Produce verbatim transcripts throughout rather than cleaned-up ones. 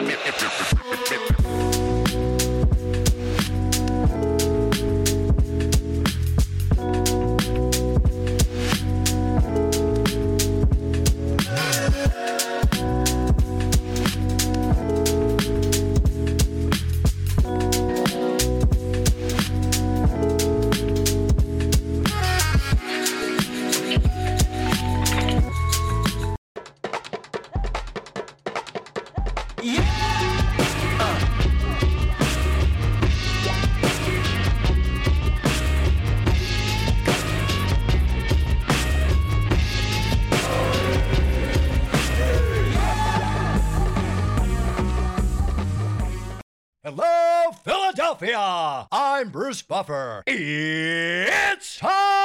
Hello, Philadelphia! I'm Bruce Buffer. It's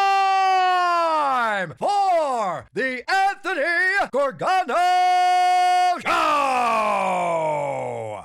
time for the Anthony Gorgano Show!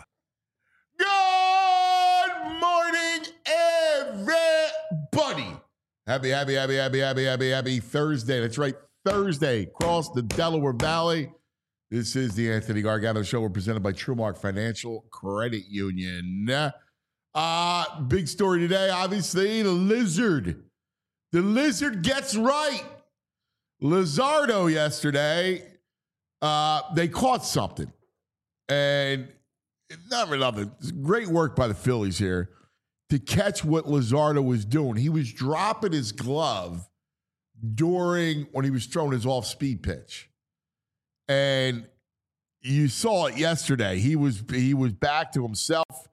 Good morning, everybody. Happy, happy, happy, happy, happy, happy, happy Thursday. That's right, Thursday, across the Delaware Valley. This is the Anthony Gargano Show. We're presented by TrueMark Financial Credit Union. Uh, big story today, obviously, the Lizard. The Lizard gets right. Luzardo yesterday, uh, they caught something. And not really nothing. Great work by the Phillies here to catch what Luzardo was doing. He was dropping his glove during when he was throwing his off-speed pitch. And you saw it yesterday. He was he was back to himself.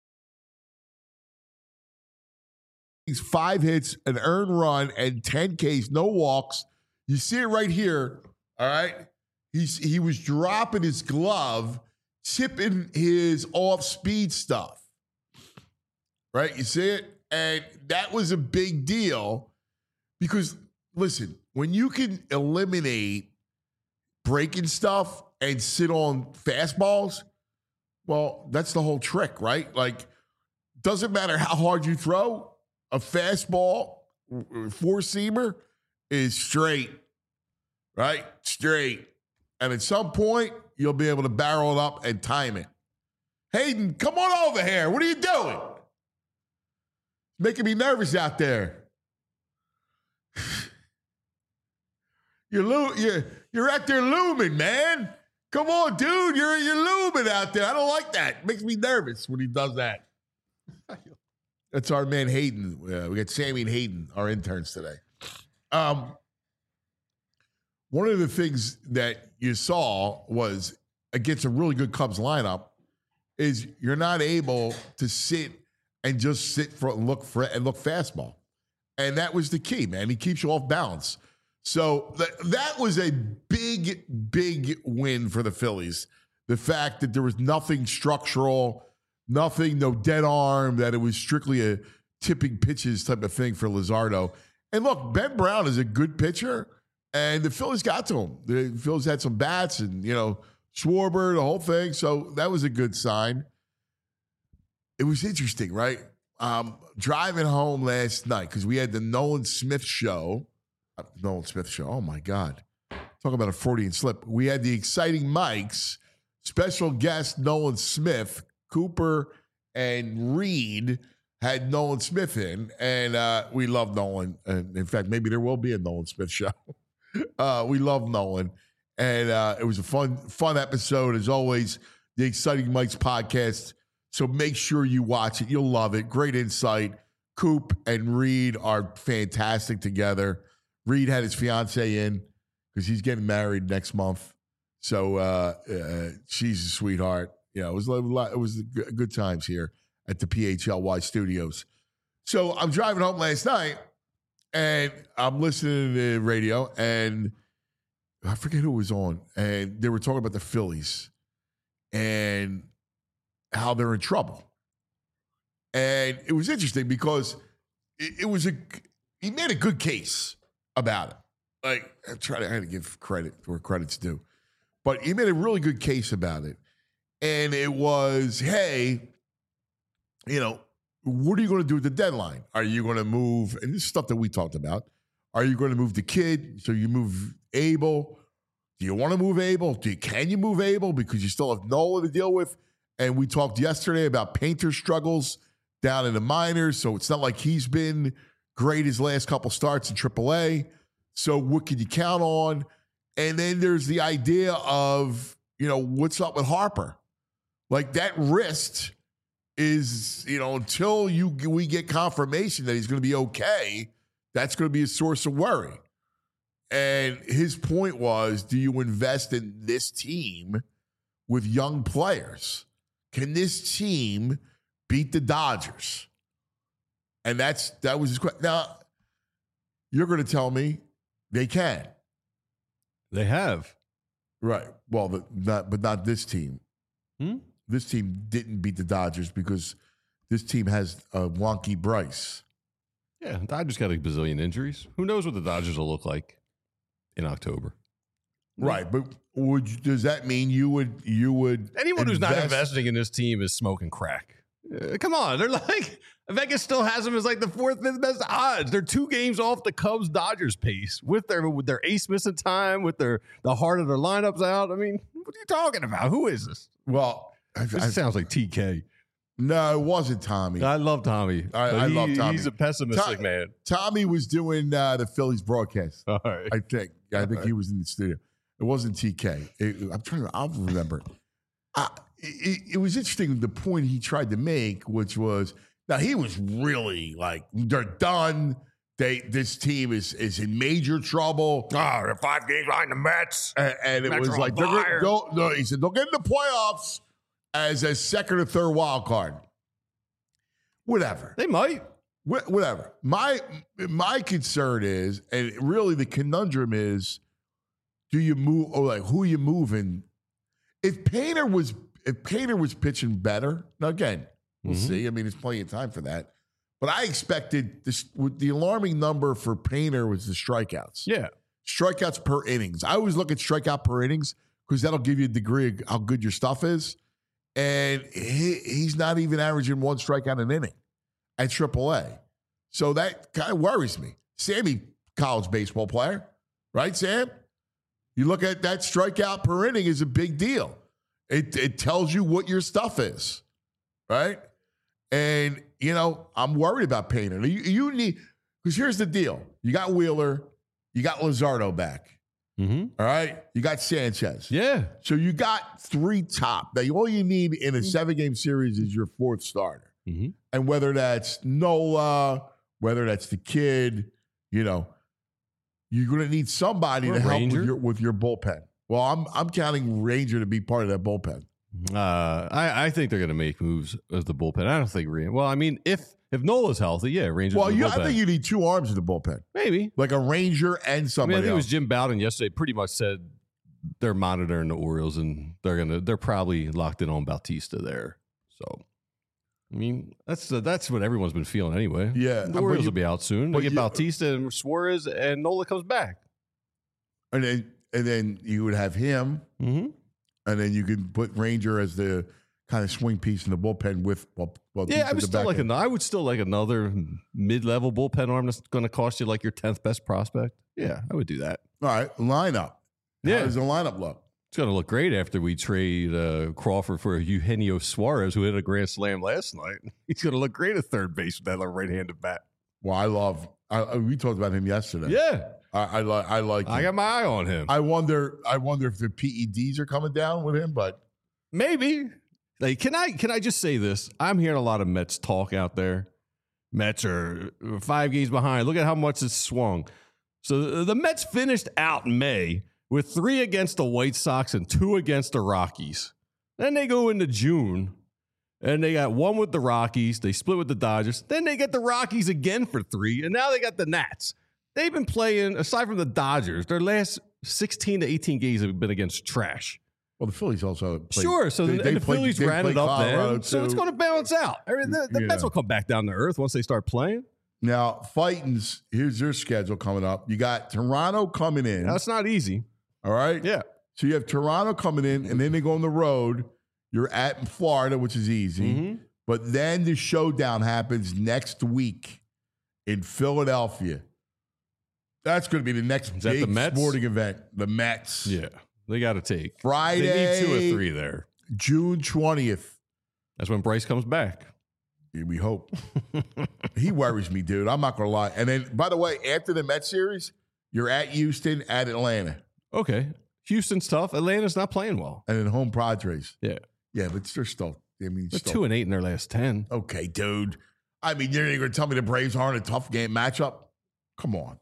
He's five hits, an earned run, and ten Ks, no walks. You see it right here. All right. He's he was dropping his glove, tipping his off-speed stuff. Right? You see it? And that was a big deal because, listen, when you can eliminate breaking stuff and sit on fastballs, well, that's the whole trick, right? Like, doesn't matter how hard you throw, a fastball, four-seamer is straight, right? Straight. And at some point, you'll be able to barrel it up and time it. Hayden, come on over here. What are you doing? Making me nervous out there. You're, lo- you're, you're out there looming, man. Come on, dude. You're, you're looming out there. I don't like that. It makes me nervous when he does that. That's our man Hayden. Uh, we got Sammy and Hayden, our interns today. Um, one of the things that you saw was against a really good Cubs lineup is you're not able to sit and just sit for and look for and look fastball. And that was the key, man. He keeps you off balance. So th- that was a big, big win for the Phillies. The fact that there was nothing structural, nothing, no dead arm, that it was strictly a tipping pitches type of thing for Luzardo. And look, Ben Brown is a good pitcher, and the Phillies got to him. The Phillies had some bats and, you know, Schwarber, the whole thing. So that was a good sign. It was interesting, right? Um, driving home last night, because we had the Nolan Smith show. Nolan Smith show. Oh, my God. Talk about a Freudian slip. We had the Exciting Mics, special guest Nolan Smith, Cooper and Reed had Nolan Smith in, and uh, we love Nolan. And in fact, maybe there will be a Nolan Smith show. uh, we love Nolan. And uh, it was a fun, fun episode, as always, the Exciting Mics podcast. So make sure you watch it. You'll love it. Great insight. Coop and Reed are fantastic together. Reed had his fiance in because he's getting married next month. So uh, uh, she's a sweetheart. Yeah, it was a lot, it was good times here at the P H L Y studios. So I'm driving home last night, and I'm listening to the radio, and I forget who was on, and they were talking about the Phillies and how they're in trouble. And it was interesting because it, it was a he made a good case about it. Like, I'm trying to, I had to give credit where credit's due. But he made a really good case about it. And it was, hey, you know, what are you going to do with the deadline? Are you going to move, and this is stuff that we talked about, are you going to move the kid? So you move Abel. Do you want to move Abel? Do you, can you move Abel because you still have Nola to deal with? And we talked yesterday about Painter's struggles down in the minors. So it's not like he's been great his last couple starts in triple A. So what can you count on? And then there's the idea of, you know, what's up with Harper? Like that wrist is, you know, until you we get confirmation that he's going to be okay, that's going to be a source of worry. And his point was, do you invest in this team with young players? Can this team beat the Dodgers? And that's that was his question. Now, you're going to tell me they can. They have. Right. Well, the, not, but not this team. Hmm? This team didn't beat the Dodgers because this team has a wonky Bryce. Yeah, Dodgers got a bazillion injuries. Who knows what the Dodgers will look like in October? Right, but would you, does that mean you would you would Anyone who's not invest- investing in this team is smoking crack. Uh, come on, they're like Vegas still has them as like the fourth, fifth best odds. They're two games off the Cubs Dodgers pace with their with their ace missing time, with their the heart of their lineups out. I mean, what are you talking about? Who is this? Well, I, This I, sounds like T K. no, it wasn't Tommy. I love Tommy. I- but I he- love Tommy. He's a pessimistic Tom- man. Tommy was doing uh, the Phillies broadcast. All right. I think. I think he was in the studio. It wasn't T K. It, I'm trying to. I'll remember. I, it, it was interesting the point he tried to make, which was now he was really like they're done. They this team is is in major trouble. Oh, they're five games behind the Mets. And, and it Mets was are on like they're fire. gonna, don't, no, he said they'll get in the playoffs as a second or third wild card. Whatever. They might. Wh- Whatever. My my concern is, and really the conundrum is, do you move or like who you moving? If Painter was if Painter was pitching better, now again, we'll Mhm. see. I mean, there's plenty of time for that. But I expected this with the alarming number for Painter was the strikeouts. Yeah. Strikeouts per innings. I always look at strikeout per innings because that'll give you a degree of how good your stuff is. And he, he's not even averaging one strikeout an inning at triple A. So that kind of worries me. Sammy, college baseball player, right, Sam? You look at that strikeout per inning is a big deal. It, it tells you what your stuff is, right? And, you know, I'm worried about Painter. You, you need, because here's the deal. You got Wheeler, you got Luzardo back, Mm-hmm. all right? You got Sanchez. Yeah. So you got three top. Now, all you need in a seven-game series is your fourth starter. Mm-hmm. And whether that's Nola, whether that's the kid, you know, you're going to need somebody Or to help Ranger. with your, with your bullpen. Well, I'm I'm counting Ranger to be part of that bullpen. Uh, I, I think they're going to make moves as the bullpen. I don't think Ranger. Well, I mean, if if Nola's healthy, yeah, Rangers. Well, in the you, I bullpen. think you need two arms in the bullpen, maybe. like a Ranger and I mean, somebody I think it was else. Jim Bowden yesterday. Pretty much said they're monitoring the Orioles and they're gonna they're probably locked in on Bautista there. So, I mean, that's uh, that's what everyone's been feeling anyway. Yeah, the but Orioles you- will be out soon. but They get you- Bautista and Suarez, and Nola comes back. And then and then you would have him, Mm-hmm. and then you could put Ranger as the kind of swing piece in the bullpen with. Well, well, Yeah, I at would the still back like end. an, I would still like another mid-level bullpen arm that's going to cost you like your tenth best prospect. Yeah, I would do that. All right, lineup. Yeah. How does the lineup look? It's going to look great after we trade uh, Crawford for Eugenio Suarez, who hit a grand slam last night. He's going to look great at third base with that little right-handed bat. Well, I love. I, I- we talked about him yesterday. Yeah, I, I like. I like. I him. got my eye on him. I wonder. I wonder if the P E Ds are coming down with him, but Maybe. Like, can I can I just say this? I'm hearing a lot of Mets talk out there. Mets are five games behind. Look at how much it's swung. So the Mets finished out May with three against the White Sox and two against the Rockies. Then they go into June and they got one with the Rockies. They split with the Dodgers. Then they get the Rockies again for three. And now they got the Nats. They've been playing, aside from the Dodgers, their last sixteen to eighteen games have been against trash. well, the Phillies also played, Sure. So they- the, they and the played- Phillies they ran played it up Colorado, there. So it's too. going to balance out. I mean, the the Yeah. Mets will come back down to earth once they start playing. Now, Fightins, here's their schedule coming up. You got Toronto coming in. That's not easy. all right. Yeah. So you have Toronto coming in, and then they go on the road. You're at Florida, which is easy. Mhm. But then the showdown happens next week in Philadelphia. That's going to be the next Is that big the Mets? sporting event. The Mets. Yeah. They got to take. Friday, They need two or three there. June twentieth. That's when Bryce comes back. Yeah, we hope. He worries me, dude. I'm not going to lie. And then, by the way, after the Mets series, you're at Houston, at Atlanta. Okay. Houston's tough. Atlanta's not playing well. And then home Padres. Yeah. Yeah, but they're still, I mean, They're still. two and eight in their last ten. Okay, dude. I mean, you're going to tell me the Braves aren't a tough game matchup? Come on.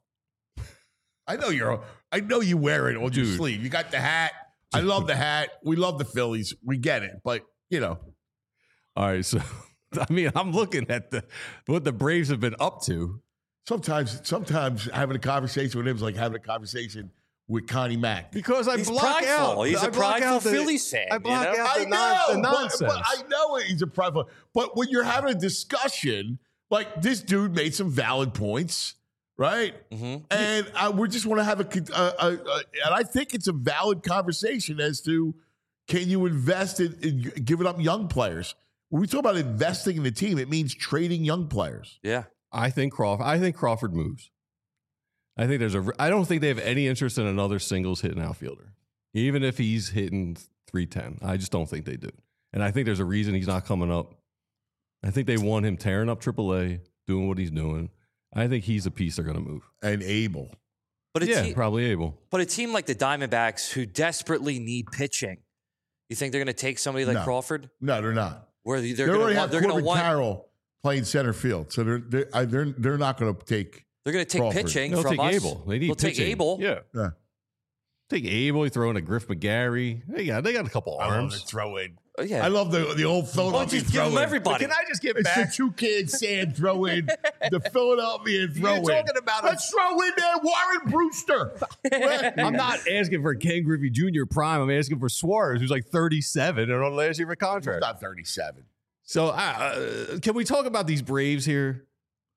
I know you're, I know you wear it on Dude. your sleeve. You got the hat. I love the hat. We love the Phillies. We get it. But, you know. All right. So, I mean, I'm looking at the what the Braves have been up to. Sometimes, sometimes having a conversation with him is like having a conversation with Connie Mack. Because I He's block prideful. out. He's I a block prideful out the- Phillies fan. I block you know? out I the, know, non, the but, nonsense. but I know he's a private. But when you're having a discussion, like this dude made some valid points, right? Mhm. And I, we just want to have a, a, a, a, and I think it's a valid conversation as to can you invest in, in giving up young players? When we talk about investing in the team, it means trading young players. Yeah. I think Crawford. I think Crawford moves. I think there's a. I don't think they have any interest in another singles hitting outfielder, even if he's hitting three ten. I just don't think they do, and I think there's a reason he's not coming up. I think they want him tearing up triple A, doing what he's doing. I think he's a piece they're going to move. And Abel. But a, Yeah, te- probably able. but a team like the Diamondbacks who desperately need pitching, you think they're going to take somebody like No. Crawford? No, they're not. Where they're They going already to have want, they're going Corbin to want, Carroll playing center field, so they're they're I- they're, they're not going to take. they're going to take Crawford. pitching They'll from take us. Abel. They need They'll take pitching. Abel. Yeah, Yeah. take Abel. You throw in a Griff McGarry. They got they got a couple arms. throw in. Oh, yeah. I love the the old Why don't Philadelphia you just give throw them in. everybody? Can I just get It's back? the two kids saying throw in the Philadelphia throw You're in. talking about a- Let's throw in there Warren Brewster. I'm not asking for Ken Griffey Junior prime. I'm asking for Suarez, who's like thirty-seven and on last year of a He's contract. not thirty-seven. So, uh, can we talk about these Braves here?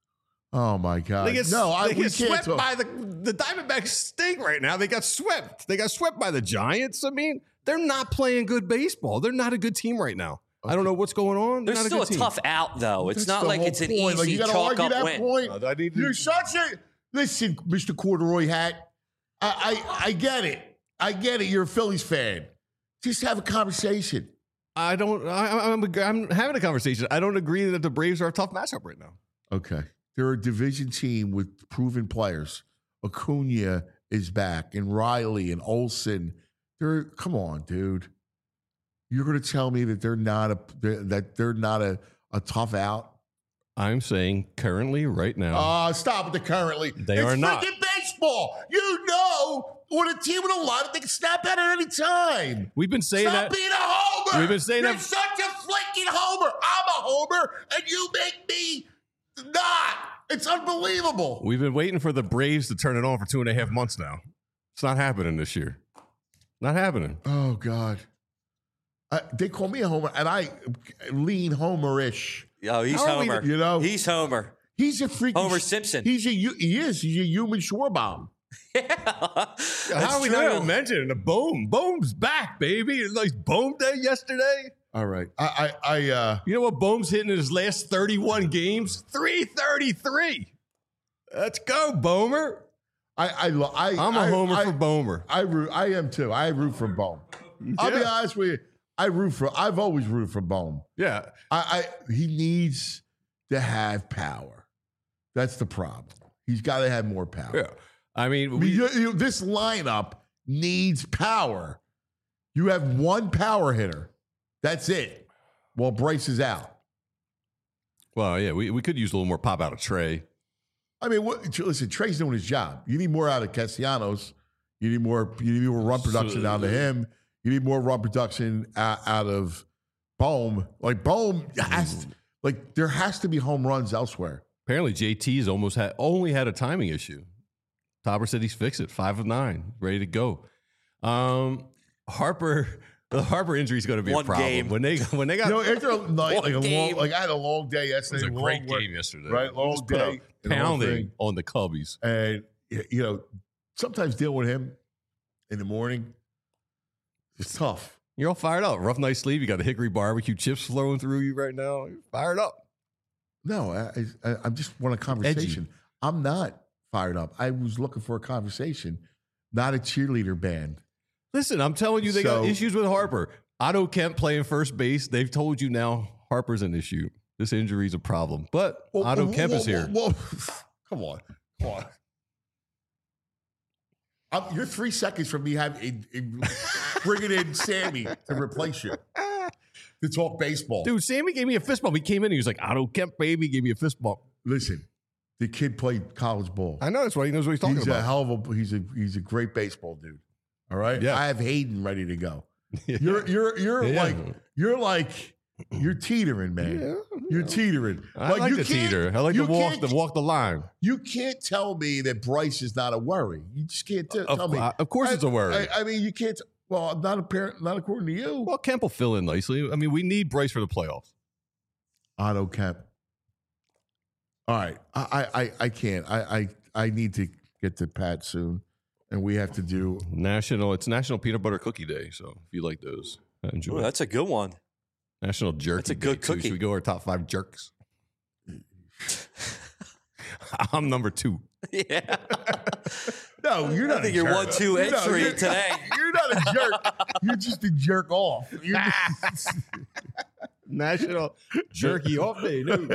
Oh my God! They get, no, I they we get can't swept talk. by the the Diamondbacks. Stink right now. They got swept. They got swept by the Giants. I mean, they're not playing good baseball. They're not a good team right now. I don't know what's going on. They're There's not still a, a, good team. tough out, though. It's That's not the like whole it's an point. easy Like, you gotta chalk argue up that win. point. Uh, I need to- You're such a listen, Mister Corduroy Hat. I, I I get it. I get it. You're a Phillies fan. Just have a conversation. I don't. I, I'm, I'm having a conversation. I don't agree that the Braves are a tough matchup right now. Okay. They're a division team with proven players. Acuna is back, and Riley and Olsen. They're come on, dude. You're going to tell me that they're not a they're- that they're not a, a tough out? I'm saying currently, right now, Uh stop with the currently. They it's are not. freaking baseball. You know, when a team with a lot of they can snap out at any time. we've been saying Stop that. being a homer. We've been saying You're that- such a flaking homer. I'm a homer, and you make me not. It's unbelievable. We've been waiting for the Braves to turn it on for two and a half months now. It's not happening this year. Not happening. Oh God. Uh, they call me a homer, and I lean homerish. Oh, he's How are we- Homer. you know? He's Homer. He's a freaking Homer Simpson. He's a hu- he is. He's a human Schwarbaum. Yeah, How that's are we true. not even mentioning the Boom? Boom's back, baby. It's like Boom Day yesterday. All right. I I, I uh You know what Boom's hitting in his last thirty-one games? three thirty-three. Let's go, Boomer. I I, lo- I I'm a I- homer I, for Boomer. I root. I am too. I root for Bohm. I'll be Yeah. honest with you. I root for. I've always rooted for Bohm. Yeah. I, I he needs to have power. That's the problem. He's got to have more power. Yeah. I mean, I mean, we, you- you- this lineup needs power. You have one power hitter. That's it. While Bryce is out. well, yeah, we, we could use a little more pop out of Trey. I mean, what, listen, Trey's doing his job. You need more out of Castellanos. You need more. You need more run production So- out of him. You need more run production out, out of Bohm. Like Bohm has, to, like there has to be home runs elsewhere. Apparently, J T's almost had only had a timing issue. Topper said he's fixed it. Five of nine, ready to go. Um, Harper, the Harper injury is going to be One a problem game. when they when they got You know, after a night, like a long, game. like I had a long day it was yesterday. a great long work, game yesterday. right? Long Just put day, a and the whole pounding thing. on the Cubbies. And you know, sometimes dealing with him in the morning, it's tough. You're all fired up. Rough night sleep. You got the hickory barbecue chips flowing through you right now. You're fired up. No, I, I, I just want a conversation. I'm not fired up. I was looking for a conversation, not a cheerleader band. Listen, I'm telling you, they got So- issues with Harper. Otto Kemp playing first base. They've told you now Harper's an issue. This injury is a problem. But Well, Otto well, Kemp well, is here. well, well, come on. Come on. I'm, you're three seconds from me having in, in, bringing in Sammy to replace you to talk baseball. Dude, Sammy gave me a fist bump. He came in and he was like, Otto Kemp, baby, gave me a fist bump. Listen, the kid played college ball. I know. That's why he knows what he's talking he's about. a hell of a he's a he's a great baseball dude. All right. Yeah. I have Hayden ready to go. Yeah. You're you're you're Yeah. like you're like you're teetering, man. Yeah, You're teetering. I like you the can't- teeter. I like you to walk can't- the walk the line. You can't tell me that Bryce is not a worry. You just can't t- Of, tell me. of course, I- it's a worry. I, I mean, you can't. Well, not apparent. Not according to you. well, Kemp will fill in nicely. I mean, we need Bryce for the playoffs. Otto Kemp. All right, I I I, I can't. I, I I need to get to Pat soon, and we have to do. National. It's National Peanut Butter Cookie Day. So if you like those, I enjoy. Ooh, it. that's a good one. National Jerky. That's a Day, good too. cookie. Should we go our top five jerks? I'm number two. Yeah. No, you're I not. think a you're jerk. one, two You're not- entry you're- today. You're not a jerk. You're just a jerk off. You're just- National Jerky Off Day. No.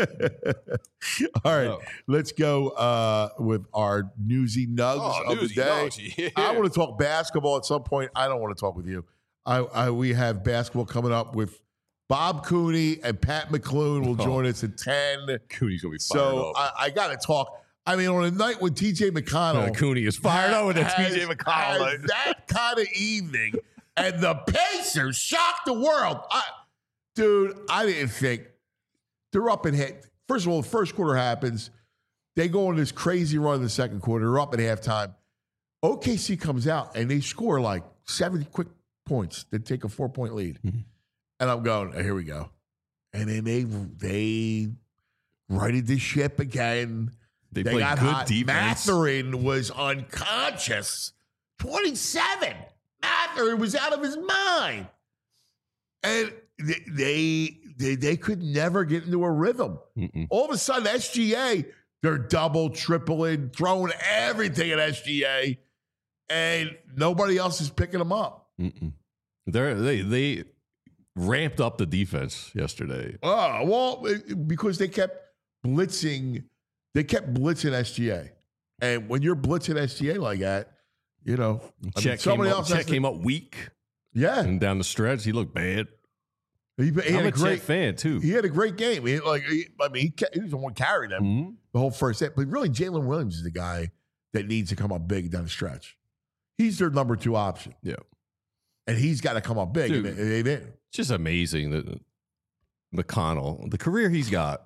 All right, Oh. let's go uh, with our newsy nugs Oh, of newsy the day. nugs, yeah. I want to talk basketball at some point. I don't want to talk with you. I, I we have basketball coming up with Bob Cooney and Pat McClune will Oh. join us at ten. Cooney's gonna be fired So up. I, I got to talk. I mean, on a night when T J McConnell Uh, Cooney is fired up with the T J has- McConnell. has that kind of evening, and the Pacers shocked the world. I, dude, I didn't think they're up and hit. First of all, the first quarter happens. They go on this crazy run in the second quarter. They're up at halftime. O K C comes out and they score like seven quick points. They take a four point lead, Mm-hmm. and I'm going, oh, here we go. And then they they righted the ship again. They, They played got good hot. defense. Matherin was unconscious. twenty-seven. Matherin was out of his mind. And they they they, they could never get into a rhythm. Mm-mm. All of a sudden, S G A, they're double, tripling, throwing everything at S G A, and nobody else is picking them up. Mm-mm. They're, they they ramped up the defense yesterday. Oh, well, it- because they kept blitzing, they kept blitzing S G A. And when you're blitzing S G A like that, you know, I mean, Chet came somebody up, else Chet has to- came up weak Yeah, and down the stretch. He looked bad. he, he I'm had a, a great, Chet fan too. he had a great game. He, like, he, I mean, he, ca- he was the one carrying them Mhm. the whole first set. But really, Jalen Williams is the guy that needs to come up big down the stretch. He's their number two option, Yeah, and he's got to come up big. Dude. And they, they didn't. it's just amazing that McConnell, the career he's got,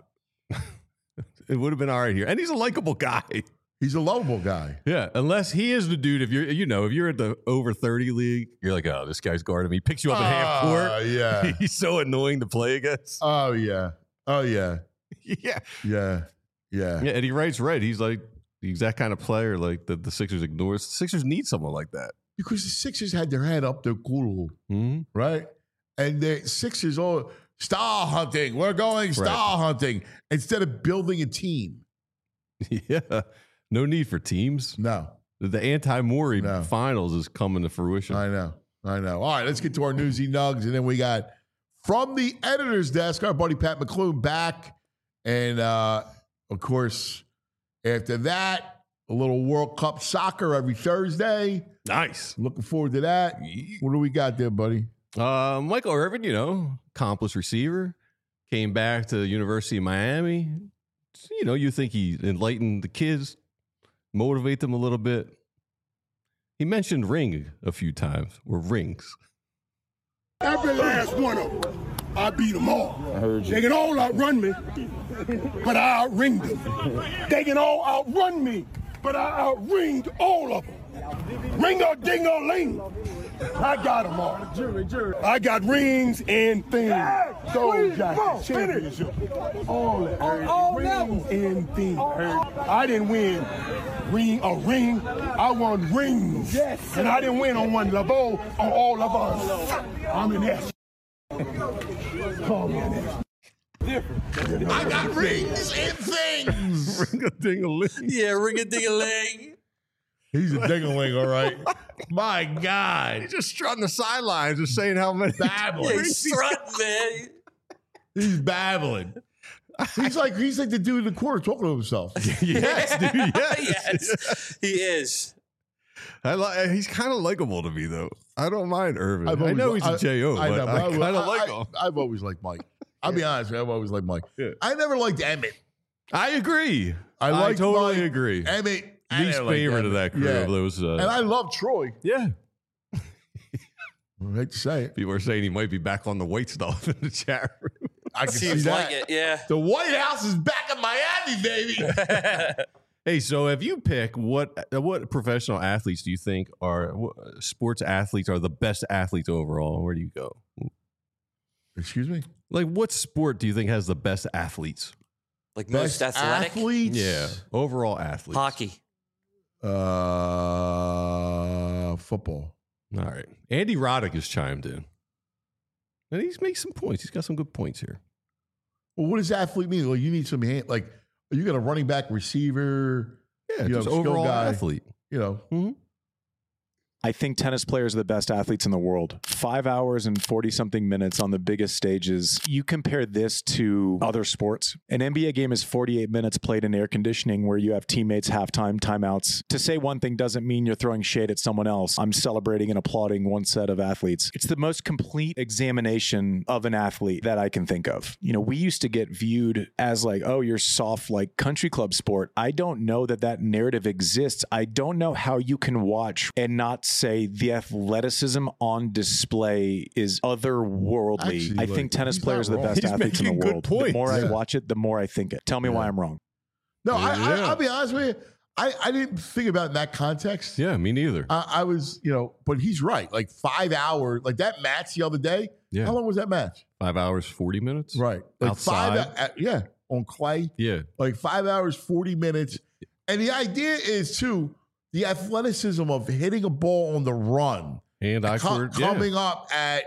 it would have been all right here, and he's a likable guy. He's a lovable guy. Yeah, unless he is the dude. If you're, you know, if you're at the over thirty league, you're like, oh, this guy's guarding me. He picks you up at half Oh, court. yeah. He's so annoying to play against. Oh yeah. Oh yeah. yeah. Yeah. Yeah. Yeah, and he writes right. He's like the exact kind of player like that the Sixers ignores. The Sixers need someone like that. Because the Sixers had their head up their culo, Mm-hmm. right? And the Sixers all star hunting. We're going star hunting instead of building a team. Yeah, no need for teams. No. The anti-Morey No. finals is coming to fruition. I know. I know. All right, let's get to our newsy nugs. And then we got from the editor's desk, our buddy Pat McClune back. And uh, of course, after that, a little World Cup soccer every Thursday. Nice. Looking forward to that. What do we got there, buddy? Uh, Michael Irvin, you know, accomplished receiver, came back to the University of Miami. You know, you think he enlightened the kids, motivate them a little bit. He mentioned ring a few times, or rings. Every last one of them. I beat them all. I heard you. They can all outrun me, but I outringed them. They can all outrun me, but I outringed all of them. Ring-a-ding-a-ling. I got them all. I got rings and things. Soul jacket, championship. All that. All rings and things. I didn't win ring a ring. I won rings. Yes. And I didn't win on one level, on all of us. I'm an S. Call me an S. I got rings and things. Ring a ding a ling. Yeah, ring a ding a ling. He's a ding-a-ling, all right. My God. He's just strutting the sidelines, just saying how many. Fabulous. Yeah, he's strutting, man. He's babbling. He's like he's like the dude in the corner talking to himself. Yes, dude. Yes. Yes, he is. I li- he's kind of likable to me, though. I don't mind Irvin. I've I always- know he's a I- J O, I but know, but I, I- kind of I- like I- him. I've always liked Mike. I'll be honest, with you, I've always liked Mike. Yeah. I never liked Emmett. I agree. I I, like totally Mike, agree. Emmett, I Least never liked favorite of Emmett. that crew Yeah. of those. Uh, And I love Troy. yeah. I hate to say it. People are saying he might be back on the white stuff in the chat room. I can see Seems that. like it, yeah. The White House is back in Miami, baby. Hey, so if you pick what what professional athletes do you think are what sports athletes are the best athletes overall? Where do you go? Excuse me? Like, what sport do you think has the best athletes? Like most Best athletic. athletes? Yeah, overall athletes. Hockey. Uh, football. All right. Andy Roddick has chimed in. And he's made some points. He's got some good points here. Well, what does athlete mean? Well, you need some hand. Like, you got a running back, receiver. Yeah, You know, just skill overall guy. athlete. You know, I think tennis players are the best athletes in the world. Five hours and forty-something minutes on the biggest stages. You compare this to other sports. An N B A game is forty-eight minutes played in air conditioning where you have teammates, halftime, timeouts. To say one thing doesn't mean you're throwing shade at someone else. I'm celebrating and applauding one set of athletes. It's the most complete examination of an athlete that I can think of. You know, we used to get viewed as like, oh, you're soft like country club sport. I don't know that that narrative exists. I don't know how you can watch and not say the athleticism on display is otherworldly. Actually, I like, think tennis he's players are not the wrong. best He's athletes in the making good world. The points. more I Yeah. watch it, the more I think it. Tell me why Yeah. I'm wrong. no, I, I, Yeah. I'll be honest with you. I, I didn't think about it in that context. Yeah, me neither. I, I was, you know, but he's right. Like five hours, like that match the other day. Yeah. How long was that match? Five hours, forty minutes? Right. Like Outside? five, uh, yeah, on clay. Yeah. Like five hours, forty minutes. And the idea is, too, the athleticism of hitting a ball on the run, And I co- coming up at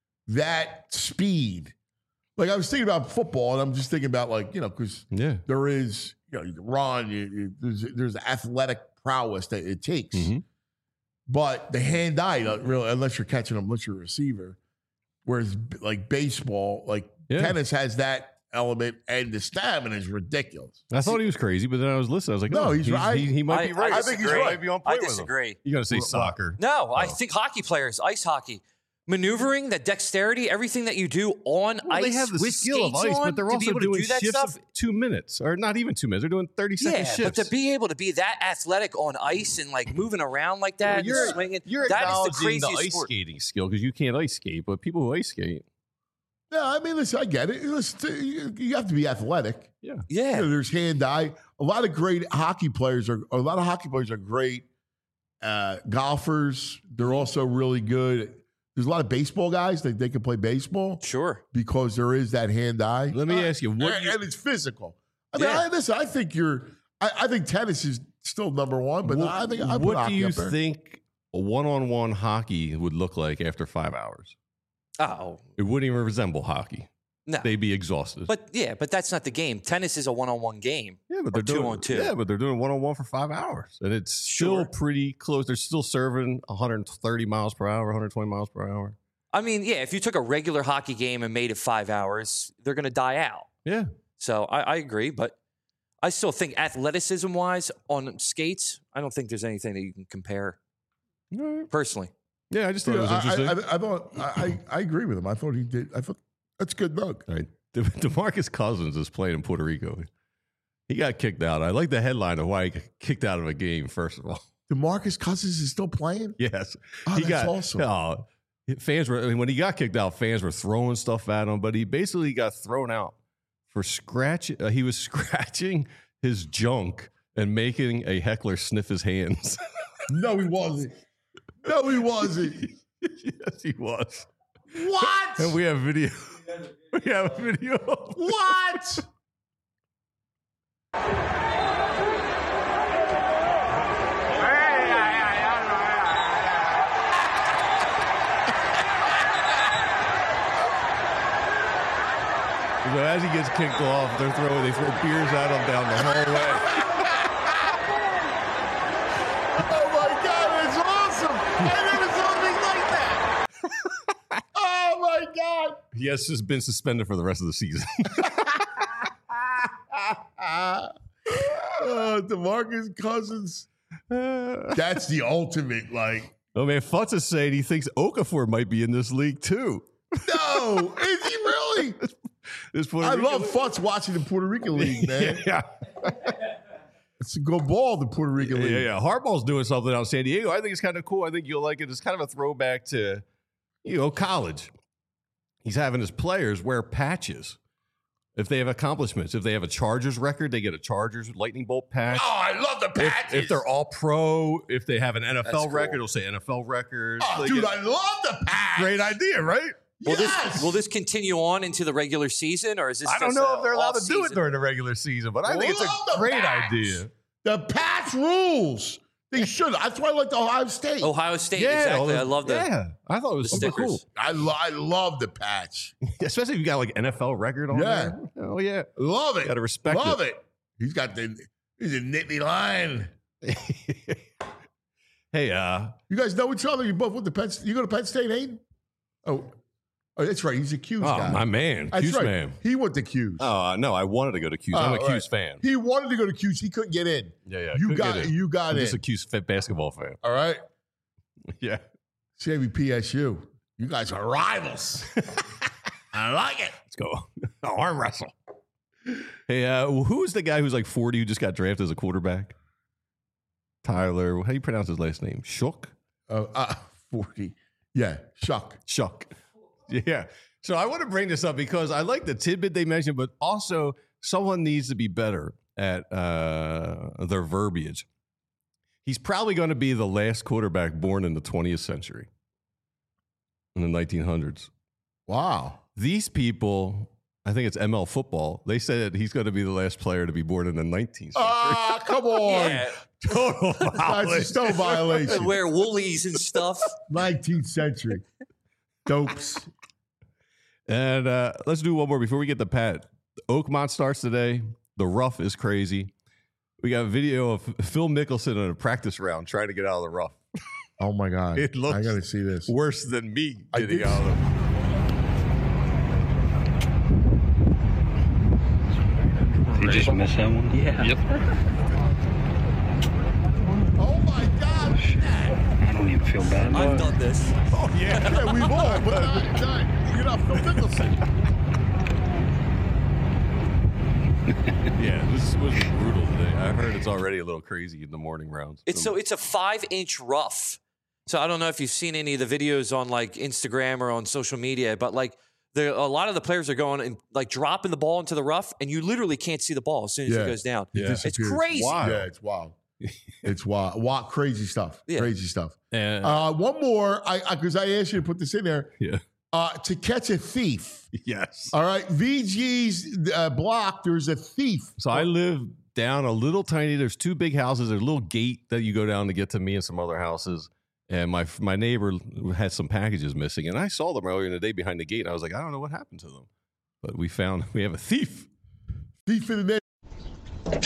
that speed. Like I was thinking about football, and I'm just thinking about, like, you know, because Yeah. there is, you know, you can run, you, you, there's, there's athletic prowess that it takes. Mhm. But the hand-eye, not really, unless you're catching them, unless you're a receiver. Whereas, like baseball, like Yeah. tennis has that element, and the stamina is ridiculous. I thought he was crazy, but then I was listening. I was like, No, no, he's right. He, he might I, be right. I disagree. right. might be on I point with him. disagree. You're going to say Well, soccer. No, I Oh. think hockey players, ice hockey, maneuvering, that dexterity, everything that you do on Well, ice they have the with skill of skates ice, on, but they're to also be able doing to do that shifts stuff. of two minutes, or not even two minutes. They're doing thirty second Yeah, shifts. but to be able to be that athletic on ice and like moving around like that, and you're swinging, you're that is the acknowledging craziest the ice sport. skating skill because you can't ice skate, but people who ice skate, Yeah, I mean, listen, I get it. Listen, you, you have to be athletic. yeah, Yeah, You know, there's hand-eye. A lot of great hockey players are. A lot of hockey players are great uh, golfers. They're also really good. There's a lot of baseball guys that they can play baseball sure. because there is that hand-eye. Let me Uh, ask you, what and, you- and it's physical. I mean, Yeah. I, listen, I think you're. I, I think tennis is still number one, but what, I think I put what do hockey you up there. think a one on one hockey would look like after five hours? Oh It wouldn't even resemble hockey. no, They'd be exhausted. but yeah, but that's not the game. Tennis is a one-on-one game. yeah, but or they're two doing on two. Yeah, but they're doing one on one for five hours, and it's still Sure. pretty close. They're still serving one hundred thirty miles per hour, one hundred twenty miles per hour. I mean, yeah, if you took a regular hockey game and made it five hours, they're going to die out. Yeah, So I, I agree, but I still think athleticism-wise on skates, I don't think there's anything that you can compare All right. personally. yeah. I just thought You it know, was I, interesting. I, I thought I, I, I agree with him. I thought he did. I thought that's good, Doug. All right. De- DeMarcus Cousins is playing in Puerto Rico. He got kicked out. I like the headline of why he got kicked out of a game, first of all. DeMarcus Cousins is still playing. Yes. Oh, he that's got, awesome. oh, fans were, I mean, when he got kicked out, fans were throwing stuff at him, but he basically got thrown out for scratch. Uh, he was scratching his junk and making a heckler sniff his hands. No, he wasn't. No, he wasn't. Yes, he was. What? And we have video. We have a video. What? So as he gets kicked off, they're throwing, they throw beers at him down the hallway. Oh my God, it's awesome. I never saw anything like that. Oh my God. He has just been suspended for the rest of the season. uh, DeMarcus Cousins. That's the ultimate, like. Oh, man, Futz is saying he thinks Okafor might be in this league, too. No, is he really? This Puerto I Rican love league. Futz watching the Puerto Rican League, man. Yeah, It's a good ball, the Puerto Rican yeah, League. yeah, yeah. Harbaugh's doing something out in San Diego. I think it's kind of cool. I think you'll like it. It's kind of a throwback to, you know, college. He's having his players wear patches. If they have accomplishments, if they have a Chargers record, they get a Chargers lightning bolt patch. Oh, I love the If, patches. if they're all pro, if they have an N F L That's cool. record, it'll say N F L records. oh, They dude, get- I love the patch. great idea, right? Will Yes. this will this continue on into the regular season, or is this? I don't just know a if they're allowed to do it off-season? during the regular season, but I think it's Love a the great patch. idea. The patch rules. They should. That's why I like the Ohio State. Ohio State, all exactly. the- I love the. Yeah, I thought it was the super stickers. cool. I, lo- I love the patch. Especially if you got like N F L record on Yeah. there. Oh, yeah. Love it. Gotta respect love it. it. He's got the he's a Nittany line. Hey, uh, You guys know each other. You both went to Penn. You go to Penn State, Hayden? Oh, oh, that's right. He's a Q's oh, guy. my man, That's Q's right. man. He went to Q's. Oh, no, I wanted to go to Q's. I'm Oh, a Q's right. fan. He wanted to go to Q's. He couldn't get in. Yeah, yeah. You couldn't got get in. you got I'm in. just a Q's fa- basketball fan. All right. Yeah. Save me P S U. You guys are rivals. I like it. Let's go. Arm wrestle. Hey, uh, who's the guy who's like forty who just got drafted as a quarterback? Tyler, how do you pronounce his last name? Shook? Uh, uh, forty. Yeah, Shuck. Shuck. Yeah. So I want to bring this up because I like the tidbit they mentioned, but also someone needs to be better at uh, their verbiage. He's probably going to be the last quarterback born in the twentieth century, in the nineteen hundreds. Wow. These people, I think it's M L football, they said he's going to be the last player to be born in the nineteenth century. Ah, come on. Yeah, Total That's a violation. still violation. wear woolies and stuff. nineteenth century. Dopes. And uh, let's do one more before we get to Pat. Oakmont starts today. The rough is crazy. We got a video of Phil Mickelson in a practice round trying to get out of the rough. Oh my God. It looks I gotta see this. Worse than me I getting did- out of the You just missed that one? Yeah. Yep. Oh my God. Look at that. I don't even feel bad. I've done this. Oh, yeah. Yeah, we've all, but not, not, you're not Phil Mickelson. Yeah, this was brutal today. I heard it's already a little crazy in the morning rounds. It's so it's a five inch rough. So I don't know if you've seen any of the videos on like Instagram or on social media, but like the a lot of the players are going and like dropping the ball into the rough, and you literally can't see the ball as soon as Yeah. it goes down. Yeah. It's Disappears. crazy. Wow. Yeah, it's wild. It's wild. Wild, crazy stuff. Yeah. Crazy stuff. And, Uh, one more, I because I, asked you to put this in there. yeah. Uh, to catch a thief. Yes. All right, V G's uh, block. There's a thief. So I live down a little tiny. There's two big houses. There's a little gate that you go down to get to me and some other houses. And my my neighbor had some packages missing, and I saw them earlier in the day behind the gate. And I was like, I don't know what happened to them, but we found we have a thief. Thief in the name.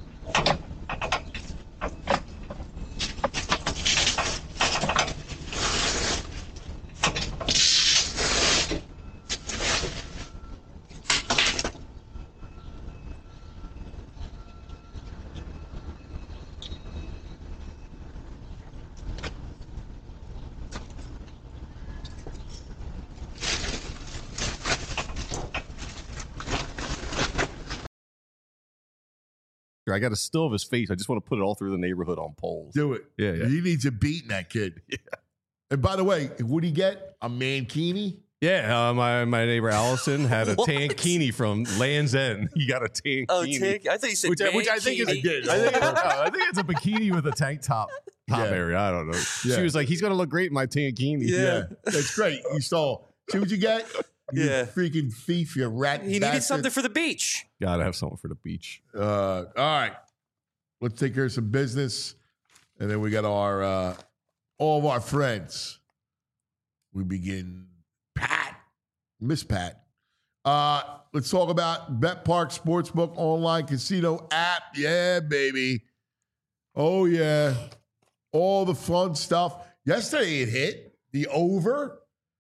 I got a still of his face. I just want to put it all through the neighborhood on poles. Do it. Yeah, yeah. He needs a beating, that kid. Yeah. And by the way, what'd he get? A mankini? Yeah, uh, my my neighbor Allison had a What? tankini from Land's End. He got a tankini. Oh, tank! I thought you said Which, I- which I think is, mankini. I did. I think, it's, uh, I think it's a bikini with a tank top top Yeah. area. I don't know. Yeah. She was like, "He's gonna look great in my tankini." Yeah. That's great. You stole. See what you get? You Yeah. freaking thief, you rat. He needed bastard. something for the beach. Gotta have something for the beach. Uh, all right. Let's take care of some business. And then we got our uh, all of our friends. We begin Pat. Miss Pat. Uh, let's talk about Bet Park Sportsbook online casino app. Yeah, baby. Oh, yeah. All the fun stuff. Yesterday it hit the over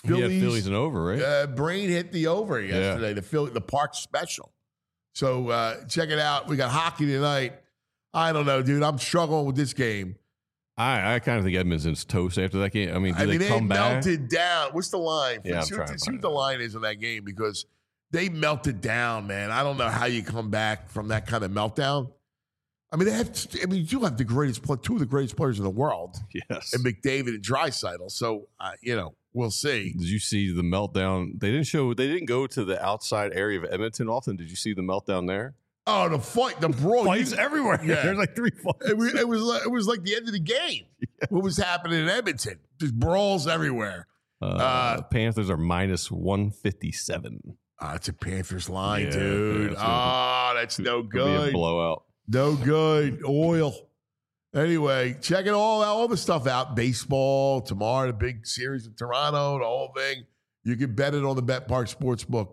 Phillies, yeah, Phillies and over, right? Uh, Brain hit the over yesterday. Yeah. The Philly, the Park Special. So uh, check it out. We got hockey tonight. I don't know, dude. I'm struggling with this game. I, I kind of think Edmonton's toast after that game. I mean, do I they mean, they come back? melted down. What's the line? Yeah, I'm see trying what, to see what find the it. line is in that game because they melted down, man. I don't know how you come back from that kind of meltdown. I mean, they have. I mean, you have the greatest, play, two of the greatest players in the world, Yes. and McDavid and Draisaitl. So, uh, you know, we'll see. Did you see the meltdown? They didn't show. They didn't go to the outside area of Edmonton often. Did you see the meltdown there? Oh, the fight, the brawl, Fights you- everywhere. Yeah. There's like three fights. It was, it was like it was like the end of the game. What was happening in Edmonton? Just brawls everywhere. Uh, Uh, Panthers are minus one fifty-seven. Oh, it's a Panthers line, Yeah, dude. yeah, Oh, that's no Could be a good. blowout. No good. Oil. Anyway, check it all out, all the stuff out. Baseball, tomorrow, the big series in Toronto, the whole thing. You can bet it on the BetPark Sportsbook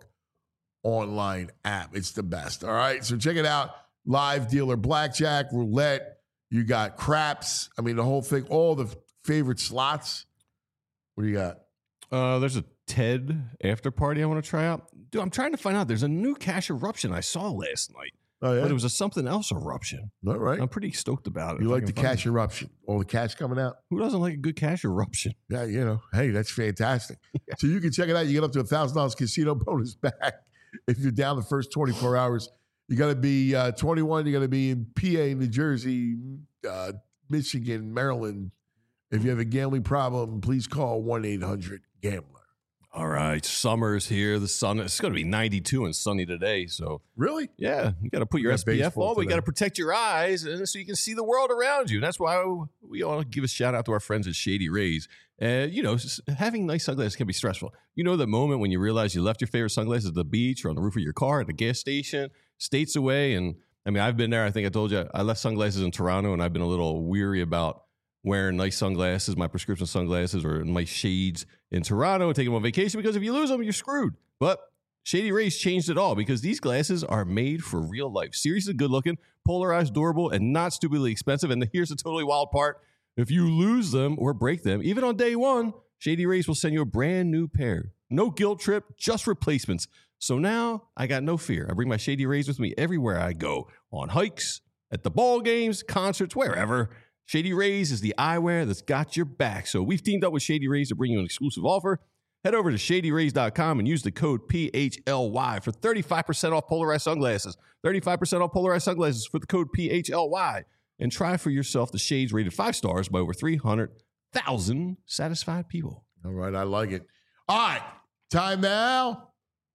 online app. It's the best. All right. So check it out. Live dealer blackjack, roulette. You got craps. I mean, the whole thing, all the favorite slots. What do you got? Uh, there's a TED after party I want to try out. Dude, I'm trying to find out. There's a new cash eruption I saw last night, Oh, yeah. but it was a something else eruption. All right. I'm pretty stoked about it. You if I like the can find cash it. eruption? All the cash coming out? Who doesn't like a good cash eruption? Yeah, you know, hey, that's fantastic. So you can check it out. You get up to a thousand dollars casino bonus back if you're down the first twenty-four hours. You got to be uh, twenty-one. You got to be in P A, New Jersey, uh, Michigan, Maryland. If you have a gambling problem, please call one eight hundred gambler. All right, summer's here. The sun, it's going to be ninety-two and sunny today. So, Really? yeah, you got to put your got S P F baseball on. But you today. got to protect your eyes and so you can see the world around you. That's why we all give a shout out to our friends at Shady Rays. And, you know, s- having nice sunglasses can be stressful. You know, the moment when you realize you left your favorite sunglasses at the beach or on the roof of your car at the gas station, states away. And I mean, I've been there. I think I told you I left sunglasses in Toronto and I've been a little weary about wearing nice sunglasses, my prescription sunglasses or nice shades in Toronto and taking them on vacation because if you lose them, you're screwed. But Shady Rays changed it all because these glasses are made for real life. Seriously good looking, polarized, durable, and not stupidly expensive. And here's the totally wild part. If you lose them or break them, even on day one, Shady Rays will send you a brand new pair. No guilt trip, just replacements. So now I got no fear. I bring my Shady Rays with me everywhere I go, on hikes, at the ball games, concerts, wherever. Shady Rays is the eyewear that's got your back. So we've teamed up with Shady Rays to bring you an exclusive offer. Head over to shady rays dot com and use the code P H L Y for thirty-five percent off polarized sunglasses. thirty-five percent off polarized sunglasses for the code P H L Y. And try for yourself the shades rated five stars by over three hundred thousand satisfied people. All right. I like it. All right. Time now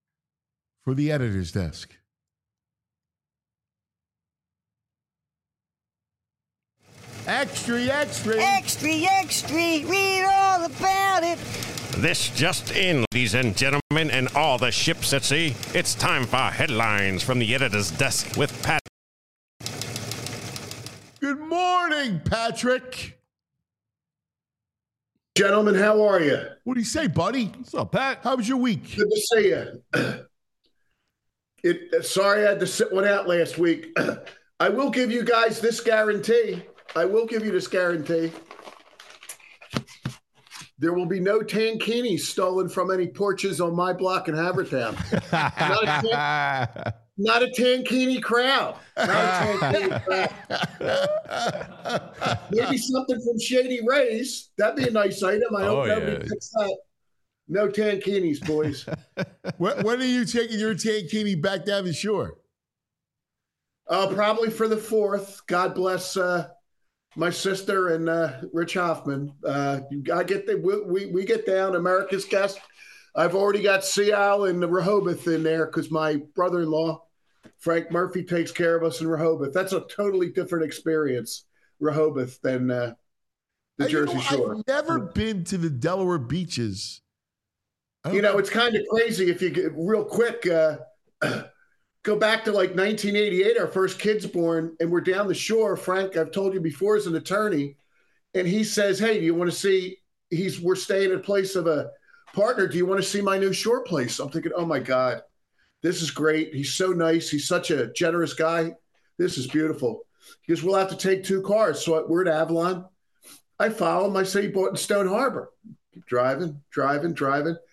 for the editor's desk. Extra, extra. Extra, extra, read all about it. This just in, ladies and gentlemen, and all the ships at sea. It's time for headlines from the editor's desk with Pat. Good morning, Patrick. Gentlemen, how are you? What do you say, buddy? What's up, Pat? How was your week? Good to see you. It, sorry I had to sit one out last week. I will give you guys this guarantee. I will give you this guarantee. There will be no tankinis stolen from any porches on my block in Havertown. Not a, tan- not a tankini crowd. Not a tankini crowd. Maybe something from Shady Rays. That'd be a nice item. I hope Oh, nobody yeah. picks that. No tankinis, boys. when, when are you taking your tankini back down the shore? Uh, probably for the fourth. God bless uh, my sister and uh, Rich Hoffman. Uh, I get the, we, we we get down America's Guest. I've already got Seal and Rehoboth in there because my brother-in-law Frank Murphy takes care of us in Rehoboth. That's a totally different experience, Rehoboth, than uh, the Uh, you Jersey know, Shore. I've never been to the Delaware beaches. I don't You know, it's kind of crazy if you get real quick. Uh, go back to like nineteen eighty-eight, our first kid's born, and we're down the shore. Frank, I've told you before, is an attorney, and he says, "Hey, do you want to see?" He's we're staying at a place of a partner. Do you want to see my new shore place? I'm thinking, oh my God, this is great. He's so nice. He's such a generous guy. This is beautiful. He goes, we'll have to take two cars. So we're at Avalon. I follow him. I say he bought in Stone Harbor. Keep driving, driving, driving.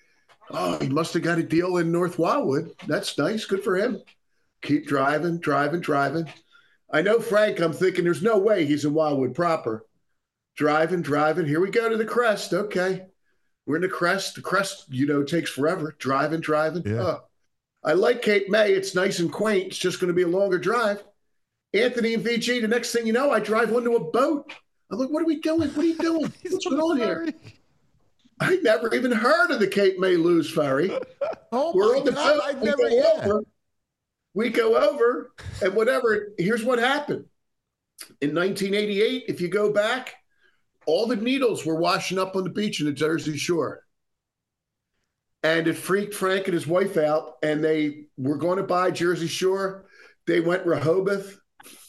Oh, he must have got a deal in North Wildwood. That's nice. Good for him. Keep driving, driving, driving. I know Frank, I'm thinking there's no way he's in Wildwood proper. Driving, driving. Here we go to the crest. Okay. We're in the crest. The crest, you know, takes forever. Driving, driving. Yeah. Oh, I like Cape May. It's nice and quaint. It's just going to be a longer drive. Anthony and V G, the next thing you know, I drive onto a boat. I'm like, what are we doing? What are you doing? What's going on here? I never even heard of the Cape May Lewis Ferry. Oh, We're my on the God. boat. I've We never, go yeah. over. We go over, and whatever. Here's what happened. In nineteen eighty-eight, if you go back, all the needles were washing up on the beach in the Jersey Shore. And it freaked Frank and his wife out, and they were going to buy Jersey Shore. They went Rehoboth.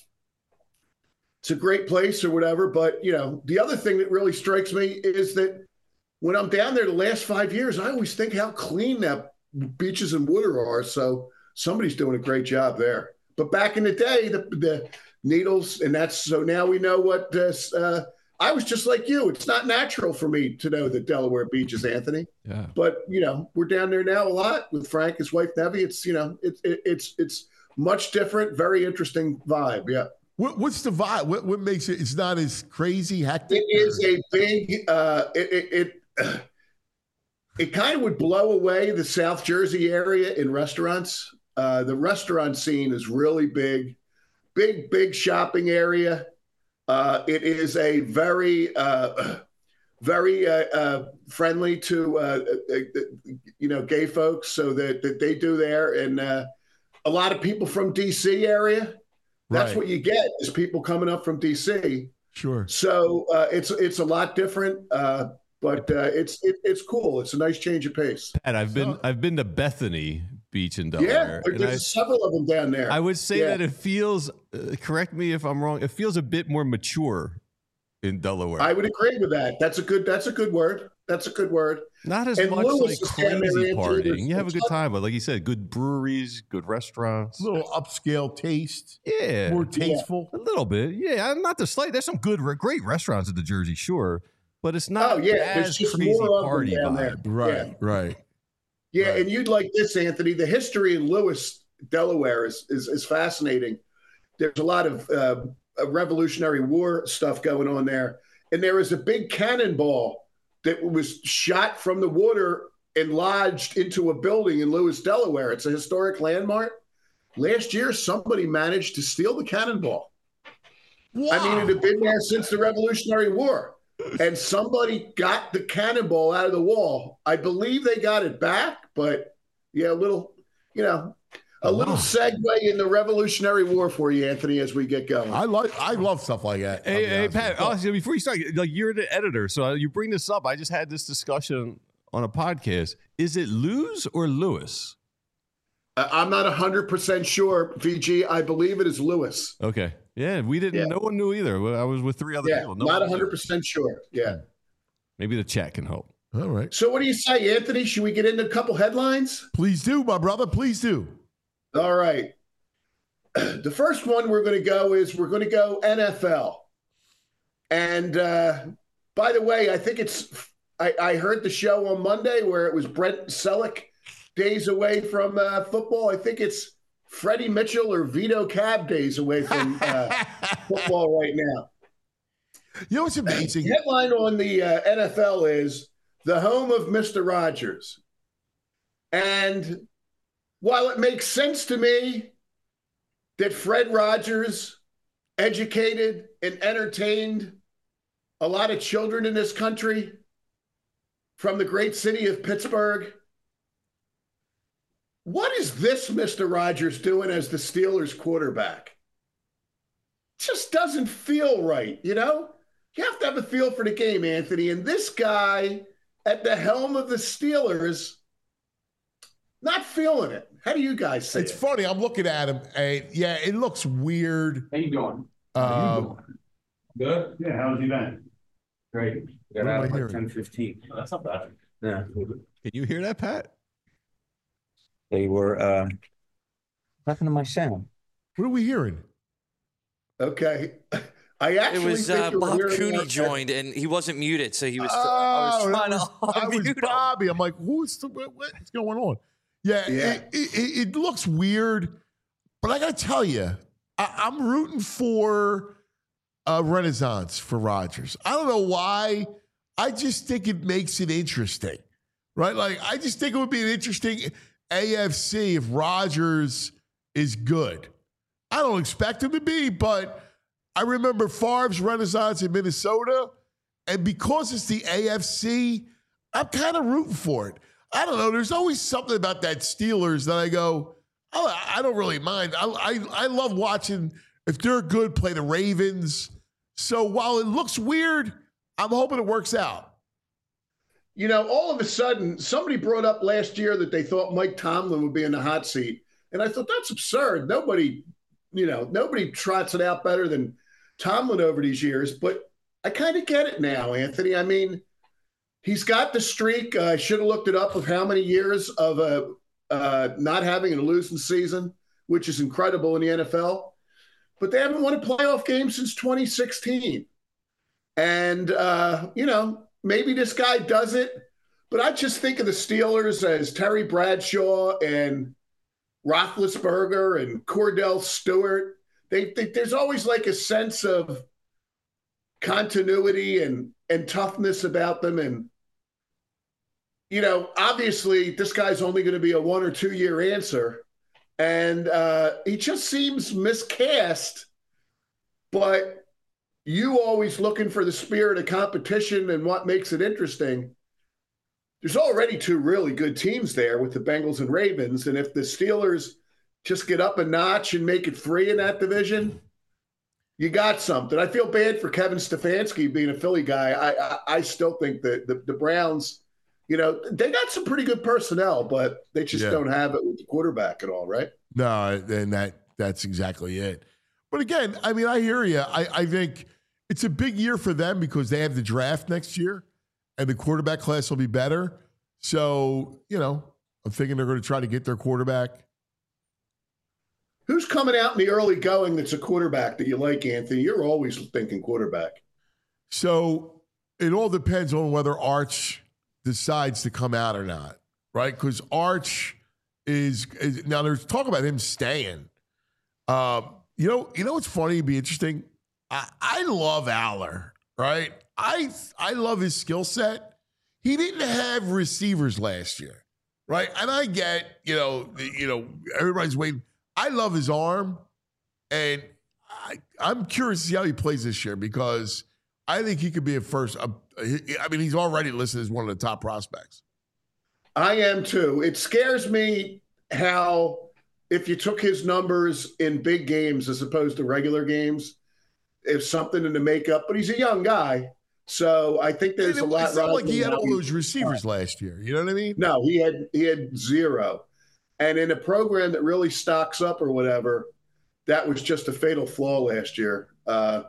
It's a great place or whatever, but, you know, the other thing that really strikes me is that when I'm down there the last five years, I always think how clean that beaches and water are. So somebody's doing a great job there. But back in the day, the, the needles, and that's so now we know what this. Uh, I was just like you. It's not natural for me to know the Delaware beaches, Anthony. Yeah. But you know, we're down there now a lot with Frank, his wife Nevi. It's you know, it's it, it's it's much different, very interesting vibe. Yeah. What, what's the vibe? What, what makes it? It's not as crazy, hectic. It is a big. Uh, it it it, uh, it kind of would blow away the South Jersey area in restaurants. Uh, the restaurant scene is really big, big, big shopping area. Uh, it is a very, uh, very uh, uh, friendly to, uh, uh, you know, gay folks. So that, that they do there. And uh, a lot of people from D C area. That's Right. what you get is people coming up from D C. Sure. So uh, it's it's a lot different, uh, but uh, it's it, it's cool. It's a nice change of pace. And I've been So- I've been to Bethany Beach in Yeah, Delaware. there- and I, there's several of them down there. I would say Yeah. that it feels. Uh, correct me if I'm wrong. It feels a bit more mature in Delaware. I would agree with that. That's a good. That's a good word. That's a good word. Not as And much Lewis like is down there, crazy Andrew. partying. There's- You have a good there's- time, but like you said, good breweries, good restaurants. A little upscale taste. Yeah, More tasteful. a little bit. Yeah, I'm not the slight. There's some good, great restaurants at the Jersey Shore, but it's not. Oh yeah, there's as just crazy more of them party down vibe. there. Right. Yeah. Right. Yeah, Right. and you'd like this, Anthony. The history in Lewis, Delaware, is is, is fascinating. There's a lot of uh, Revolutionary War stuff going on there, and there is a big cannonball that was shot from the water and lodged into a building in Lewis, Delaware. It's a historic landmark. Last year, somebody managed to steal the cannonball. I mean, it had been there since the Revolutionary War. And somebody got the cannonball out of the wall. I believe they got it back, but yeah, a little, you know, a little segue in the Revolutionary War for you, Anthony, as we get going. I like. I love stuff like that. I'll Hey, be hey honest Pat, with you. honestly, before you start, like you're the editor, so you bring this up. I just had this discussion on a podcast. Is it Lewis or Lewis? I- I'm not one hundred percent sure, V G. I believe it is Lewis. Okay. Yeah, we didn't. Yeah. No one knew either. I was with three other Yeah, people. No not one knew. one hundred percent sure. Yeah. Maybe the chat can help. All right. So what do you say, Anthony? Should we get into a couple headlines? Please do, my brother. Please do. All right. The first one we're going to go is we're going to go N F L. And uh, by the way, I think it's, I, I heard the show on Monday where it was Brent Selleck days away from uh, football. I think it's Freddie Mitchell or Vito Cab days away from uh, football right now. You know what's amazing? The headline on the uh, N F L is the home of Mister Rogers. And while it makes sense to me that Fred Rogers educated and entertained a lot of children in this country from the great city of Pittsburgh, what is this Mister Rogers doing as the Steelers quarterback? Just doesn't feel right, you know? You have to have a feel for the game, Anthony. And this guy at the helm of the Steelers, not feeling it. How do you guys say It's it? funny. I'm looking at him, and yeah, it looks weird. How you doing? Um, Good? Yeah, how's he been? Great. What am I hearing? ten fifteen. That's not bad. Yeah. Can you hear that, Pat? They were, uh, what happened to my sound? What are we hearing? Okay. I actually it was think uh, you'll Bob hear Cooney more- joined, and he wasn't muted, so he was. Oh, I was trying that was, to I was unmute him. Bobby. I'm like, who's the, what, what's going on? Yeah, Yeah. It, it, it looks weird, but I got to tell you, I, I'm rooting for a renaissance for Rodgers. I don't know why. I just think it makes it interesting, right? Like, I just think it would be an interesting A F C if Rodgers is good. I don't expect him to be, but I remember Favre's renaissance in Minnesota, and because it's the A F C, I'm kind of rooting for it. I don't know. There's always something about that Steelers that I go, oh, I don't really mind. I, I I love watching, if they're good, play the Ravens. So while it looks weird, I'm hoping it works out. You know, all of a sudden, somebody brought up last year that they thought Mike Tomlin would be in the hot seat. And I thought, that's absurd. Nobody, you know, nobody trots it out better than Tomlin over these years. But I kind of get it now, Anthony. I mean, he's got the streak. Uh, I should have looked it up of how many years of uh, uh, not having a losing season, which is incredible in the N F L. But they haven't won a playoff game since twenty sixteen. And, uh, you know, maybe this guy does it. But I just think of the Steelers as Terry Bradshaw and Roethlisberger and Cordell Stewart. They, they there's always like a sense of continuity and and toughness about them. And, you know, obviously this guy's only going to be a one or two year answer. And uh, he just seems miscast. But you always looking for the spirit of competition and what makes it interesting. There's already two really good teams there with the Bengals and Ravens. And if the Steelers just get up a notch and make it three in that division, you got something. I feel bad for Kevin Stefanski being a Philly guy. I I, I still think that the, the Browns, you know, they got some pretty good personnel, but they just Yeah. don't have it with the quarterback at all, right? No, and that that's exactly it. But again, I mean, I hear you. I, I think it's a big year for them because they have the draft next year and the quarterback class will be better. So, you know, I'm thinking they're going to try to get their quarterback. Who's coming out in the early going that's a quarterback that you like, Anthony? You're always thinking quarterback. So it all depends on whether Arch decides to come out or not, right? Because Arch is, is now there's talk about him staying. Um, you know, you know what's funny? It'd be interesting. I, I love Aller, right? I I love his skill set. He didn't have receivers last year, right? And I get, you know, the, you know, everybody's waiting. I love his arm, and I, I'm curious to see how he plays this year because I think he could be a first. A, I mean, he's already listed as one of the top prospects. I am too. It scares me how if you took his numbers in big games as opposed to regular games, if something in the makeup, but he's a young guy. So I think there's And a it, lot. it's not like he had all riding those receivers last year. You know what I mean? No, he had he had zero. And in a program that really stocks up or whatever, that was just a fatal flaw last year. Uh,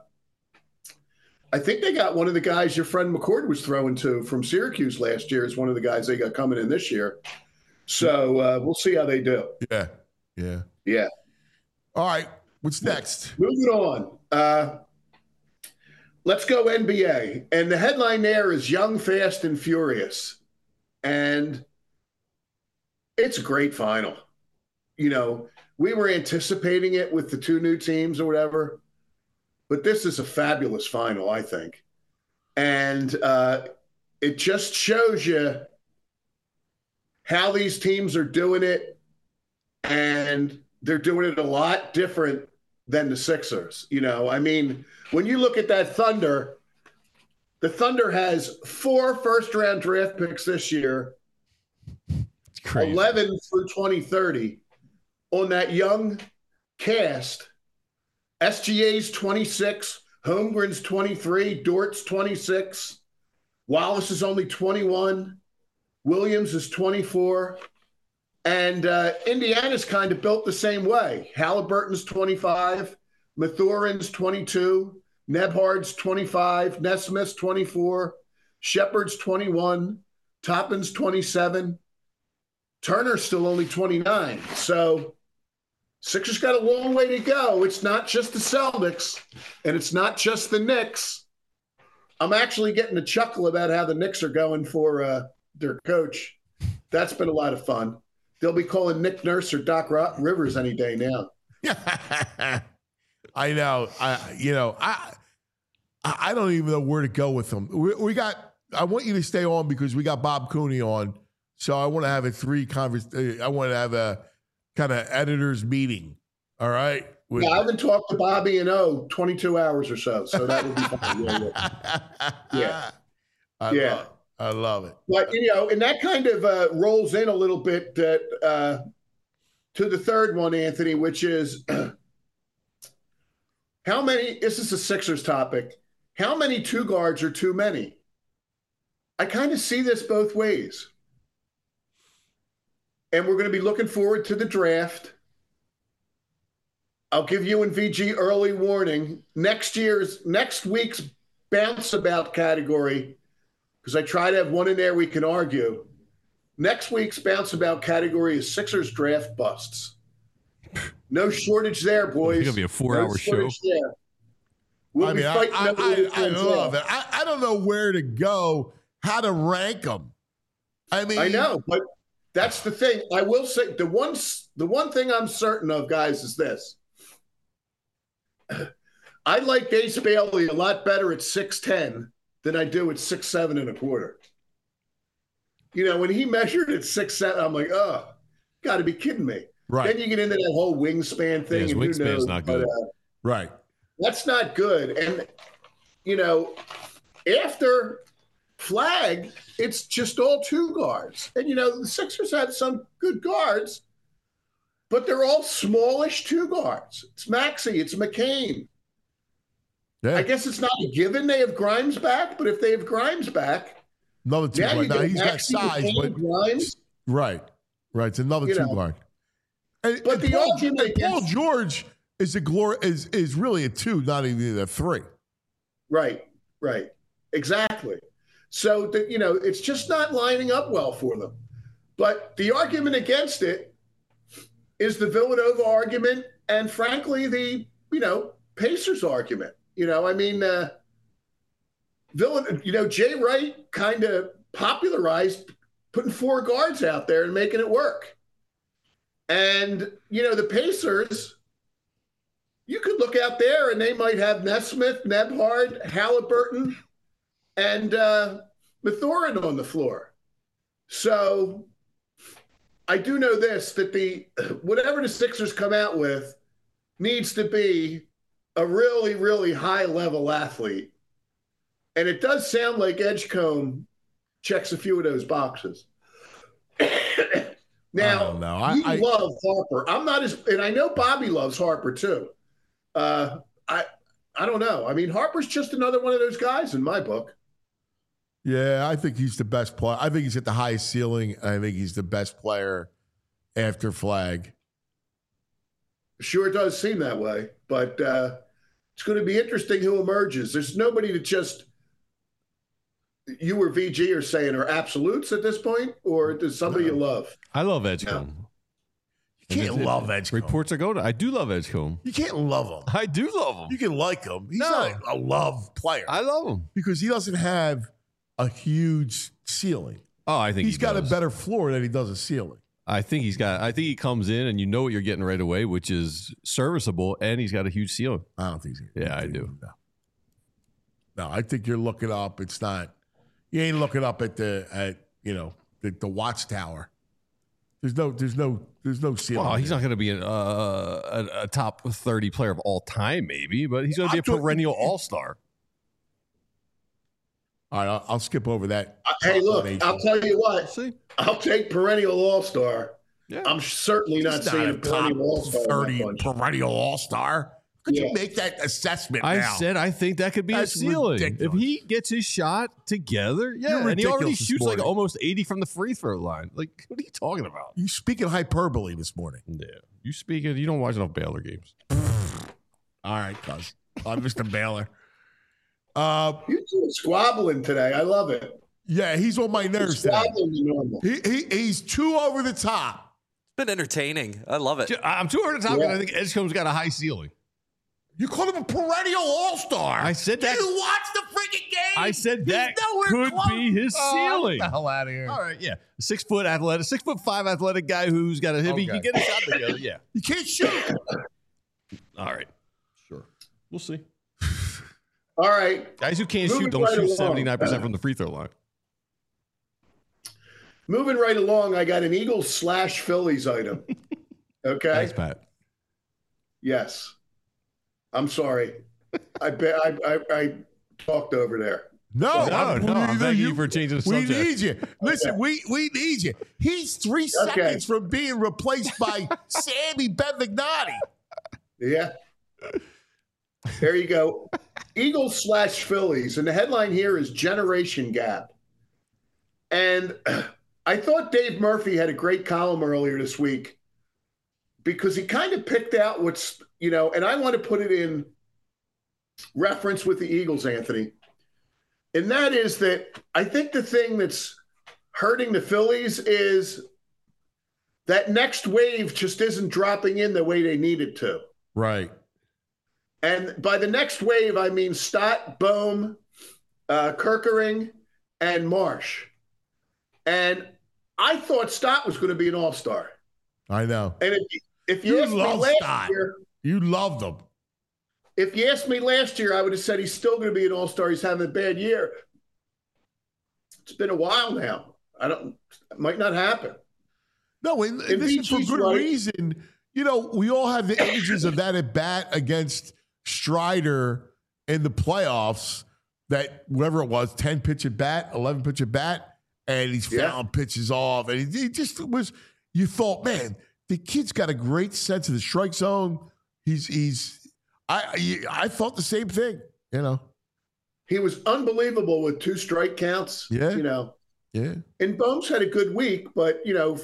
I think they got one of the guys your friend McCord was throwing to from Syracuse last year is one of the guys they got coming in this year. So uh, we'll see how they do. Yeah. Yeah. Yeah. All right. What's next? Moving on. Uh, let's go N B A. And the headline there is Young, Fast, and Furious. And it's a great final. You know, we were anticipating it with the two new teams or whatever, but this is a fabulous final, I think. And uh, it just shows you how these teams are doing it, and they're doing it a lot different than the Sixers. You know, I mean, when you look at that Thunder, the Thunder has four first-round draft picks this year, Crazy. eleven through twenty thirty on that young cast. S G A's twenty-six, Holmgren's twenty-three, Dort's twenty-six, Wallace is only twenty-one, Williams is twenty-four, and uh, Indiana's kind of built the same way. Halliburton's twenty-five, Mathurin's twenty-two, Nebhard's twenty-five, Nesmith's twenty-four, Shepard's twenty-one, Toppin's twenty-seven, Turner's still only twenty-nine. So Sixers got a long way to go. It's not just the Celtics, and it's not just the Knicks. I'm actually getting a chuckle about how the Knicks are going for uh, their coach. That's been a lot of fun. They'll be calling Nick Nurse or Doc Rivers any day now. I know. I you know I I don't even know where to go with them. We, we got. I want you to stay on because we got Bob Cooney on. So I want to have a three convers. I want to have a kind of editors meeting. All right. With, yeah, I haven't talked to Bobby in oh twenty-two hours or so. So that would be fine. Yeah. Yeah. yeah. I yeah. Love, I love it. But you know, and that kind of uh, rolls in a little bit that, uh, to the third one, Anthony, which is how many. This is a Sixers topic. How many two guards are too many? I kind of see this both ways. And we're going to be looking forward to the draft. I'll give you and V G early warning. Next year's, next week's bounce about category, because I try to have one in there we can argue. Next week's bounce about category is Sixers draft busts. No shortage there, boys. It's going to be a four-hour no show. There. We'll I mean, I, I, I, I love it. I, I don't know where to go, how to rank them. I mean, I know, but that's the thing. I will say the one, the one thing I'm certain of, guys, is this. I like Ace Bailey a lot better at six ten than I do at six seven and a quarter. You know, when he measured at six seven, I'm like, oh, got to be kidding me. Right. Then you get into that whole wingspan thing. Yeah, and wingspan's who knows, not good. But, uh, right. That's not good. And, you know, after Flag, it's just all two guards. And, you know, the Sixers had some good guards, but they're all smallish two guards. It's Maxey, it's McCain. Yeah. I guess it's not a given they have Grimes back, but if they have Grimes back, another two now guard. you Now get he's got Maxey, size, McCain, but Grimes. right, right. It's another You two know. guard. And, But and the Paul, argument and Paul against- George is a glory is is really a two, not even a three. Right, right. Exactly. So, the, you know, it's just not lining up well for them. But the argument against it is the Villanova argument and, frankly, the, you know, Pacers argument. You know, I mean, uh, Villan- you know, Jay Wright kind of popularized putting four guards out there and making it work. And, you know, the Pacers, you could look out there and they might have Nesmith, Nebhard, Halliburton, and uh, Mathurin on the floor. So I do know this, that the whatever the Sixers come out with needs to be a really, really high-level athlete. And it does sound like Edgecombe checks a few of those boxes. Now, I I, you I, love Harper. I'm not as, and I know Bobby loves Harper too. Uh, I, I don't know. I mean, Harper's just another one of those guys in my book. Yeah, I think he's the best player. I think he's at the highest ceiling. I think he's the best player after Flag. Sure does seem that way, but uh, it's going to be interesting who emerges. There's nobody that just you or V G are saying are absolutes at this point, or does somebody No. you love? I love Edgecombe. You can't And it- love Edgecombe. Reports are going. I do love Edgecombe. You can't love him. I do love him. You can like him. He's No. not a love player I love him. because he doesn't have a huge ceiling. Oh, I think He's he got does. a better floor than he does a ceiling. I think he's got. I think he comes in and you know what you're getting right away, which is serviceable, and he's got a huge ceiling. I don't think so. Yeah, I do. No. No, I think you're looking up. It's not. You ain't looking up at the at you know the, the watchtower. There's no. There's no. There's no ceiling. Well, he's there. not going to be an, uh, a, a top thirty player of all time, maybe, but he's going to be I'm a talking- perennial all star. All right, I'll, I'll skip over that. Uh, hey, look, explanation. I'll tell you what. See, I'll take perennial all-star. yeah. I'm certainly not He's seeing not a a top perennial all-star. in that thirty bunch. perennial all star. Could Yeah. you make that assessment I now? said I think that could be That's a ceiling ridiculous. if he gets his shot together. Yeah, You're and he already ridiculous this shoots like morning. almost eighty from the free throw line. Like, what are you talking about? You speaking hyperbole this morning. Yeah, you speak it. You don't watch enough Baylor games. All right, cuz. I'm Mister Baylor. Uh, You two are squabbling today. I love it. yeah, he's on my nerves today. Squabbling the normal. He, he he's too over the top. been entertaining. I love it. I'm too hard to talk Yeah. about. I think Edgecombe's got a high ceiling. You called him a perennial all-star. I said that. Did you watch the freaking game? I said He's that nowhere could close. be his Oh, ceiling. get the hell out of here. All right, yeah. A six foot athletic, six foot five athletic guy who's got a hip. He Okay. can get a shot together. Yeah. You can't shoot. All right. Sure. We'll see. All right. Guys who can't Moving shoot don't right shoot along. seventy-nine percent from the free throw line. Moving right along, I got an Eagles slash Phillies item. Okay. Thanks, Pat. Yes. I'm sorry. I bet I, I I talked over there. No, No, I'm, no, I'm thanking you for changing the We subject. need you. Listen, we we need you. He's three Okay. seconds from being replaced by Sammy Bevignati. Yeah. There you go. Eagles slash Phillies. And the headline here is Generation Gap. And I thought Dave Murphy had a great column earlier this week because he kind of picked out what's, you know, and I want to put it in reference with the Eagles, Anthony. And that is that I think the thing that's hurting the Phillies is that next wave just isn't dropping in the way they need it to. Right. And by the next wave, I mean Stott, Bohm, uh, Kirkering, and Marsh. And I thought Stott was going to be an all-star. I know. And if, if you, You asked me love last Stott. year, You loved him. if you asked me last year, I would have said he's still going to be an all-star. He's having a bad year. It's been a while now. I don't. It might not happen. No, and, and If this he is for chooses good right- reason. You know, we all have the images of that at bat against Strider in the playoffs. That whatever it was, ten pitch at bat, eleven pitch at bat, and he's Yeah. fouling pitches off, and he, he just was. You thought, man, the kid's got a great sense of the strike zone. He's he's. I I thought the same thing. You know. He was unbelievable with two strike counts. Yeah. You know, Yeah. and Bohm's had a good week, but, you know,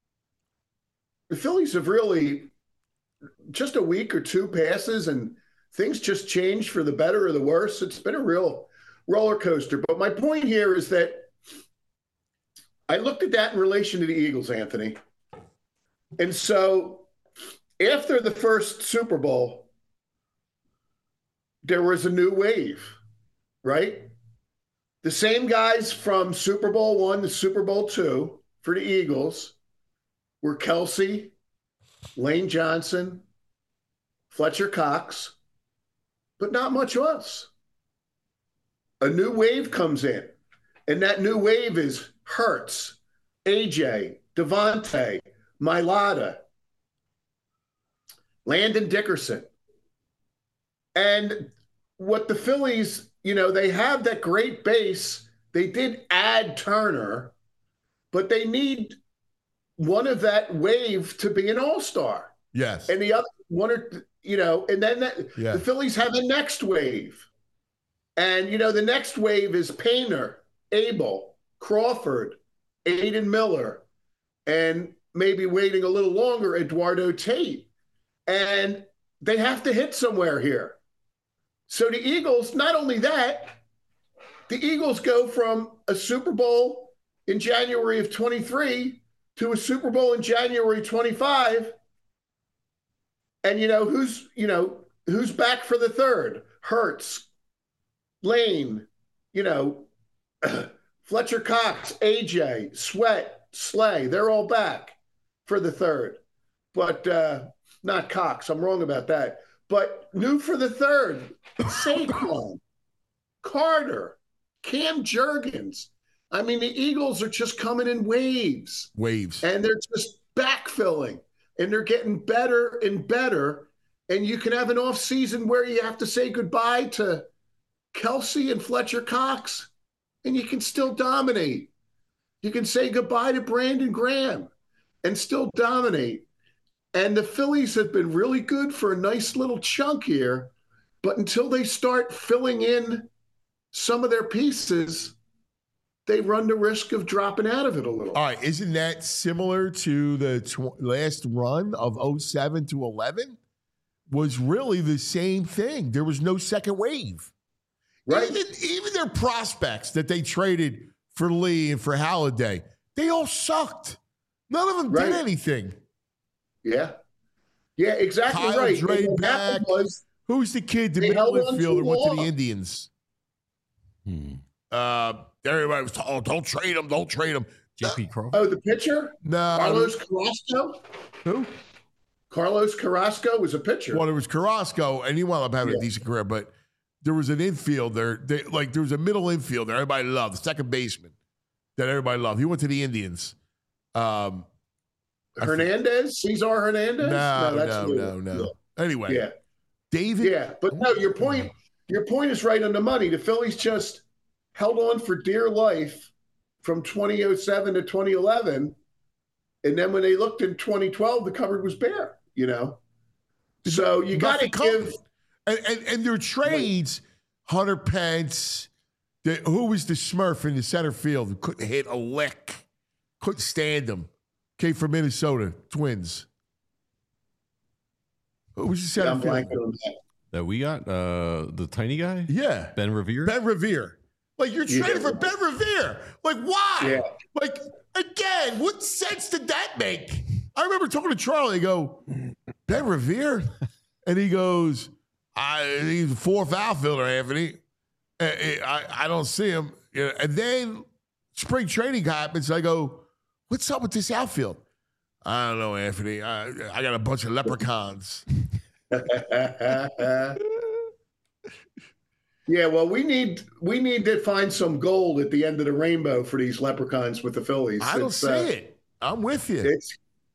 the Phillies have really just a week or two passes and things just changed for the better or the worse. It's been a real roller coaster. But my point here is that I looked at that in relation to the Eagles, Anthony. And so after the first Super Bowl, there was a new wave, right? The same guys from Super Bowl one to Super Bowl two for the Eagles were Kelsey, Lane Johnson, Fletcher Cox, but not much else. A new wave comes in, and that new wave is Hurts, A J, Devontae, Mailata, Landon Dickerson. And what the Phillies, you know, they have that great base. They did add Turner, but they need one of that wave to be an all-star. Yes. And the other one or, you know, and then that, Yeah. the Phillies have a next wave. And, you know, the next wave is Painter, Abel, Crawford, Aiden Miller, and maybe waiting a little longer, Eduardo Tate. And they have to hit somewhere here. So the Eagles, not only that, the Eagles go from a Super Bowl in January of twenty-three to a Super Bowl in January twenty-five. And, you know, who's, you know, who's back for the third? Hurts, Lane, you know, Fletcher Cox, A J, Sweat, Slay. They're all back for the third. But uh, not Cox. I'm wrong about that. But new for the third, Saquon, Carter, Cam Jurgens. I mean, the Eagles are just coming in waves. Waves. And they're just backfilling. And they're getting better and better. And you can have an off season where you have to say goodbye to Kelsey and Fletcher Cox, and you can still dominate. You can say goodbye to Brandon Graham and still dominate. And the Phillies have been really good for a nice little chunk here, but until they start filling in some of their pieces, they run the risk of dropping out of it a little. All right, isn't that similar to the tw- last run of oh seven to eleven? Was really the same thing. There was no second wave. Right. Even, even their prospects that they traded for Lee and for Halliday, they all sucked. None of them Right. did anything. Yeah. Yeah, exactly Kyle right. Dre And what back. happened was Who's the kid, the they middle held on infielder, too went to the long. Indians? Hmm. Uh, everybody was, oh, don't trade him, don't trade him. J P Crawford. Oh, the pitcher? No. Carlos Carrasco? Who? Carlos Carrasco was a pitcher. Well, it was Carrasco, and he wound up having Yeah. a decent career, but there was an infielder, they, like there was a middle infielder everybody loved, the second baseman that everybody loved. He went to the Indians. Um, Hernandez? Cesar Hernandez? No, that's no, new. no, no. Anyway, Yeah. David. Yeah, but no, your point your point is right on the money. The Phillies just held on for dear life from twenty oh seven to twenty eleven, and then when they looked in twenty twelve, the cupboard was bare, you know? So you got to Nothing comes. give And, and, and their trades, Hunter Pence, the, who was the Smurf in the center field who couldn't hit a lick, couldn't stand him, came from Minnesota, Twins. Who was the center I'm field? blanking on that. That we got uh, the tiny guy. Yeah, Ben Revere. Ben Revere. Like you're You trading get- for Ben Revere. Like why? Yeah. Like again, what sense did that make? I remember talking to Charlie. I go, Ben Revere, and he goes, I, he's a fourth outfielder, Anthony. I, I, I don't see him. You know, and then spring training happens. I go, what's up with this outfield? I don't know, Anthony. I, I got a bunch of leprechauns. Yeah, well, we need we need to find some gold at the end of the rainbow for these leprechauns with the Phillies. I don't It's, see uh, it. I'm with you. It's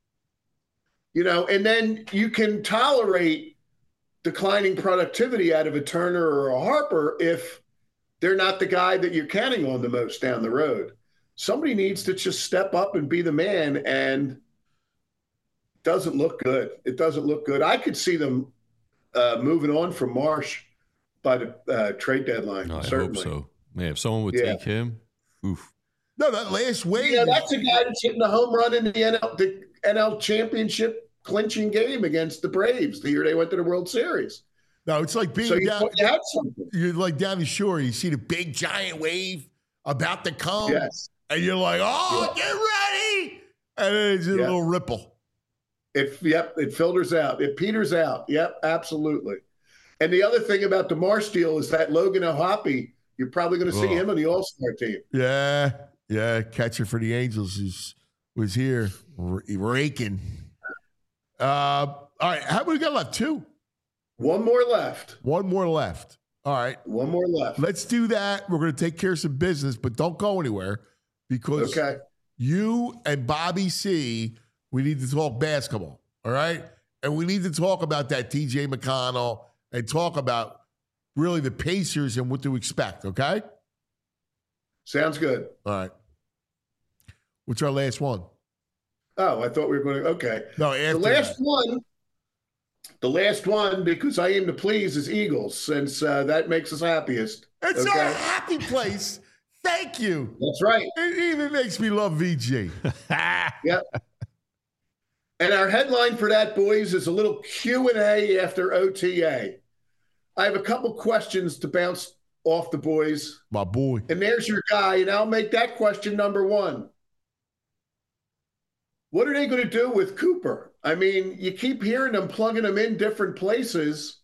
you know, and then you can tolerate declining productivity out of a Turner or a Harper if they're not the guy that you're counting on the most down the road. Somebody needs to just step up and be the man, and it doesn't look good. It doesn't look good. I could see them uh, moving on from Marsh by the uh, trade deadline. No, I certainly. hope so. Man, if someone would Yeah. take him, oof. No, that last wave. Yeah, that's a guy that's hitting a home run in the N L, the N L championship clinching game against the Braves the year they went to the World Series. No, it's like being So you, down, you had something. you're like down the shore. You see the big giant wave about to come, Yes. and you're like, "Oh, get ready!" And then it's just Yeah. a little ripple. It yep, it filters out. It peters out. Yep, absolutely. And the other thing about the Marsh deal is that Logan O'Hoppe, you're probably going to see Oh. him on the All-Star team. Yeah, yeah. Catcher for the Angels is was here r- raking. Uh, all right, how many we got left? Two. One more left. One more left. All right, One more left. let's do that. We're going to take care of some business, but don't go anywhere because Okay. you and Bobby C, we need to talk basketball, all right? And we need to talk about that T J McConnell and talk about really the Pacers and what to expect, okay? Sounds good. All right. What's our last one? Oh, I thought we were going to. Okay. No, after The last that. one, the last one, because I aim to please, is Eagles, since uh, that makes us happiest. It's okay? our happy place. Thank you. That's right. It even makes me love V G. Yep. And our headline for that, boys, is a little Q and A after O T A. I have a couple questions to bounce off the boys. My boy. And there's your guy, and I'll make that question number one. What are they going to do with Cooper? I mean, you keep hearing them plugging him in different places.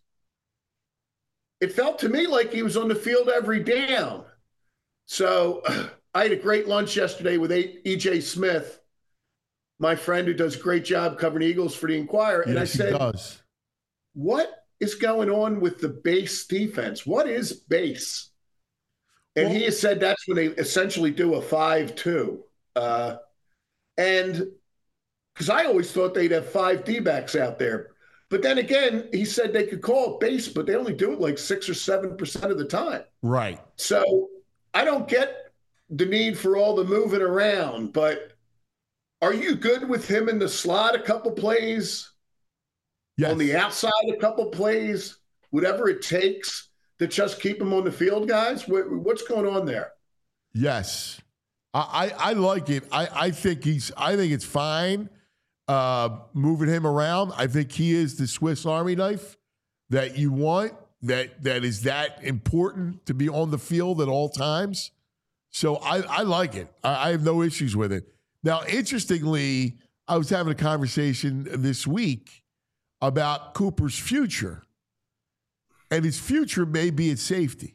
It felt to me like he was on the field every down. So I had a great lunch yesterday with E J Smith, my friend who does a great job covering Eagles for the Inquirer. And Yes, I said, he does. what is going on with the base defense? What is base? And Well- he has said that's when they essentially do a five two. Uh, and because I always thought they'd have five D-backs out there. But then again, he said they could call it base, but they only do it like six or seven percent of the time. Right. So I don't get the need for all the moving around, but are you good with him in the slot a couple plays? Yes. On the outside a couple plays, whatever it takes to just keep him on the field, guys? What, what's going on there? Yes. I, I, I like it. I, I think he's I think it's fine uh, moving him around. I think he is the Swiss Army knife that you want, that that is that important to be on the field at all times. So I, I like it. I, I have no issues with it. Now, interestingly, I was having a conversation this week about Cooper's future. And his future may be at safety.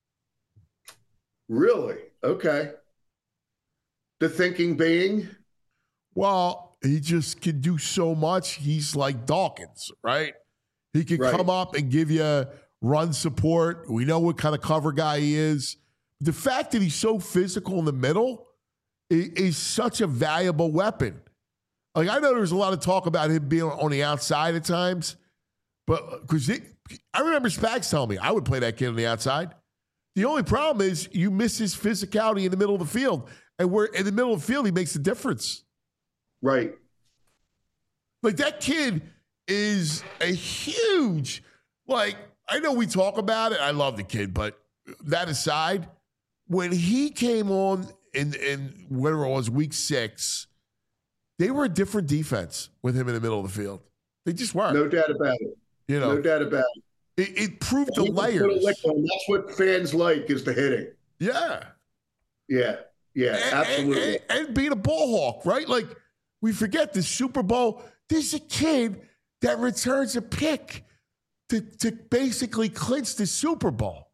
Really? Okay. The thinking being? Well, he just can do so much. He's like Dawkins, right? He can Right. come up and give you run support. We know what kind of cover guy he is. The fact that he's so physical in the middle is, is such a valuable weapon. Like, I know there's a lot of talk about him being on the outside at times, but because I remember Spags telling me I would play that kid on the outside. The only problem is you miss his physicality in the middle of the field. And where in the middle of the field, he makes a difference. Right. Like, that kid is a huge, like, I know we talk about it. I love the kid, but that aside, when he came on in, in whatever it was, week six, they were a different defense with him in the middle of the field. They just were. No doubt about it. You know, no doubt about it. It, it proved the He can put a layers. lick on. That's what fans like, is the hitting. Yeah. Yeah. Yeah, And- absolutely. And, and, and being a ball hawk, right? Like, we forget the Super Bowl. There's a kid that returns a pick to, to basically clinch the Super Bowl.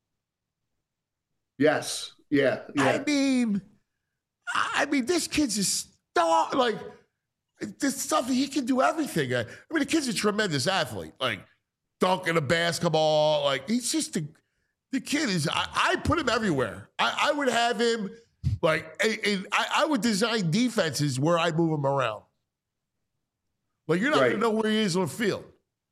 Yes. Yeah. Yeah. I mean, I mean, this kid's a star. Like, this stuff, he can do everything. I mean, the kid's a tremendous athlete. Like, dunking a basketball. Like, he's just a, the kid is, I, I put him everywhere. I, I would have him, like, a, a, I, I would design defenses where I move him around. Like, you're not Right. going to know where he is on the field.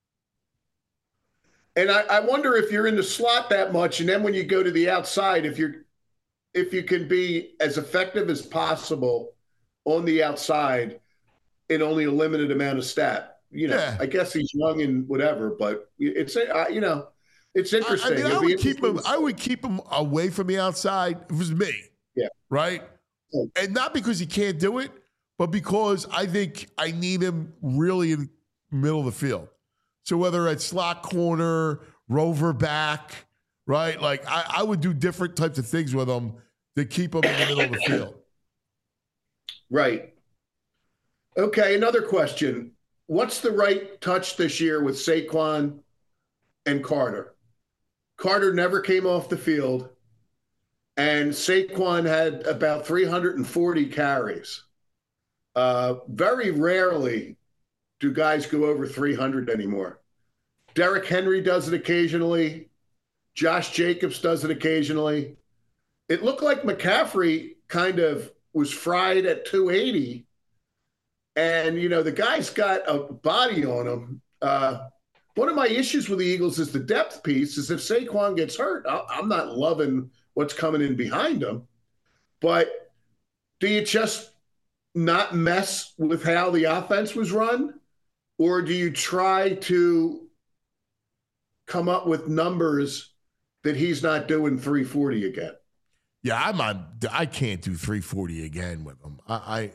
And I, I wonder if you're in the slot that much, and then when you go to the outside, if you're if you can be as effective as possible on the outside in only a limited amount of stat. You know, Yeah. I guess he's young and whatever, but it's uh, you know, it's I, I interesting. mean, I It'll be would keep him. interesting. I would keep him away from the outside. If it was me, Yeah. right, and not because he can't do it, but because I think I need him really in the middle of the field. So whether it's slot corner, rover back, right, like I, I would do different types of things with him to keep him in the middle of the field. Right. Okay, another question. What's the right touch this year with Saquon and Carter? Carter never came off the field, and Saquon had about three hundred forty carries. Uh, very rarely do guys go over three hundred anymore. Derrick Henry does it occasionally. Josh Jacobs does it occasionally. It looked like McCaffrey kind of was fried at two eighty. And, you know, the guy's got a body on him. Uh, one of my issues with the Eagles is the depth piece is if Saquon gets hurt, I- I'm not loving what's coming in behind him. But do you just not mess with how the offense was run? Or do you try to come up with numbers that he's not doing three forty again? Yeah, I'm on. I can't do three forty again with him. I, I,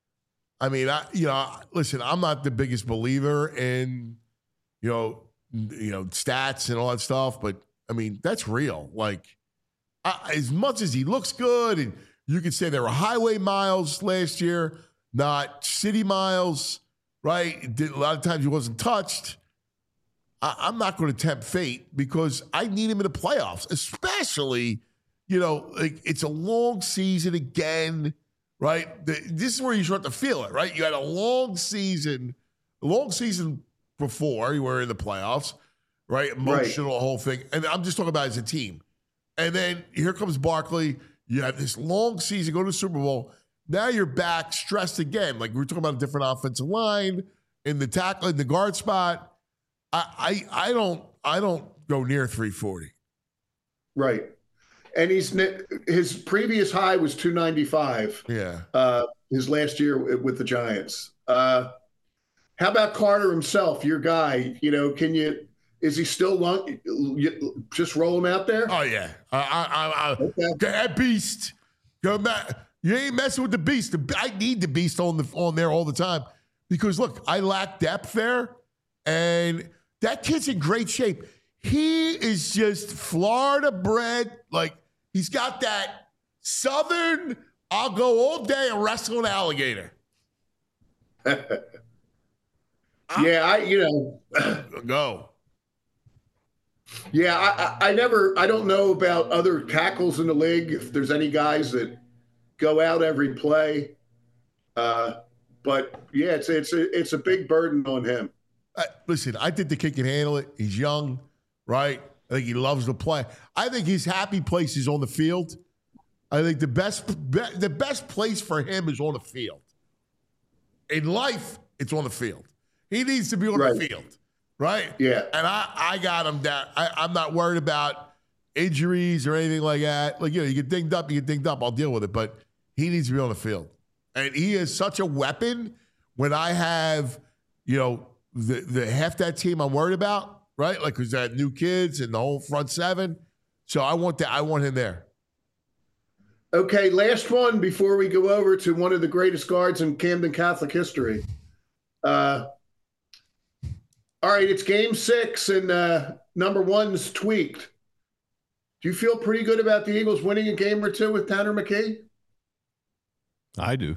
I mean, I, you know, listen, I'm not the biggest believer in, you know, you know, stats and all that stuff, but I mean, that's real. Like, I, as much as he looks good, and you could say there were highway miles last year, not city miles, right? Did, a lot of times he wasn't touched. I, I'm not going to tempt fate because I need him in the playoffs, especially. You know, like it's a long season again, right? The, this is where you start to feel it, right? You had a long season, a long season before you were in the playoffs, right? Emotional, whole thing. And I'm just talking about as a team. And then here comes Barkley. You have this long season, go to the Super Bowl. Now you're back stressed again. Like we were talking about a different offensive line in the tackle, in the guard spot. I, I, I don't, I don't go near three forty. Right. And he's his previous high was two ninety-five. Yeah. Uh, his last year with the Giants. Uh, how about Carter himself, your guy? You know, can you? Is he still long? You, just roll him out there. Oh yeah. I, I, I, okay. That beast. Go back. You ain't messing with the beast. I need the beast on the on there all the time because look, I lack depth there, and that kid's in great shape. He is just Florida bred, like. He's got that Southern, I'll go all day and wrestle an alligator. Yeah, I you know go. Yeah, I, I I never I don't know about other tackles in the league if there's any guys that go out every play. Uh, but yeah, it's it's a it's a big burden on him. Uh, listen, I think the kid can handle it. He's young, right? I think he loves to play. I think his happy place is on the field. I think the best be, the best place for him is on the field. In life, it's on the field. He needs to be on Right. the field, right? Yeah. And I, I got him down. I, I'm not worried about injuries or anything like that. Like, you know, you get dinged up, you get dinged up. I'll deal with it. But he needs to be on the field. And he is such a weapon when I have, you know, the, the half that team I'm worried about, right? Like, because that new kids and the whole front seven. So I want that. I want him there. Okay, last one before we go over to one of the greatest guards in Camden Catholic history. Uh, all right, it's game six, and uh, number one's tweaked. Do you feel pretty good about the Eagles winning a game or two with Tanner McKee? I do.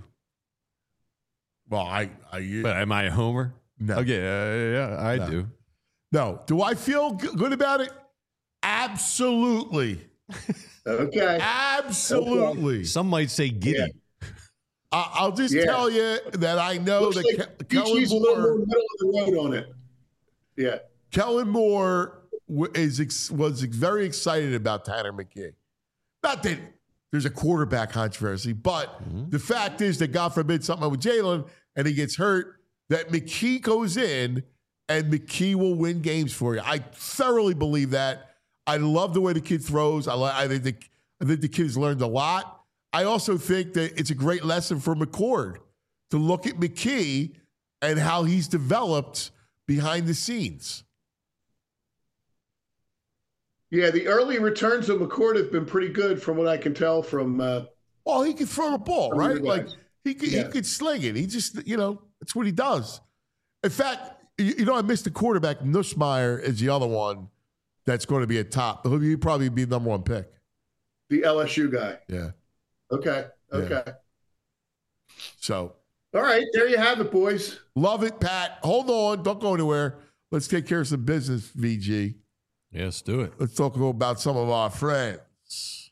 Well, I, I but am I a homer? No. Okay, uh, yeah, I No. do. No. Do I feel g- good about it? Absolutely. Okay. Absolutely. Some might say giddy. Yeah. I- I'll just Yeah. tell you that I know Looks that like Ke- Kellen Peachy's a little Moore, more middle of the road on it. Yeah. Kellen Moore w- is ex- was very excited about Tanner McKee. Not that there's a quarterback controversy, but the fact is that God forbid something with Jalen and he gets hurt, that McKee goes in and McKee will win games for you. I thoroughly believe that. I love the way the kid throws. I, li- I think the, I think the kid's learned a lot. I also think that it's a great lesson for McCord to look at McKee and how he's developed behind the scenes. Yeah, the early returns of McCord have been pretty good from what I can tell from uh, Well, he can throw the ball, From your right? Like guys. he could, Yeah. he could sling it. He just, you know, that's what he does. In fact, you, you know, I missed the quarterback. Nussmeier is the other one that's going to be a top. He'll be- probably be the number one pick. the L S U guy. Yeah. Okay. Okay. So All right. There you have it, boys. love it, Pat. Hold on. Don't go anywhere. Let's take care of some business, V G. Yes, do it. Let's talk about some of our friends.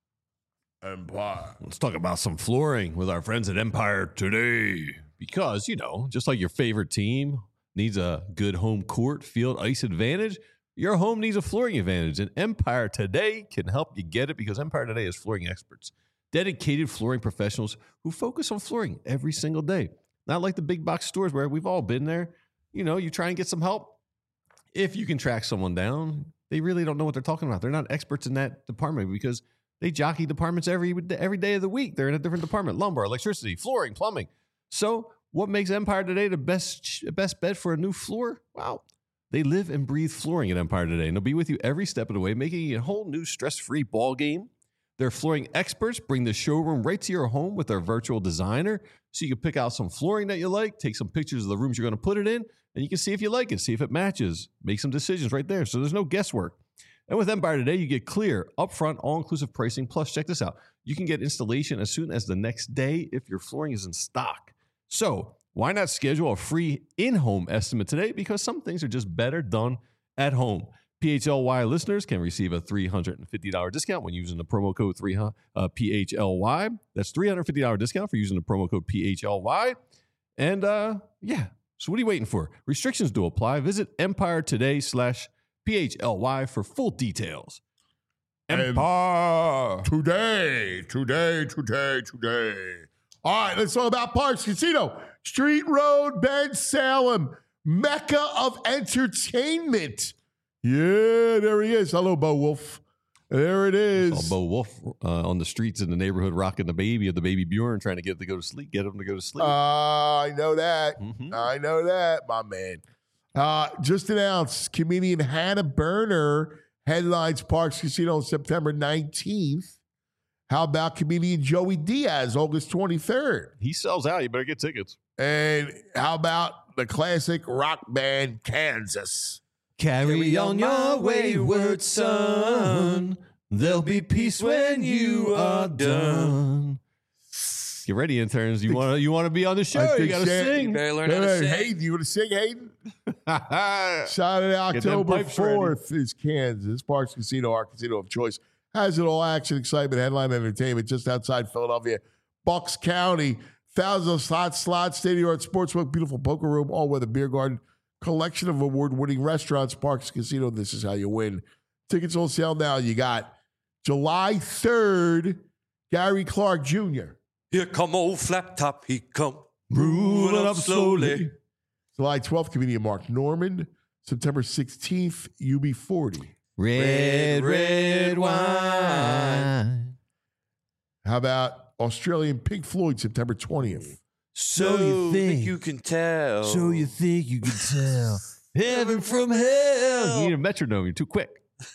Empire. Let's talk about some flooring with our friends at Empire today. Because, you know, just like your favorite team needs a good home court, field, ice advantage, your home needs a flooring advantage. And Empire Today can help you get it because Empire Today is flooring experts, dedicated flooring professionals who focus on flooring every single day. Not like the big box stores where we've all been there. You know, you try and get some help. If you can track someone down, they really don't know what they're talking about. They're not experts in that department because they jockey departments every every day of the week. They're in a different department: lumber, electricity, flooring, plumbing. So, what makes Empire Today the best best bet for a new floor? Wow, they live and breathe flooring at Empire Today, and they'll be with you every step of the way, making it a whole new stress-free ball game. Their flooring experts bring the showroom right to your home with their virtual designer, so you can pick out some flooring that you like, take some pictures of the rooms you're going to put it in, and you can see if you like it, see if it matches, make some decisions right there. So there's no guesswork. And with Empire Today, you get clear, upfront, all-inclusive pricing. Plus, check this out. You can get installation as soon as the next day if your flooring is in stock. So why not schedule a free in-home estimate today? Because some things are just better done at home. P H L Y listeners can receive a three hundred fifty dollars discount when using the promo code three, uh, P H L Y. That's three hundred fifty dollars discount for using the promo code P H L Y. And uh, yeah, so what are you waiting for? Restrictions do apply. Visit Empire Today slash P H L Y for full details. Empire. Today, today, today, today. All right, let's talk about Parks Casino. Street Road, Ben Salem, Mecca of entertainment. Yeah, there he is. Hello, Bo Wolf. There it is. Saw Bo Wolf uh, on the streets in the neighborhood rocking the baby of the baby Bjorn, trying to get it to go to sleep, get him to go to sleep. Uh, I know that. Mhm. I know that, my man. Uh, just announced comedian Hannah Berner headlines Parks Casino on September nineteenth. How about comedian Joey Diaz, August twenty-third? He sells out. You better get tickets. And how about the classic rock band Kansas? Carry on your wayward son. There'll be peace when you are done. Get ready, interns. You want to you want to be on the show? I You think got to Shan- sing. You better learn Hey, how to hey, sing. Hayden, you want to sing, Hayden? Saturday, Get them October pipes ready. fourth is Kansas. Parks Casino, our casino of choice. Has it all: action, excitement, headline entertainment just outside Philadelphia. Bucks County, thousands of slots, slots, state-of-the-art sportsbook, beautiful poker room, all-weather beer garden, collection of award-winning restaurants. Parks Casino, this is how you win. Tickets on sale now. You got July third, Gary Clark Junior Here come old flat top, he come. Moving up slowly. July twelfth, comedian Mark Norman. September sixteenth, U B forty. Red, red wine. How about Australian Pink Floyd, September twentieth? So you think you can tell. So you think you can tell heaven from hell? You need a metronome. You're too quick.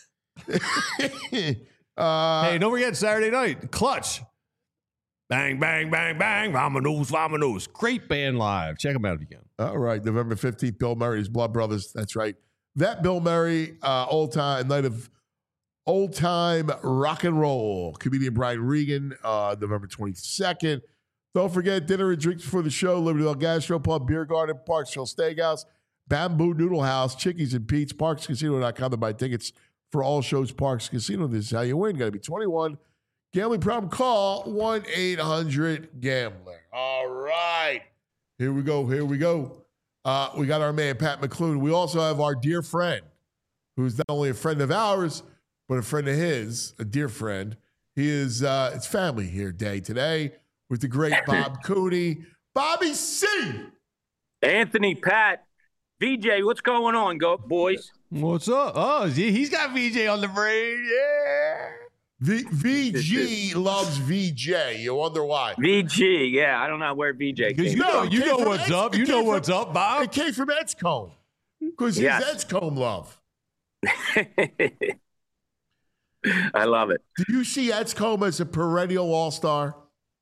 uh, Hey, don't forget Saturday night. Clutch. Bang, bang, bang, bang. Vamonos, vamonos. Great band live. Check them out if you can. All right, November fifteenth, Bill Murray's Blood Brothers. That's right. That Bill Murray, uh, old time night of old time rock and roll. Comedian Brian Regan, uh, November twenty-second. Don't forget dinner and drinks before the show. Libertyville Gastropub, Beer Garden, Parksville Steakhouse, Bamboo Noodle House, Chickies and Pete's, Parks Casino dot com to buy tickets for all shows. Parks Casino. This is how you win. Got to be twenty-one. Gambling problem? Call one eight hundred gambler. All right. Here we go. Here we go. Uh, we got our man, Pat McClune. We also have our dear friend, who's not only a friend of ours, but a friend of his, a dear friend. He is, uh, it's family here day today with the great Bob Cooney. Bobby C. Anthony, Pat, V J, what's going on, go boys? What's up? Oh, he's got V J on the brain. Yeah. V- VG loves V J. You wonder why. V G, yeah. I don't know where V J came You know, it you came know from what's Eds- up. it You came know from- what's up, Bob. It came from Edscombe because he's Yes. Edscombe love. I love it. Do you see Edscombe as a perennial all-star?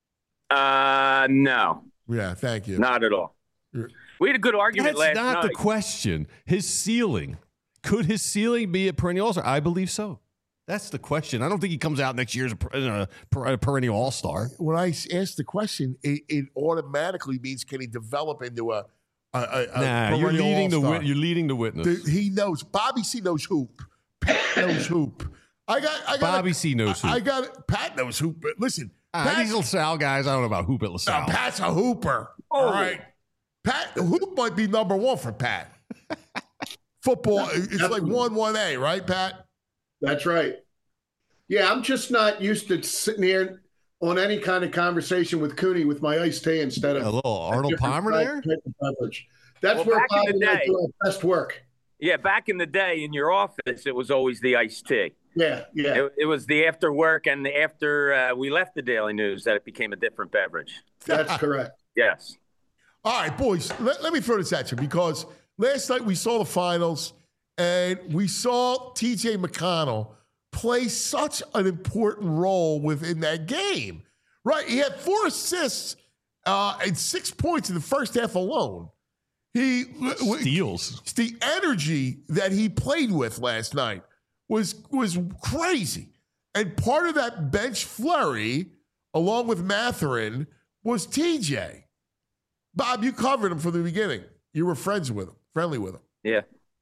Uh, no, Yeah, thank you. not at all. We had a good argument That's last not night. the question. His ceiling. Could his ceiling be a perennial all-star? I believe so. That's the question. I don't think he comes out next year as a, per- a, per- a perennial all-star. When I ask the question, it, it automatically means can he develop into a, a, a, a Nah, you're perennial leading the all-star? wit- you're leading the witness. The- he knows. Bobby C knows hoop. Pat knows hoop. I got. I got. Bobby C knows I, hoop. I got. Pat knows hoop. But listen, Ah, Pat, these LaSalle guys, I don't know about hoop at LaSalle. no, Pat's a hooper. All right. Pat hoop might be number one for Pat. Football. It's like one one A, right, Pat? That's right. Yeah, I'm just not used to sitting here on any kind of conversation with Cooney with my iced tea instead of A little Arnold different Palmer type- there? type of beverage. That's Well, where back in Bob the and I day- do our best work. Yeah, back in the day in your office, it was always the iced tea. Yeah, yeah. It, it was the after work and the after uh, we left the Daily News that it became a different beverage. That's correct. Yes. All right, boys, let, let me throw this at you because last night we saw the finals and we saw T J McConnell play such an important role within that game, right? He had four assists uh, and six points in the first half alone. He Steals. The energy that he played with last night was was crazy, and part of that bench flurry, along with Matherin, was T J. Bob, you covered him from the beginning. You were friends with him, friendly with him. Yeah.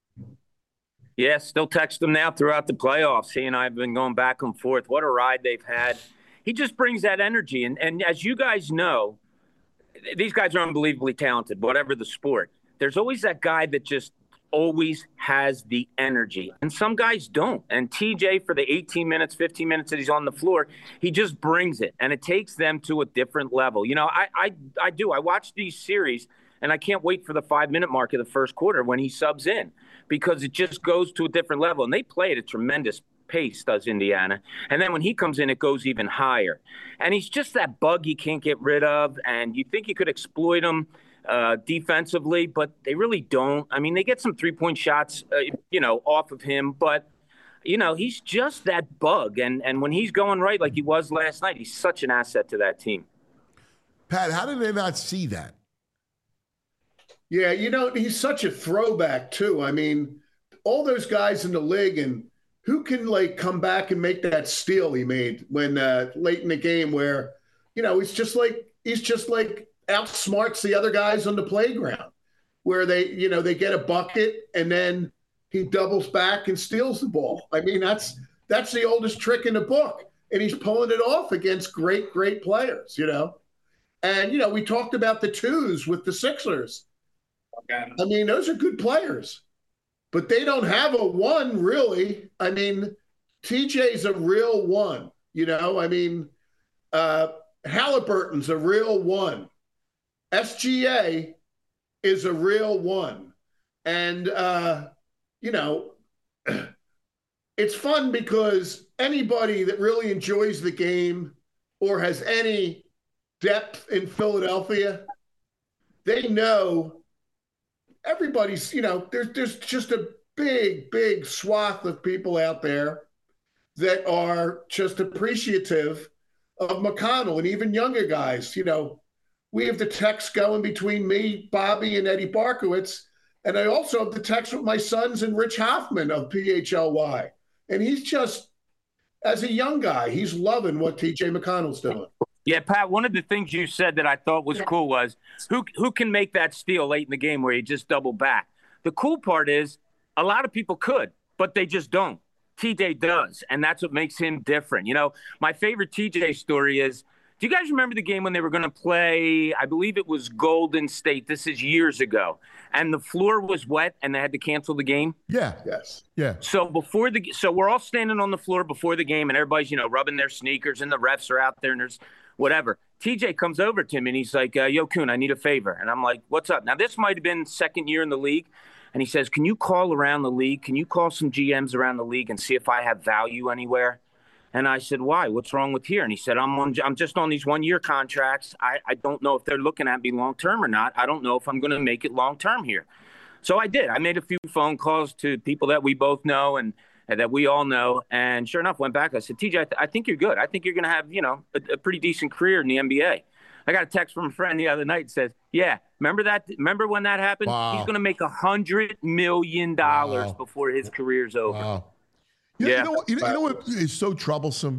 Yeah, still text him now throughout the playoffs. He and I have been going back and forth. What a ride they've had. He just brings that energy. And, and as you guys know, these guys are unbelievably talented, whatever the sport. There's always that guy that just always has the energy. And some guys don't. And T J, for the eighteen minutes, fifteen minutes that he's on the floor, he just brings it. And it takes them to a different level. You know, I I, I do. I watch these series, and I can't wait for the five-minute mark of the first quarter when he subs in because it just goes to a different level. And they play at a tremendous pace, does Indiana. And then when he comes in, it goes even higher. And he's just that bug you can't get rid of. And you think you could exploit him uh, defensively, but they really don't. I mean, they get some three-point shots, uh, you know, off of him. But, you know, he's just that bug. And, and when he's going right like he was last night, he's such an asset to that team. Pat, how did they not see that? Yeah, you know, he's such a throwback, too. I mean, all those guys in the league, and who can, like, come back and make that steal he made when uh, late in the game where, you know, it's just like he's just like outsmarts the other guys on the playground, where they, you know, they get a bucket and then he doubles back and steals the ball. I mean, that's that's the oldest trick in the book, and he's pulling it off against great, great players, you know. And, you know, we talked about the twos with the Sixers. Okay. I mean, those are good players, but they don't have a one, really. I mean, T J's a real one, you know. I mean, uh, Halliburton's a real one. S G A is a real one. And, uh, you know, it's fun because anybody that really enjoys the game or has any depth in Philadelphia, they know everybody's, you know, there's there's just a big, big swath of people out there that are just appreciative of McConnell, and even younger guys. You know, we have the text going between me, Bobby, and Eddie Barkowitz, and I also have the text with my sons and Rich Hoffman of P H L Y. And he's just, as a young guy, he's loving what T J McConnell's doing. Yeah, Pat, one of the things you said that I thought was cool was who who can make that steal late in the game where you just double back? The cool part is a lot of people could, but they just don't. T J does, and that's what makes him different. You know, my favorite T J story is, do you guys remember the game when they were going to play, I believe it was Golden State, this is years ago, and the floor was wet and they had to cancel the game? Yeah. Yes. Yeah. So before the so we're all standing on the floor before the game, and everybody's, you know, rubbing their sneakers, and the refs are out there, and there's whatever. T J comes over to me and he's like, uh, yo, Kuhn, I need a favor. And I'm like, what's up? Now, this might have been second year in the league. And he says, can you call around the league? Can you call some G Ms around the league and see if I have value anywhere? And I said, why? What's wrong with here? And he said, I'm on, I'm just on these one-year contracts. I, I don't know if they're looking at me long-term or not. I don't know if I'm going to make it long-term here. So I did. I made a few phone calls to people that we both know and, and that we all know. And sure enough, went back. I said, T J, I, th- I think you're good. I think you're going to have, you know, a, a pretty decent career in the N B A. I got a text from a friend the other night that says, yeah, remember that? Remember when that happened? Wow. He's going to make a hundred million dollars Wow. before his career's over. Wow. You know, Yeah. you know what? You know, you know what is so troublesome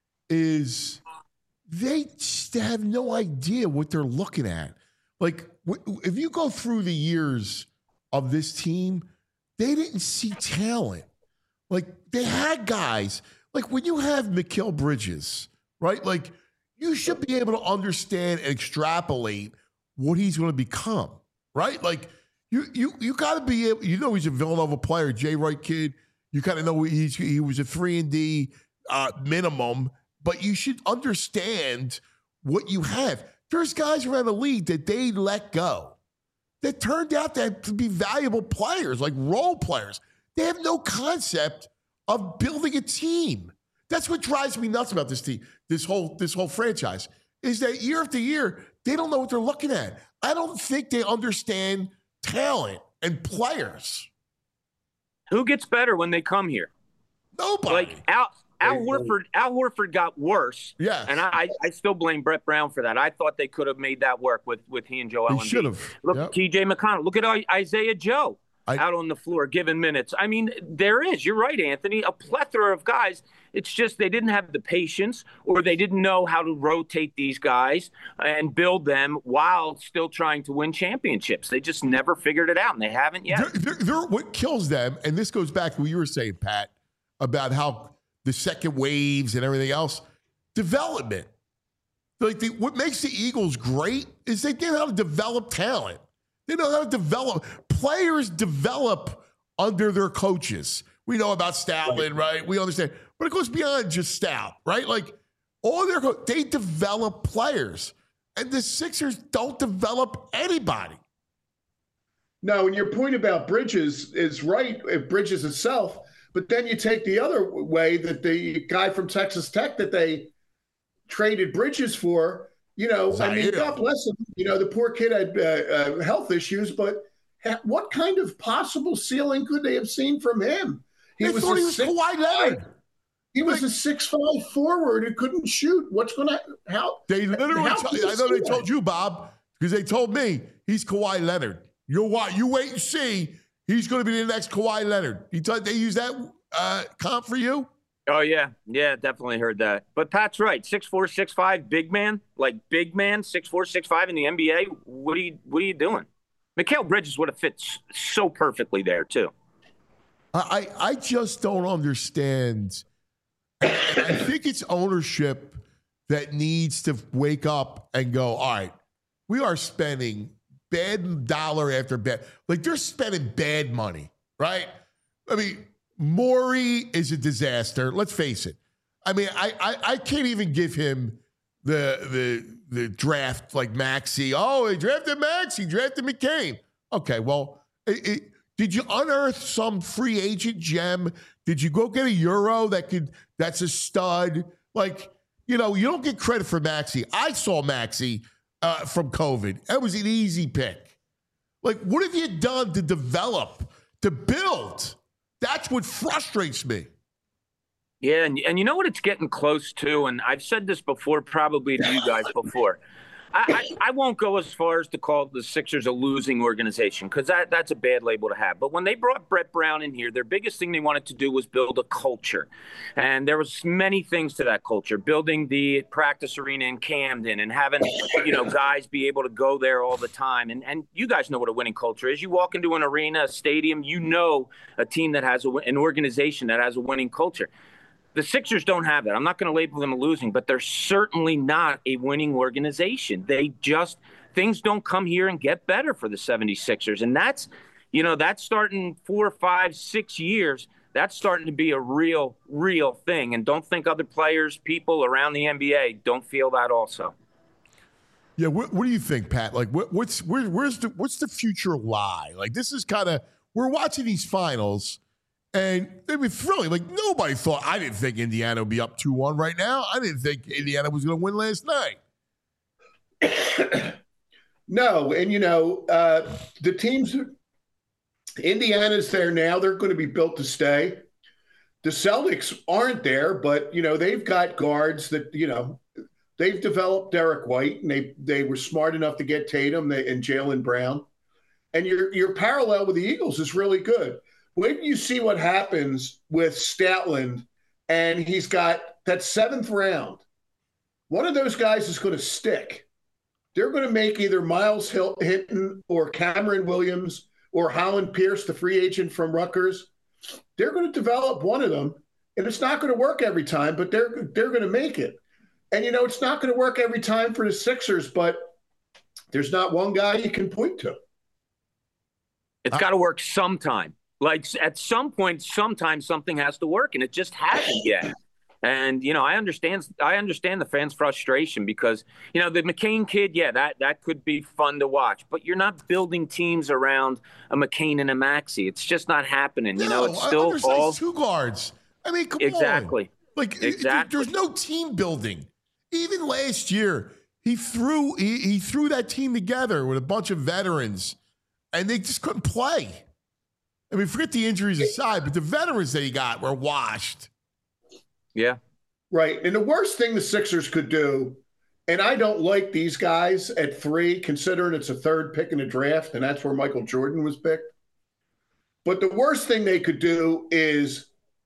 is they just have no idea what they're looking at. Like, w- if you go through the years of this team, they didn't see talent. Like, they had guys. Like, when you have Mikal Bridges, right? Like, you should be able to understand and extrapolate what he's going to become, right? Like, you you you got to be able, you know, he's a Villanova player, Jay Wright kid. You kind of know he's he was a three and D uh, minimum, but you should understand what you have. There's guys around the league that they let go that turned out to be valuable players, like role players. They have no concept of building a team. That's what drives me nuts about this team, this whole this whole franchise, is that year after year, they don't know what they're looking at. I don't think they understand talent and players. Who gets better when they come here? Nobody. Like Al, Al Horford. Al Horford got worse. Yes. And I, I still blame Brett Brown for that. I thought they could have made that work with with he and Joel They Embiid. should have. Look, Yep. T J McConnell. Look at I- Isaiah Joe I- out on the floor giving minutes. I mean, there is. You're right, Anthony. A plethora of guys. It's just they didn't have the patience, or they didn't know how to rotate these guys and build them while still trying to win championships. They just never figured it out, and they haven't yet. They're, they're, they're, what kills them, and this goes back to what you were saying, Pat, about how the second waves and everything else, development. Like the, what makes the Eagles great is they know how to develop talent. They know how to develop. Players develop under their coaches. We know about Stoutland, right? We understand. But it goes beyond just Stout, right? Like, all their co- they develop players. And the Sixers don't develop anybody. No, and your point about Bridges is right, if Bridges itself, but then you take the other way that the guy from Texas Tech that they traded Bridges for, you know, I mean, Zaire. God bless him. You know, the poor kid had uh, uh, health issues, but ha- what kind of possible ceiling could they have seen from him? He They thought a he was six- Kawhi Leonard. He was a six five forward who couldn't shoot. What's going to how? They literally, how tell- can you I know see they that? told you, Bob, because they told me he's Kawhi Leonard. You're what? You wait and see. He's going to be the next Kawhi Leonard. You thought they use that uh, comp for you? Oh, yeah. Yeah, definitely heard that. But Pat's right. six four, six five, big man, like big man, six four, six five in the N B A. What are you, what are you doing? Mikal Bridges would have fit so perfectly there, too. I, I just don't understand. I think it's ownership that needs to wake up and go, all right, we are spending bad dollar after bad. Like, they're spending bad money, right? I mean, Morey is a disaster. Let's face it. I mean, I, I, I can't even give him the the the draft like Maxey. Oh, he drafted Maxey, drafted McCain. Okay, well, it, it, did you unearth some free agent gem? Did you go get a Euro that could that's a stud? Like, you know, you don't get credit for Maxey. I saw Maxey uh, from COVID. That was an easy pick. Like, what have you done to develop, to build? That's what frustrates me. Yeah, and, and you know what it's getting close to, and I've said this before, probably to you guys before. I, I, I won't go as far as to call the Sixers a losing organization because that, that's a bad label to have. But when they brought Brett Brown in here, their biggest thing they wanted to do was build a culture. And there was many things to that culture, building the practice arena in Camden and having, you know, guys be able to go there all the time. And, and you guys know what a winning culture is. You walk into an arena, a stadium, you know a team that has a, an organization that has a winning culture. The Sixers don't have that. I'm not going to label them a losing, but they're certainly not a winning organization. They just – things don't come here and get better for the seventy-sixers. And that's – you know, that's starting four, five, six years. That's starting to be a real, real thing. And don't think other players, people around the N B A don't feel that also. Yeah, what, what do you think, Pat? Like, what, what's where, where's the what's the future lie? Like, this is kind of – we're watching these finals – and they were thrilling. Like, nobody thought, I didn't think Indiana would be up two one right now. I didn't think Indiana was going to win last night. No, and, you know, uh, the teams, Indiana's there now. They're going to be built to stay. The Celtics aren't there, but, you know, they've got guards that, you know, they've developed Derek White, and they they were smart enough to get Tatum and Jaylen Brown. And your your parallel with the Eagles is really good. When you see what happens with Statland, and he's got that seventh round, one of those guys is going to stick. They're going to make either Miles Hinton or Cameron Williams or Holland Pierce, the free agent from Rutgers. They're going to develop one of them, and it's not going to work every time, but they're they're going to make it. And, you know, it's not going to work every time for the Sixers, but there's not one guy you can point to. It's got to work sometime. Like at some point, sometimes something has to work, and it just hasn't yet. And, you know, I understand I understand the fans' frustration because, you know, the McCain kid, yeah, that, that could be fun to watch. But you're not building teams around a McCain and a Maxey. It's just not happening. You no, know, it's still all two guards. I mean, come exactly. on. Like, exactly. There's no team building. Even last year, he threw he, he threw that team together with a bunch of veterans, and they just couldn't play. I mean, forget the injuries aside, but the veterans that he got were washed. Yeah. Right. And the worst thing the Sixers could do, and I don't like these guys at three, considering it's a third pick in the draft, and that's where Michael Jordan was picked. But the worst thing they could do is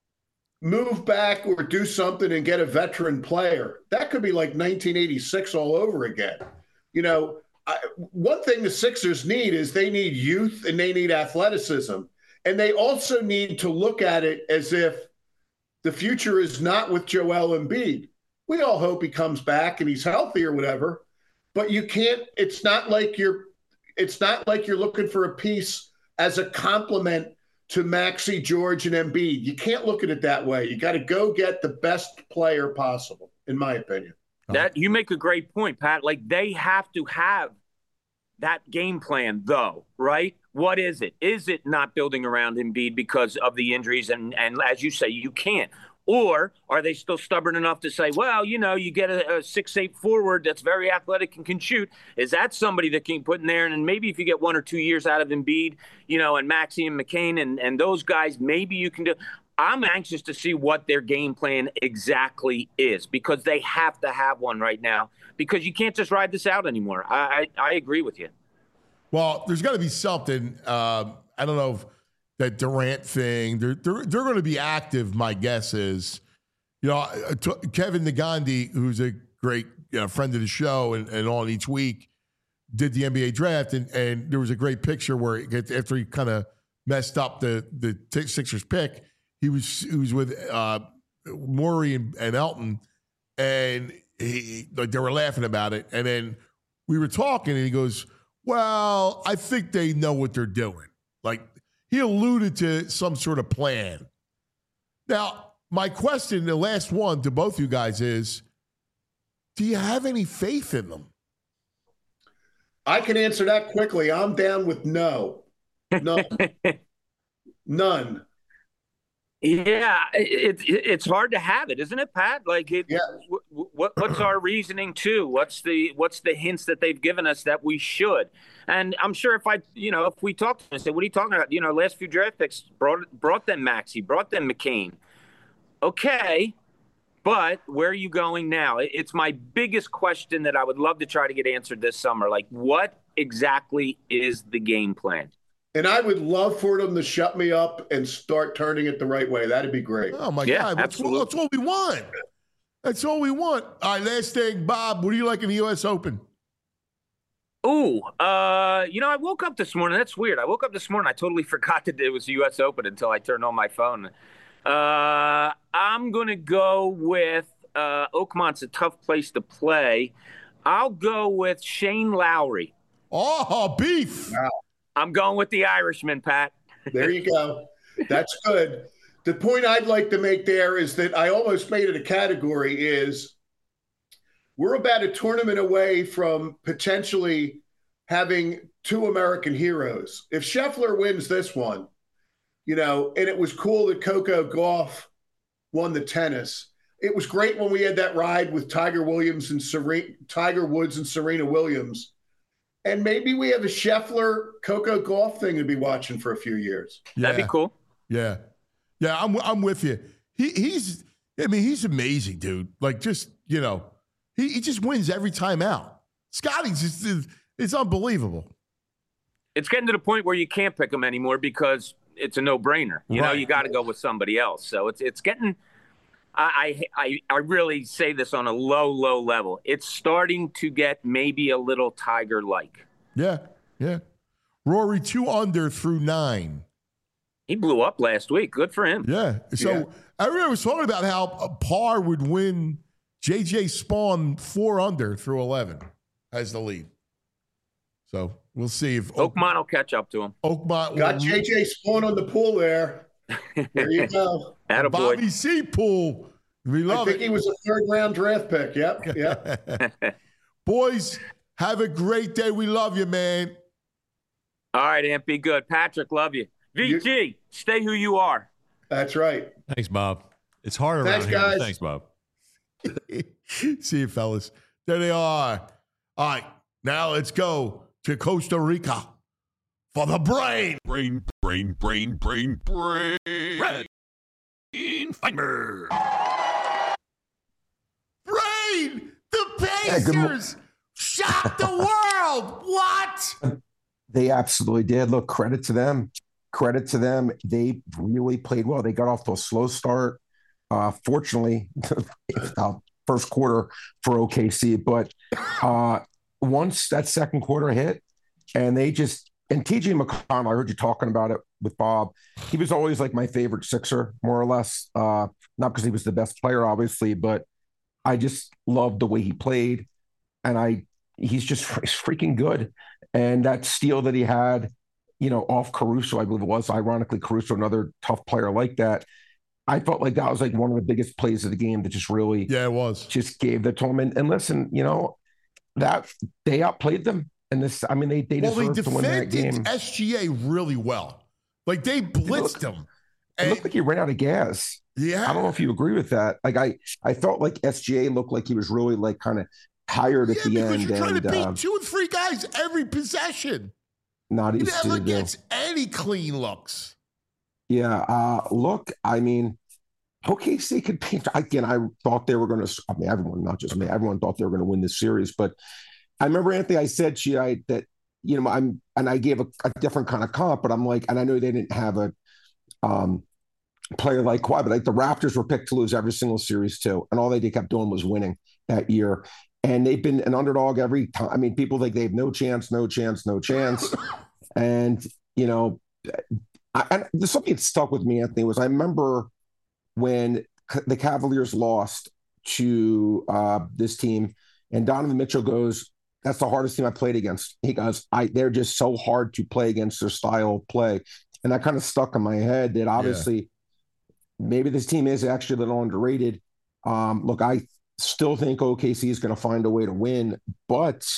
move back or do something and get a veteran player. That could be like nineteen eighty-six all over again. You know, I, one thing the Sixers need is they need youth and they need athleticism. And they also need to look at it as if the future is not with Joel Embiid. We all hope he comes back and he's healthy or whatever, but you can't, it's not like you're, it's not like you're looking for a piece as a complement to Maxey, George, and Embiid. You can't look at it that way. You got to go get the best player possible, in my opinion. That you make a great point, Pat. Like they have to have that game plan, though, right? What is it? Is it not building around Embiid because of the injuries? And, and as you say, you can't. Or are they still stubborn enough to say, well, you know, you get a, a six eight forward that's very athletic and can shoot. Is that somebody that can put in there? And maybe if you get one or two years out of Embiid, you know, and Maxey and McCain and, and those guys, maybe you can do. I'm anxious to see what their game plan exactly is because they have to have one right now because you can't just ride this out anymore. I, I, I agree with you. Well, there's got to be something. Uh, I don't know if that Durant thing. They're they're, they're going to be active. My guess is You know, Kevin Nagandi, who's a great you know, friend of the show and, and on each week, did the N B A draft, and, and there was a great picture where after he kind of messed up the the Sixers pick, he was he was with uh, Morey and, and Elton, and he, like they were laughing about it, and then we were talking, and he goes, "Well, I think they know what they're doing." Like he alluded to some sort of plan. Now, my question, the last one to both you guys is, do you have any faith in them? I can answer that quickly. I'm down with no. No. None. Yeah, it, it, it's hard to have it, isn't it, Pat? Like, it, yeah. w- what, what's our reasoning too? What's the what's the hints that they've given us that we should? And I'm sure if I, you know, if we talked to them and said, "What are you talking about?" You know, last few draft picks brought brought them Maxey, brought them McCain. Okay. But where are you going now? It's my biggest question that I would love to try to get answered this summer. Like, what exactly is the game plan? And I would love for them to shut me up and start turning it the right way. That'd be great. Oh, my yeah, God. That's, that's all we want. That's all we want. All right, last thing, Bob, what do you like in the U S Open? Ooh, uh, you know, I woke up this morning. That's weird. I woke up this morning. I totally forgot that it was the U S Open until I turned on my phone. Uh, I'm going to go with uh, Oakmont's a tough place to play. I'll go with Shane Lowry. Oh, beef. Wow. I'm going with the Irishman, Pat. There you go. That's good. The point I'd like to make there is that I almost made it a category is we're about a tournament away from potentially having two American heroes. If Scheffler wins this one, you know, and it was cool that Coco Gauff won the tennis. It was great when we had that ride with Tiger Williams and Serena, Tiger Woods and Serena Williams. And maybe we have a Scheffler Coco Gauff thing to be watching for a few years. Yeah. That'd be cool. Yeah. Yeah, I'm I'm with you. He he's I mean, he's amazing, dude. Like just, you know, he, he just wins every time out. Scotty's just it's unbelievable. It's getting to the point where you can't pick him anymore because it's a no-brainer. You Right. know, you got to go with somebody else. So it's it's getting I, I I really say this on a low, low level. It's starting to get maybe a little Tiger-like. Yeah, yeah. Rory two under through nine. He blew up last week. Good for him. Yeah. So Yeah. everyone was talking about how Par would win J J Spawn four under through eleven as the lead. So we'll see if Oakmont will catch up to him. Oakmont Got will, J J Spawn on the pool there. There you go. Attaboy. Bobby C. Pool. We I love think it. he was a third round draft pick. Yep. Yep. Boys, have a great day. We love you, man. All right, Amp, be good. Patrick, love you. V G, you, stay who you are. That's right. Thanks, Bob. It's hard around Thanks, here. guys. Thanks, Bob. See you, fellas. There they are. All right, now let's go to Costa Rica for the brain. Brain, brain, brain, brain, brain. Brain Fiber. Brain! The Yeah, good mo- Pacers shocked the world. What? They absolutely did. Look, credit to them. Credit to them. They really played well. They got off to a slow start. Uh, fortunately, uh, first quarter for O K C. But uh, once that second quarter hit, and they just and T J McConnell, I heard you talking about it with Bob. He was always like my favorite Sixer, more or less. Uh, not because he was the best player, obviously, but I just loved the way he played, and I he's just he's freaking good. And that steal that he had, you know, off Caruso, I believe it was, ironically, Caruso, another tough player like that. I felt like that was like one of the biggest plays of the game that just really, yeah, it was just gave the to him. And, and listen, you know, that they outplayed them. And this, I mean, they they well, they deserved to win that game. defended S G A really well. Like they blitzed them. It looked like he ran out of gas. Yeah, I don't know if you agree with that. Like I, I felt like S G A looked like he was really like kind of tired at yeah, the because end. you're trying and to beat uh, two and three guys every possession. not He easy never to do. gets any clean looks. Yeah. Uh, look, I mean, O K C could be, again, I thought they were going to, I mean, everyone, not just me, everyone thought they were going to win this series. But I remember, Anthony, I said to you I, that, you know, I'm, and I gave a, a different kind of comp, but I'm like, and I know they didn't have a, um, player like Kawhi, but like the Raptors were picked to lose every single series too, and all they did kept doing was winning that year. And they've been an underdog every time. I mean, people think they have no chance, no chance, no chance. And you know, I, and there's something that stuck with me, Anthony, was I remember when the Cavaliers lost to uh, this team, and Donovan Mitchell goes, "That's the hardest team I played against." He goes, "I they're just so hard to play against their style of play," and that kind of stuck in my head. That obviously. Yeah. Maybe this team is actually a little underrated. Um, look, I still think O K C is going to find a way to win, but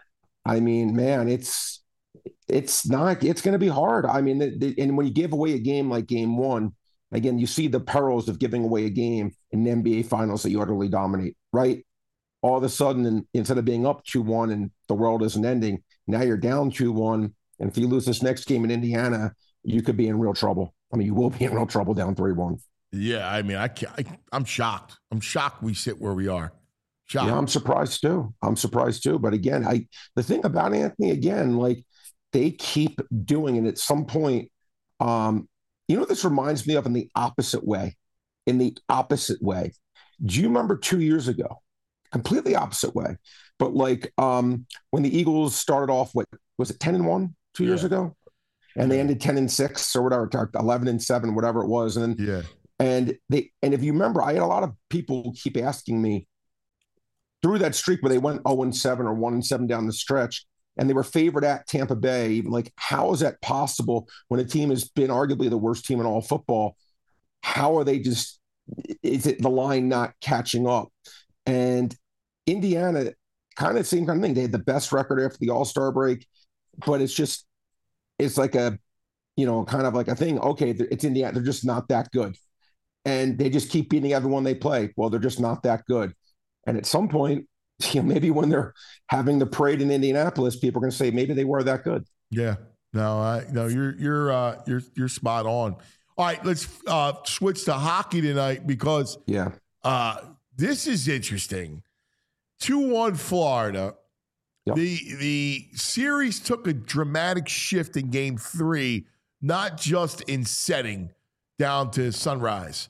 I mean, man, it's it's not. It's going to be hard. I mean, the, the, and when you give away a game like Game One, again, you see the perils of giving away a game in the N B A Finals that you utterly dominate. Right? All of a sudden, and instead of being up two one and the world isn't ending, now you're down two one, and if you lose this next game in Indiana, you could be in real trouble. I mean, you will be in real trouble down three one. Yeah, I mean, I, can't, I I'm shocked. I'm shocked we sit where we are. Shocked. Yeah, I'm surprised too. I'm surprised too. But again, I the thing about Anthony, again, like they keep doing it. At some point, um, you know what this reminds me of in the opposite way? In the opposite way. Do you remember two years ago? Completely opposite way. But like um, when the Eagles started off, what was it, ten and one two yeah. years ago? And they ended ten and six or whatever, eleven and seven, whatever it was. And then yeah. And they and if you remember, I had a lot of people keep asking me through that streak where they went oh and seven or one and seven down the stretch, and they were favored at Tampa Bay. Even like, how is that possible when a team has been arguably the worst team in all football? How are they just? Is it the line not catching up? And Indiana, kind of same kind of thing. They had the best record after the All-Star break, but it's just it's like a you know kind of like a thing. Okay, it's Indiana. They're just not that good. And they just keep beating everyone they play. Well, they're just not that good. And at some point, you know, maybe when they're having the parade in Indianapolis, people are going to say maybe they were that good. Yeah. No, I no, you're you're uh, you're you're spot on. All right, let's uh, switch to hockey tonight because yeah, uh, this is interesting. two one Florida. Yep. The the series took a dramatic shift in Game Three, not just in setting down to Sunrise,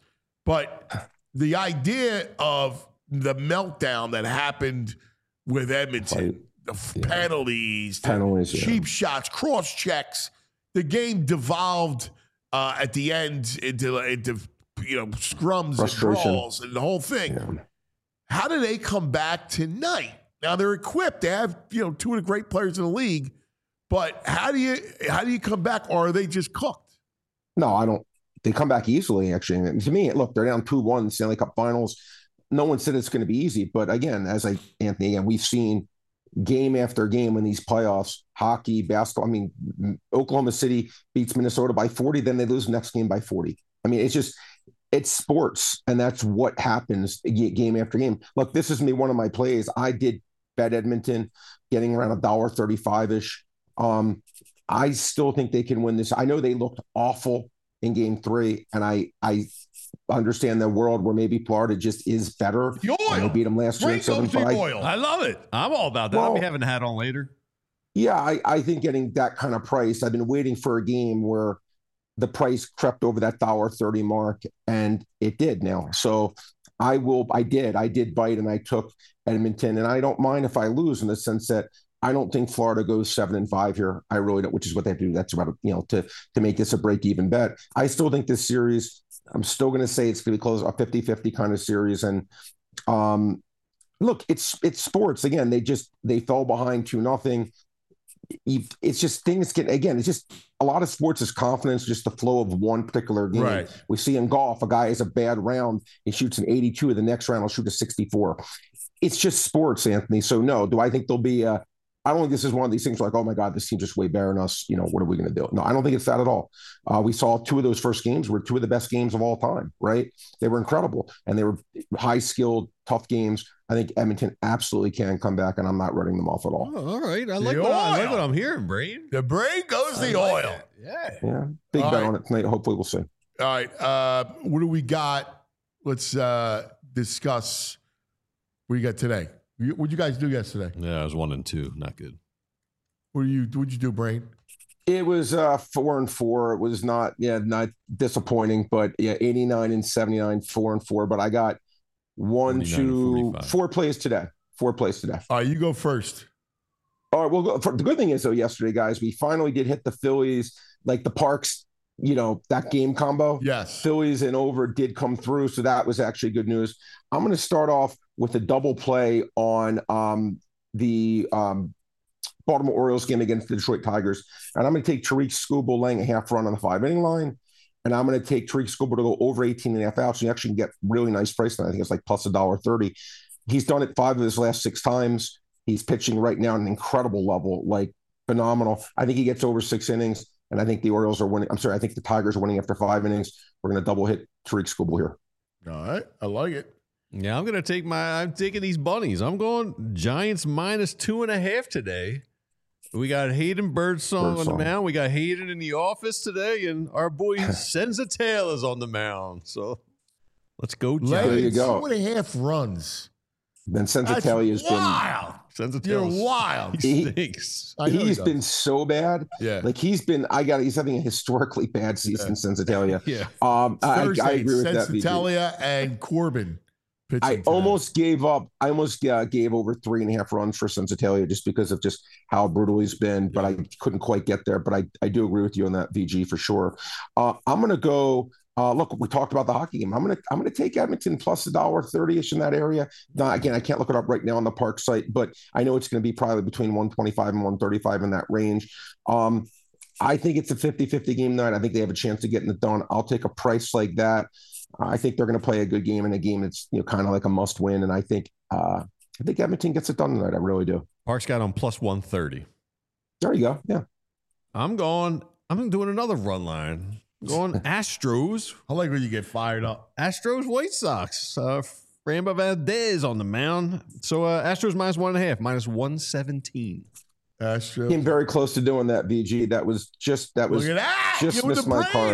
but the idea of the meltdown that happened with Edmonton, the yeah. penalties, penalties, the cheap yeah. shots, cross checks, the game devolved uh, at the end into into you know scrums and brawls and the whole thing. Yeah. How do they come back tonight? Now they're equipped; they have you know two of the great players in the league, but how do you how do you come back, or are they just cooked? No, I don't. They come back easily, actually. And to me, look, they're down two one in the Stanley Cup Finals. No one said it's going to be easy. But again, as I, Anthony, again, we've seen game after game in these playoffs, hockey, basketball. I mean, Oklahoma City beats Minnesota by forty, then they lose the next game by forty. I mean, it's just, it's sports. And that's what happens game after game. Look, this is me, one of my plays. I did bet Edmonton getting around one dollar thirty-five-ish. Um, I still think they can win this. I know they looked awful in game three, and I I understand the world where maybe Florida just is better. The oil. They beat them last year. seven five. I love it. I'm all about that. Well, I'll be having a hat on later. Yeah, I, I think getting that kind of price, I've been waiting for a game where the price crept over that one dollar thirty mark, and it did now. So I will, I did, I did bite, and I took Edmonton, and I don't mind if I lose in the sense that I don't think Florida goes seven and five here. I really don't, which is what they do. That's about, you know, to, to make this a break even bet. I still think this series, I'm still going to say it's going to be close, a fifty-fifty kind of series. And um, look, it's, it's sports. Again, they just, they fell behind two nothing. It's just things get, again, it's just a lot of sports is confidence, just the flow of one particular game. Right. We see in golf, a guy has a bad round, he shoots an eighty-two, the next round he'll shoot a sixty-four. It's just sports, Anthony. So no, do I think there'll be a, I don't think this is one of these things like, oh my God, this team just way better than us. You know, what are we going to do? No, I don't think it's that at all. Uh, we saw two of those first games were two of the best games of all time, right? They were incredible and they were high skilled, tough games. I think Edmonton absolutely can come back, and I'm not running them off at all. Oh, all right. I like, what, I like what I'm hearing, Brain. The brain goes the like oil. Yeah. Yeah. Big all bet right. on it tonight. Hopefully we'll see. All right. Uh, what do we got? Let's uh, discuss what you got today. What did you guys do yesterday? Yeah, I was one and two. Not good. What do you? What'd you do, Brain? It was uh, four and four. It was not, yeah, not disappointing, but yeah, eighty-nine and seventy-nine, four and four. But I got one, two, four plays today. Four plays today. All right, you go first. All right, well, go, for, the good thing is though, yesterday, guys, we finally did hit the Phillies, like the Parks, you know, that game combo. Yes, Phillies and over did come through, so that was actually good news. I'm going to start off with a double play on um, the. Um, Baltimore Orioles game against the Detroit Tigers. And I'm going to take Tariq Skubal laying a half run on the five inning line. And I'm going to take Tariq Skubal to go over eighteen and a half outs. So you actually can get really nice price. I think it's like plus a dollar thirty. He's done it five of his last six times. He's pitching right now at an incredible level, like phenomenal. I think he gets over six innings. And I think the Orioles are winning. I'm sorry. I think the Tigers are winning after five innings. We're going to double hit Tariq Skubal here. All right. I like it. Yeah, I'm going to take my, I'm taking these bunnies. I'm going Giants minus two and a half today. We got Hayden Birdsong, Birdsong on the mound. We got Hayden in the office today, and our boy Senza Taylor's on the mound. So let's go, Giants. There you go. Two and a half runs. Then Senza Taylor has been wild. You're wild. He stinks. He, he's he been so bad. Yeah, like he's been. I got. He's having a historically bad season. Yeah. Senza Taylor. Yeah. Um, I, I agree with that. Senza Taylor and Corbin. I today. almost gave up. I almost uh, gave over three and a half runs for Senza Taylor just because of just how brutal he's been, but I couldn't quite get there. But I, I do agree with you on that, V G, for sure. Uh, I'm going to go. Uh, look, we talked about the hockey game. I'm going to I'm going to take Edmonton plus a dollar thirty-ish in that area. Now, again, I can't look it up right now on the Park site, but I know it's going to be probably between one twenty-five and one thirty-five in that range. Um, I think it's a fifty-fifty game night. I think they have a chance of getting it done. I'll take a price like that. I think they're going to play a good game in a game that's, you know, kind of like a must win. And I think uh, I think Edmonton gets it done tonight. I really do. Park's got on plus one thirty. There you go. Yeah. I'm going, I'm doing another run line. Going Astros. I like when you get fired up. Astros, White Sox. Uh, Framber Valdez on the mound. So uh, Astros minus one and a half, minus one seventeen. Astros. Came very close to doing that, V G. That was just, that was that. just missed my card.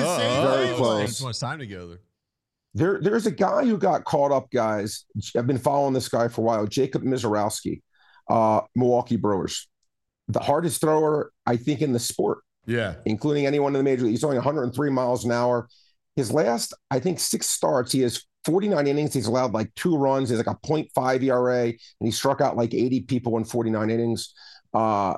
Very close. Too much time together. There, there's a guy who got caught up, guys. I've been following this guy for a while, Jacob Mizorowski, uh, Milwaukee Brewers. The hardest thrower, I think, in the sport. Yeah. Including anyone in the major league. He's only one hundred three miles an hour. His last, I think, six starts, he has forty-nine innings. He's allowed like two runs. He's like a point five E R A, and he struck out like eighty people in forty-nine innings. Uh,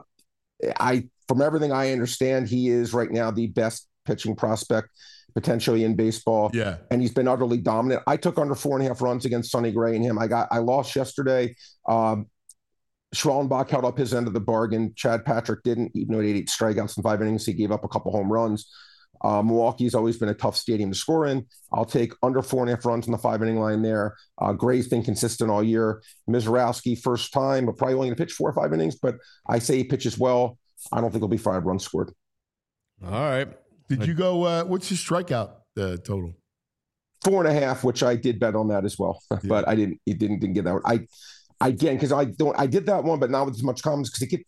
I, from everything I understand, he is right now the best pitching prospect potentially in baseball. Yeah. And he's been utterly dominant. I took under four and a half runs against Sonny Gray and him. I got, I lost yesterday. Um, Schwellenbach held up his end of the bargain. Chad Patrick didn't, even though he had eight strikeouts in five innings. He gave up a couple home runs. Uh, Milwaukee's always been a tough stadium to score in. I'll take under four and a half runs in the five inning line there. Uh, Gray's been consistent all year. Mizorowski, first time, but probably only going to pitch four or five innings, but I say he pitches well. I don't think there'll be five runs scored. All right. Did you go, uh, what's your strikeout uh, total? Four and a half, which I did bet on that as well, yeah. but I didn't, it didn't, didn't get that one. I, again, because I don't, I did that one, but not with as much comments because it get,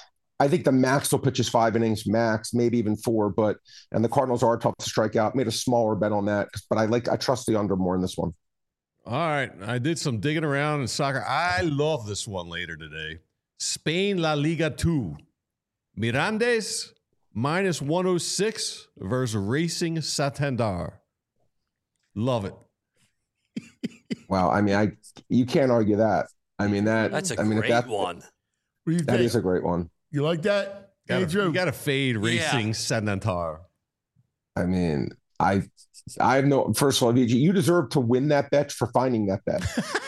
I think the max will pitch is five innings, max, maybe even four, but, and the Cardinals are tough to strike out. Made a smaller bet on that, but I like, I trust the under more in this one. All right. I did some digging around in soccer. I love this one later today. Spain La Liga two. Mirandes minus one oh six versus Racing Santander. Love it. Wow. I mean, I, you can't argue that. I mean, that, that's a I mean, great that, one. That is a great one. You like that? Gotta, Andrew? You got to fade Racing Yeah. Santander. I mean, I, I have no, first of all, V G, you deserve to win that bet for finding that bet.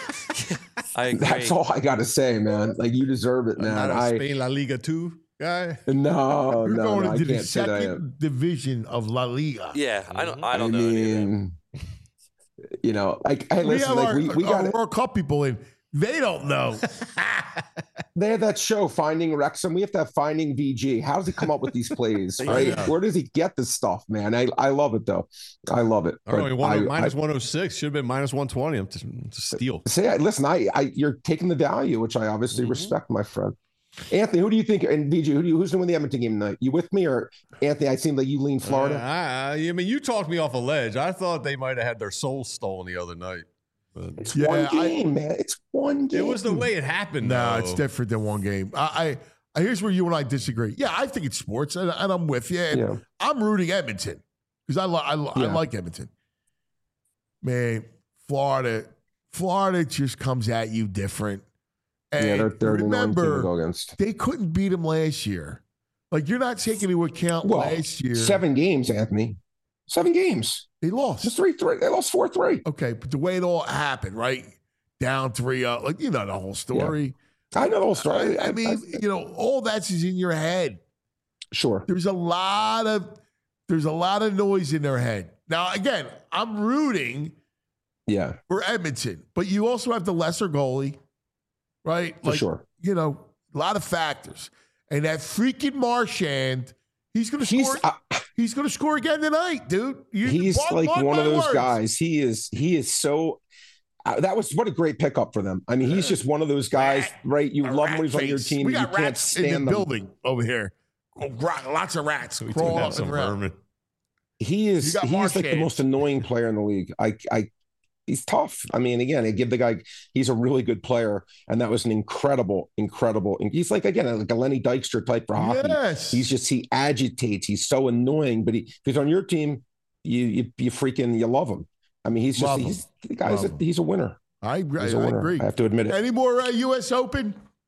I agree. That's all I got to say, man. Like, you deserve it, man. Not a I, Spain La Liga two guy. no, You're no, going no, I into the can't say that I am. second division of La Liga. Yeah, I don't. I I don't know. any of that. mean, you know, like, hey, We listen, have like, our, we, we our got World Cup people in. They don't know. They have that show, Finding Wrexham. We have to have Finding V G. How does he come up with these plays, right? Yeah. Where does he get this stuff, man? I, I love it, though. I love it. All right, But one, I- minus I- one oh six. Should have been minus one twenty. I'm just, to steal. Say, listen, I, I, you're taking the value, which I obviously Mm-hmm. respect, my friend. Anthony, who do you think? And V G, who do you, who's going to win the Edmonton game tonight? You with me, or Anthony? I seem like you lean Florida. Uh, I, I mean, you talked me off a ledge. I thought they might have had their soul stolen the other night. But it's Yeah, one I- game, man. It's one game. it was the way it happened. No, though. it's different than one game. I, Here's where you and I disagree. Yeah, I think it's sports, and, and I'm with you. And Yeah. I'm rooting Edmonton because I, li- I, li- I Yeah. like Edmonton. Man, Florida, Florida just comes at you different. And Yeah, they're, they're an annoying team to remember, go against. they couldn't beat them last year. Like, you're not taking into account Well, last year. seven games, Anthony. Seven games. They lost. Just three, three. They lost four, three. Okay, but the way it all happened, right? Down three up. Like, you know the whole story. I know the whole story. I, I mean, you know, all that's is in your head. Sure. There's a lot of there's a lot of noise in their head. Now, again, I'm rooting Yeah. for Edmonton, but you also have the lesser goalie, right? For sure. You know, a lot of factors. And that freaking Marchand, he's gonna He's, score. uh, he's gonna score again tonight, dude. You, He's mark- like mark one of my those words. guys. He is. He is so. Uh, that was what a great pickup for them. I mean, he's just one of those guys, right? You A love him rat when he's on your face. team. We You got can't rats in stand the them. building over here. Oh, gra- lots of rats We do crawling have up some and around. vermin. He You is. got He's like the Marchand. most annoying player in the league. I. I. He's tough. I mean, again, I give the guy. He's a really good player, and that was an incredible, incredible. And he's like again like a Lenny Dykstra type for hockey. Yes. He's just he agitates. He's so annoying, but he, if he's on your team, you you you freaking you love him. I mean, he's just Love him. he's the guy's a, Love him. he's a winner. I agree. He's a I winner. agree. I have to admit it. Any more uh, U S Open?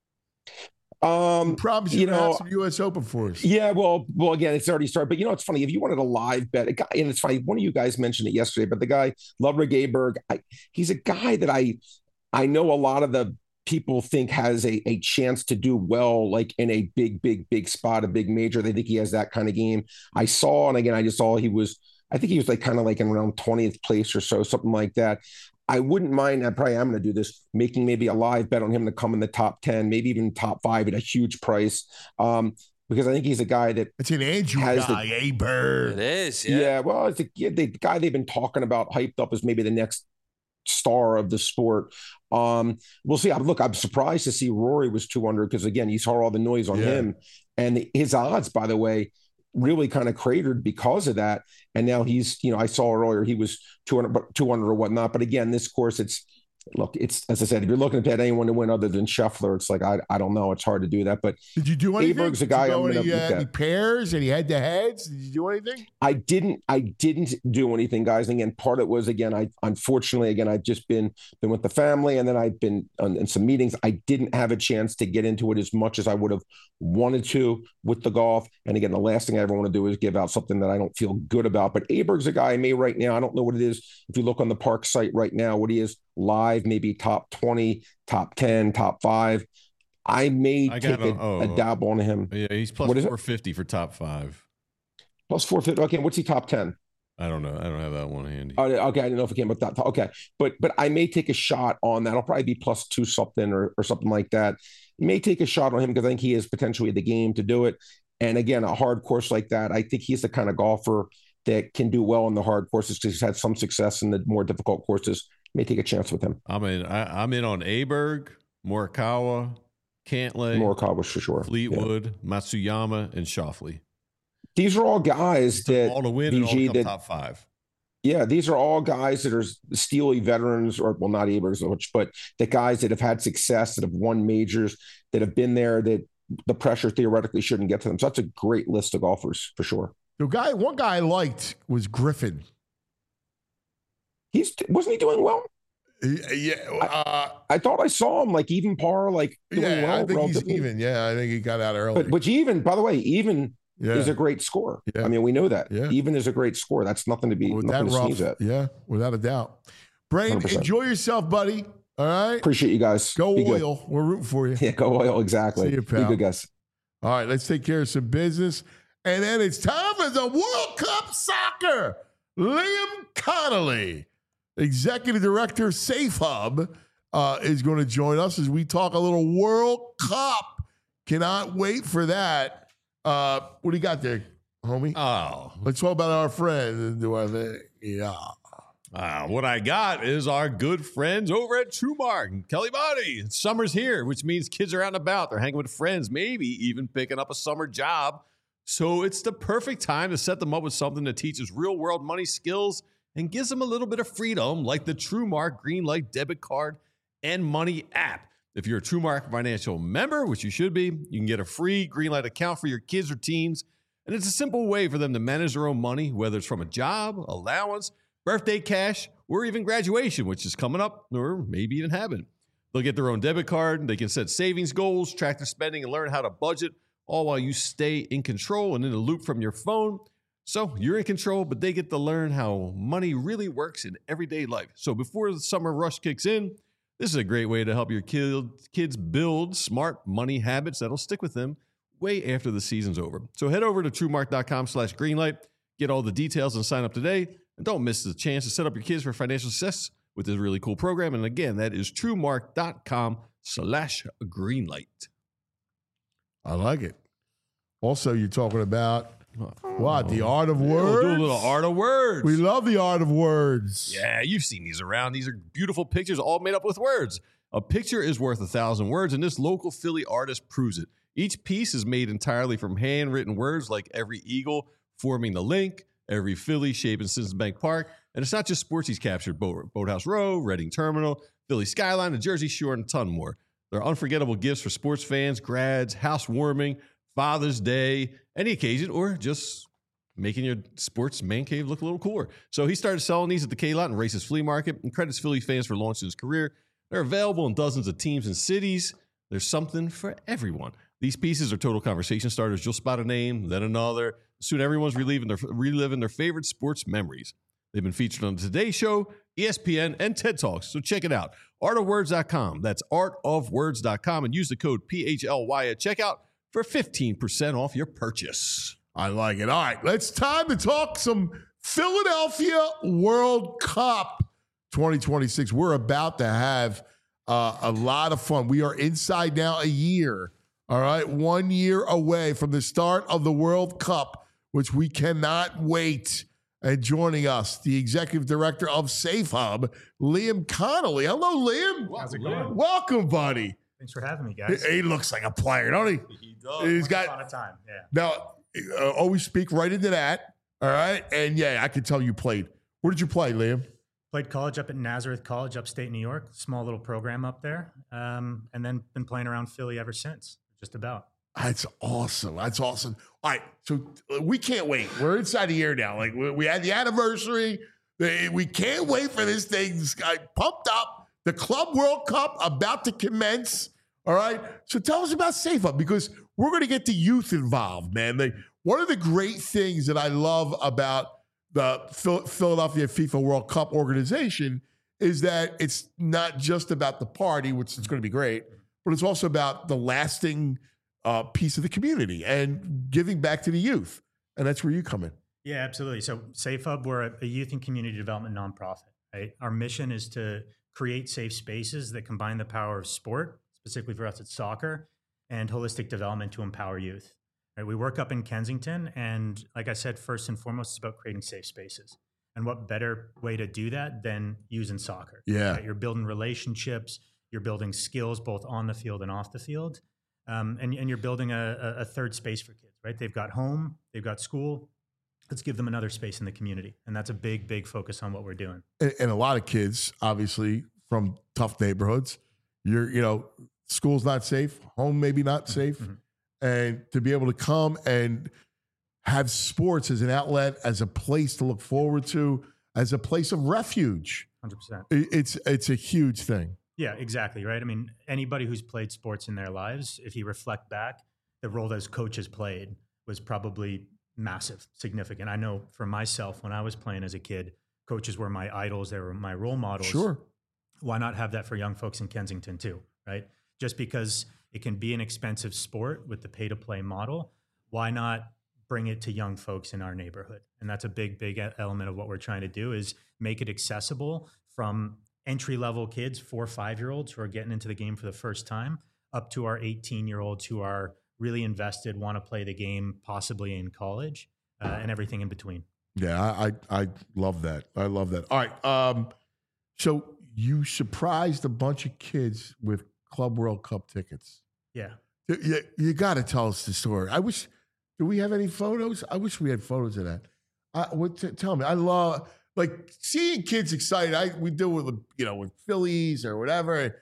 Um, Promise you, you to know, have some U S Open for us. Yeah, well, well, again, it's already started. But you know, it's funny if you wanted a live bet, a guy, and it's funny. One of you guys mentioned it yesterday, but the guy Ludwig Aberg, I, he's a guy that I, I know a lot of the people think has a a chance to do well, like in a big, big, big spot, a big major. They think he has that kind of game. I saw, and again, I just saw he was. I think he was like kind of like in around twentieth place or so, something like that. I wouldn't mind, I probably am going to do this, making maybe a live bet on him to come in the top ten, maybe even top five at a huge price. Um, because I think he's a guy that It's an Andrew has guy, the, a bird. It is, yeah. yeah. well, it's the, yeah, the guy they've been talking about, hyped up as maybe the next star of the sport. Um, we'll see. I, look, I'm surprised to see Rory was two under because, again, you saw all the noise on Yeah. him. And his odds, by the way, really kind of cratered because of that. And now he's, you know, I saw earlier he was two hundred, but two hundred or whatnot. But again, this course, it's, look, it's, as I said, if you're looking to bet anyone to win other than Scheffler, it's like, I, I don't know. It's hard to do that. But Did you do anything? Aberg's a Did guy you I'm go going any, to uh, look any at. pairs, any head to heads? Did you do anything? I didn't, I didn't do anything, guys. And again, part of it was, again, I, unfortunately, again, I've just been, been with the family and then I've been on, in some meetings. I didn't have a chance to get into it as much as I would have wanted to with the golf. And again, the last thing I ever want to do is give out something that I don't feel good about. But Aberg's a guy I may right now, I don't know what it is. If you look on the Park site right now, what he is live, maybe top twenty, top ten, top five. I may I take got a, a- oh, a dabble on him. Yeah, he's plus What is it? four fifty for top five. Plus four fifty. Okay, what's he top ten? I don't know. I don't have that one handy. Oh, okay, I didn't know if it came with that. Okay, but but I may take a shot on that. I'll probably be plus two something or or something like that. May take a shot on him because I think he is potentially the game to do it. And again, a hard course like that, I think he's the kind of golfer that can do well on the hard courses because he's had some success in the more difficult courses. May take a chance with him. I'm in. I, I'm in on Aberg, Morikawa, Cantlay, Morikawa for sure. Fleetwood, Matsuyama, and Schauffele. These are all guys that all to win and all to B G come that top five. Yeah, these are all guys that are steely veterans, or well, not Abergs, but the guys that have had success, that have won majors, that have been there, that the pressure theoretically shouldn't get to them. So that's a great list of golfers for sure. The guy, one guy I liked was Griffin. He's wasn't he doing well? Yeah, uh, I, I thought I saw him like even par, like doing yeah, well. I think he's relatively. even. Yeah, I think he got out early. But which even, by the way, even Yeah. is a great score. Yeah. I mean, we know that. Yeah. Even is a great score. That's nothing to be with nothing that to rough, sneeze at. yeah, without a doubt. Brain, one hundred percent. enjoy yourself, buddy. All right, Appreciate you guys. go Be good. oil. We're rooting for you. Yeah, go oil. Exactly. See you, Be pal. good, guys. All right, let's take care of some business. And then it's time for the World Cup Soccer. Liam Connolly, Executive Director, Safe Hub, uh, is going to join us as we talk a little World Cup. Cannot wait for that. Uh, what do you got there, homie? Oh, Let's talk about our friends and do our thing. Yeah. Uh, what I got is our good friends over at TrueMark and Kelly Body. Summer's here, which means kids are out and about. They're hanging with friends, maybe even picking up a summer job. So it's the perfect time to set them up with something that teaches real-world money skills and gives them a little bit of freedom, like the TrueMark Green Light debit card and money app. If you're a TrueMark Financial member, which you should be, you can get a free Greenlight account for your kids or teens. And it's a simple way for them to manage their own money, whether it's from a job, allowance, birthday cash, or even graduation, which is coming up, or maybe even happening. They'll get their own debit card. They can set savings goals, track their spending, and learn how to budget, all while you stay in control and in the loop from your phone. So you're in control, but they get to learn how money really works in everyday life. So before the summer rush kicks in, this is a great way to help your kids build smart money habits that'll stick with them way after the season's over. So head over to TrueMark.com slash Greenlight, get all the details and sign up today. And don't miss the chance to set up your kids for financial success with this really cool program. And again, that is TrueMark.com slash Greenlight. I like it. Also, you're talking about what? The art of words? We'll do a little art of words. We love the art of words. Yeah, you've seen these around. These are beautiful pictures all made up with words. A picture is worth a thousand words, and this local Philly artist proves it. Each piece is made entirely from handwritten words like every eagle forming the link, every Philly shaping Citizens Bank Park. And it's not just sports he's captured. Boat, Boathouse Row, Reading Terminal, Philly Skyline, the Jersey Shore, and a ton more. They're unforgettable gifts for sports fans, grads, housewarming, Father's Day, any occasion, or just making your sports man cave look a little cooler. So he started selling these at the K-Lot and Races Flea Market and credits Philly fans for launching his career. They're available in dozens of teams and cities. There's something for everyone. These pieces are total conversation starters. You'll spot a name, then another. Soon everyone's reliving their, reliving their favorite sports memories. They've been featured on the Today Show, E S P N, and TED Talks. So check it out. art of words dot com. That's art of words dot com. And use the code P H L Y at checkout for fifteen percent off your purchase. I like it. All right, let's time to talk some Philadelphia World Cup twenty twenty-six. We're about to have uh, a lot of fun. We are inside now a year, all right, one year away from the start of the World Cup, which we cannot wait. And joining us, the executive director of Safe Hub, Liam Connolly. Hello, Liam. How's it going? Welcome, buddy. Thanks for having me, guys. He, he looks like a player, don't he? He does. He's got a lot of time. Yeah. Now, uh, always speak right into that. All right. And yeah, I can tell you played. Where did you play, Liam? Played college up at Nazareth College, upstate New York. Small little program up there. Um, and then been playing around Philly ever since, just about. That's awesome. That's awesome. All right. So uh, we can't wait. We're inside a year now. Like we, we had the anniversary. We can't wait for this thing. This guy pumped up. The Club World Cup about to commence. All right. So tell us about Safe Hub, because we're going to get the youth involved, man. They, one of the great things that I love about the Philadelphia FIFA World Cup organization is that it's not just about the party, which is going to be great, but it's also about the lasting uh, piece of the community and giving back to the youth. And that's where you come in. Yeah, absolutely. So Safe Hub, we're a youth and community development nonprofit, right? Our mission is to create safe spaces that combine the power of sport, specifically for us it's soccer, and holistic development to empower youth. Right? We work up in Kensington, and like I said, first and foremost, it's about creating safe spaces. And what better way to do that than using soccer? Yeah. Right? You're building relationships, you're building skills both on the field and off the field, um, and, and you're building a, a third space for kids, right? They've got home, they've got school. Let's give them another space in the community. And that's a big, big focus on what we're doing. And, and a lot of kids, obviously, from tough neighborhoods, you're, you know, school's not safe, home maybe not safe. Mm-hmm. And to be able to come and have sports as an outlet, as a place to look forward to, as a place of refuge. one hundred percent. It, it's, it's a huge thing. Yeah, exactly, right? I mean, anybody who's played sports in their lives, if you reflect back, the role those coaches played was probably massive, significant. I know for myself, when I was playing as a kid, coaches were my idols. They were my role models. Sure. Why not have that for young folks in Kensington too, right? Just because it can be an expensive sport with the pay-to-play model, why not bring it to young folks in our neighborhood? And that's a big, big element of what we're trying to do is make it accessible from entry-level kids, four or five-year-olds who are getting into the game for the first time, up to our eighteen-year-olds who are really invested, want to play the game, possibly in college, uh, and everything in between. Yeah, I, I I love that. I love that. All right. Um, so you surprised a bunch of kids with Club World Cup tickets. Yeah. You, you got to tell us the story. I wish, do we have any photos? I wish we had photos of that. I, what, t- tell me. I love, like, seeing kids excited. I We do it with, you know, with Phillies or whatever.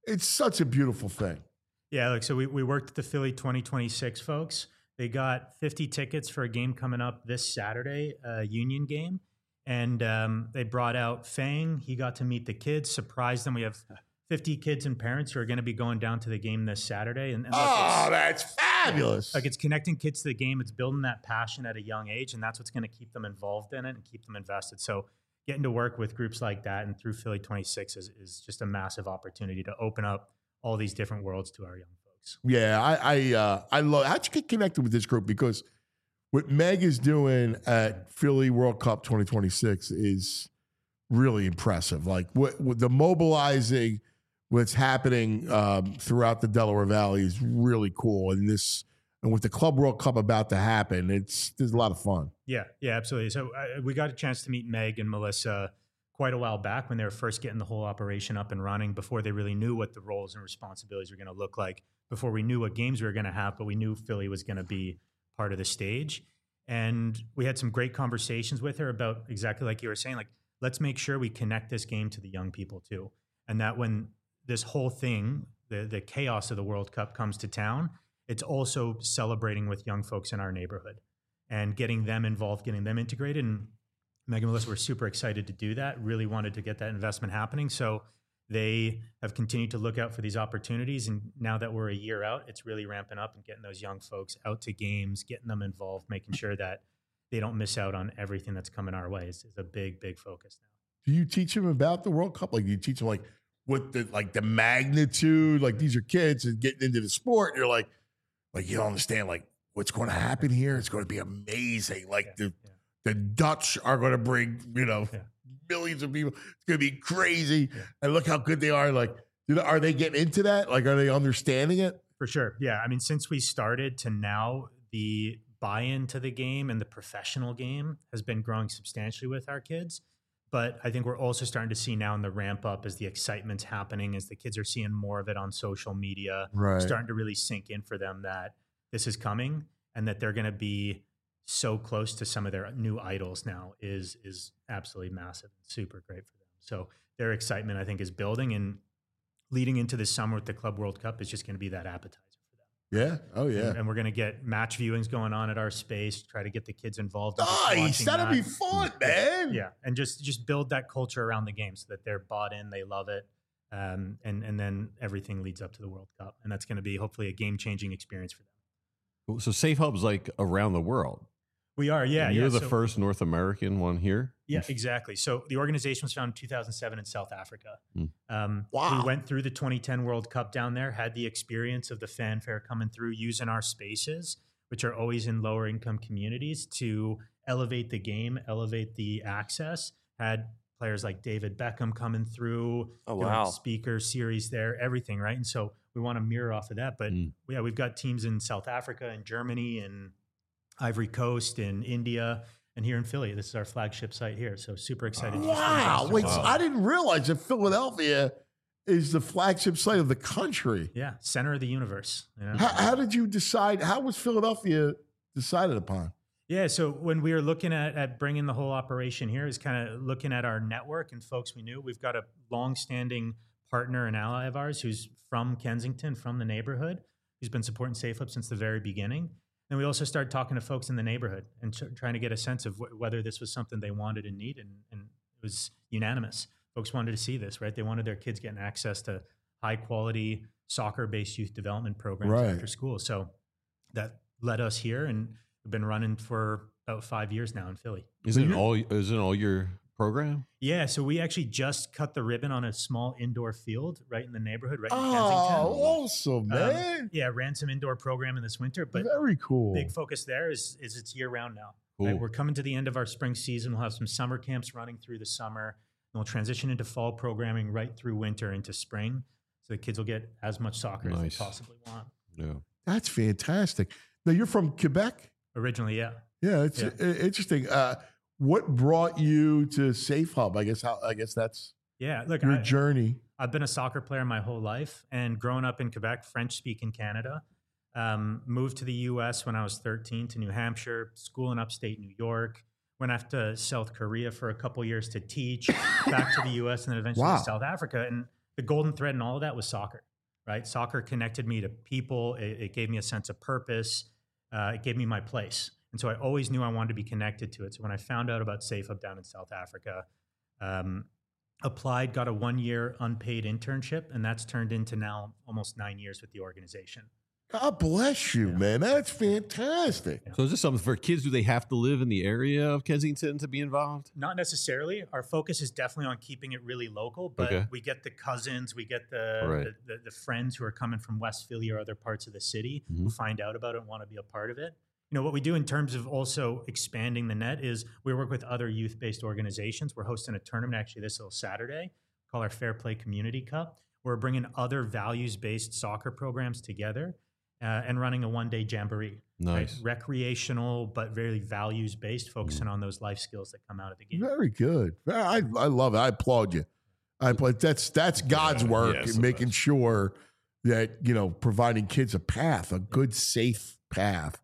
It's such a beautiful thing. Yeah, look, so we, we worked with the Philly twenty twenty-six folks. They got fifty tickets for a game coming up this Saturday, a Union game. And um, they brought out Fang. He got to meet the kids, surprised them. We have fifty kids and parents who are going to be going down to the game this Saturday. And, and look, oh, that's fabulous. Like, it's connecting kids to the game. It's building that passion at a young age, and that's what's going to keep them involved in it and keep them invested. So getting to work with groups like that and through Philly twenty-six is, is just a massive opportunity to open up all these different worlds to our young folks. Yeah, I I, uh, I love. How'd you get connected with this group? Because what Meg is doing at Philly World Cup twenty twenty-six is really impressive. Like what, what the mobilizing, what's happening um, throughout the Delaware Valley is really cool. And this, and with the Club World Cup about to happen, it's there's a lot of fun. Yeah, yeah, absolutely. So uh, we got a chance to meet Meg and Melissa quite a while back when they were first getting the whole operation up and running, before they really knew what the roles and responsibilities were going to look like, before we knew what games we were going to have, but we knew Philly was going to be part of the stage. And we had some great conversations with her about exactly like you were saying, like, let's make sure we connect this game to the young people too. And that when this whole thing, the, the chaos of the World Cup comes to town, it's also celebrating with young folks in our neighborhood and getting them involved, getting them integrated. And Meg and Melissa were super excited to do that, really wanted to get that investment happening. So they have continued to look out for these opportunities. And now that we're a year out, it's really ramping up and getting those young folks out to games, getting them involved, making sure that they don't miss out on everything that's coming our way is, is a big, big focus now. Do you teach them about the World Cup? Like, do you teach them like what the like the magnitude? Like, these are kids and getting into the sport. You're like, like you don't understand like what's going to happen here. It's going to be amazing. Like yeah, the yeah. the Dutch are going to bring you know yeah. millions of people. It's going to be crazy. Yeah. And look how good they are. Like, are they getting into that? Like, are they understanding it? For sure. Yeah. I mean, since we started to now, the buy-in to the game and the professional game has been growing substantially with our kids. But I think we're also starting to see now in the ramp up as the excitement's happening, as the kids are seeing more of it on social media, right. starting to really sink in for them that this is coming and that they're going to be so close to some of their new idols now is is absolutely massive and super great for them. So their excitement, I think, is building, and leading into this summer with the Club World Cup is just going to be that appetizer. Yeah. Oh, yeah. And, and we're going to get match viewings going on at our space, try to get the kids involved. In nice. That'll that. be fun, man. Yeah. And just, just build that culture around the game so that they're bought in, they love it. Um, and, and then everything leads up to the World Cup. And that's going to be hopefully a game-changing experience for them. So Safe Hub's like around the world. We are, yeah. And you're yeah. the so, first North American one here? Yeah, exactly. So the organization was founded in two thousand seven in South Africa. Mm. Um, wow. We went through the twenty ten World Cup down there, had the experience of the fanfare coming through, using our spaces, which are always in lower income communities, to elevate the game, elevate the access. Had players like David Beckham coming through, oh, doing wow. speaker series there, everything, right? And so we want to mirror off of that. But Mm. yeah, we've got teams in South Africa and Germany and Ivory Coast and India. And here in Philly, this is our flagship site here. So super excited. Wow. To Wait, so I didn't realize that Philadelphia is the flagship site of the country. Yeah. Center of the universe. You know? How, how did you decide? How was Philadelphia decided upon? Yeah. So when we were looking at, at bringing the whole operation here, is kind of looking at our network and folks we knew. We've got a longstanding partner and ally of ours who's from Kensington, from the neighborhood, who's been supporting Safe Hub since the very beginning. And we also started talking to folks in the neighborhood and t- trying to get a sense of wh- whether this was something they wanted and needed. And, and it was unanimous. Folks wanted to see this, right? They wanted their kids getting access to high quality soccer-based youth development programs right. after school. So that led us here, and we've been running for about five years now in Philly. Is it all? Is it all your program? Yeah, so we actually just cut the ribbon on a small indoor field right in the neighborhood, right in oh, Kensington. Oh, awesome, man. Um, yeah, ran some indoor programming this winter, but very cool. Big focus there is is it's year round now. Cool. Right? We're coming to the end of our spring season. We'll have some summer camps running through the summer, and we'll transition into fall programming right through winter into spring, so the kids will get as much soccer nice. as they possibly want. Yeah, that's fantastic. Now you're from Quebec? Originally, yeah. Yeah, it's yeah. Uh, interesting. Uh, What brought you to Safe Hub? I guess how I guess that's yeah. Look, your I, journey. I've been a soccer player my whole life, and growing up in Quebec, French-speaking Canada. Um, moved to the U S when I was thirteen to New Hampshire, school in upstate New York. Went off to South Korea for a couple years to teach. Back to the U S and then eventually wow. to South Africa. And the golden thread in all of that was soccer, right? Soccer connected me to people. It, it gave me a sense of purpose. Uh, it gave me my place. And so I always knew I wanted to be connected to it. So when I found out about Safe Hub down in South Africa, um, applied, got a one-year unpaid internship, and that's turned into now almost nine years with the organization. God bless you, yeah. man. That's fantastic. So is this something for kids? Do they have to live in the area of Kensington to be involved? Not necessarily. Our focus is definitely on keeping it really local, but okay. we get the cousins, we get the, right. the, the the friends who are coming from West Philly or other parts of the city mm-hmm. who find out about it and want to be a part of it. You know, what we do in terms of also expanding the net is we work with other youth-based organizations. We're hosting a tournament actually this little Saturday called our Fair Play Community Cup. We're bringing other values-based soccer programs together uh, and running a one-day jamboree. Nice. Right? Recreational, but very values-based, focusing mm. on those life skills that come out of the game. Very good. I, I love it. I applaud you. I applaud. That's, that's God's yeah, work yeah, in making best. sure that, you know, providing kids a path, a good, safe path.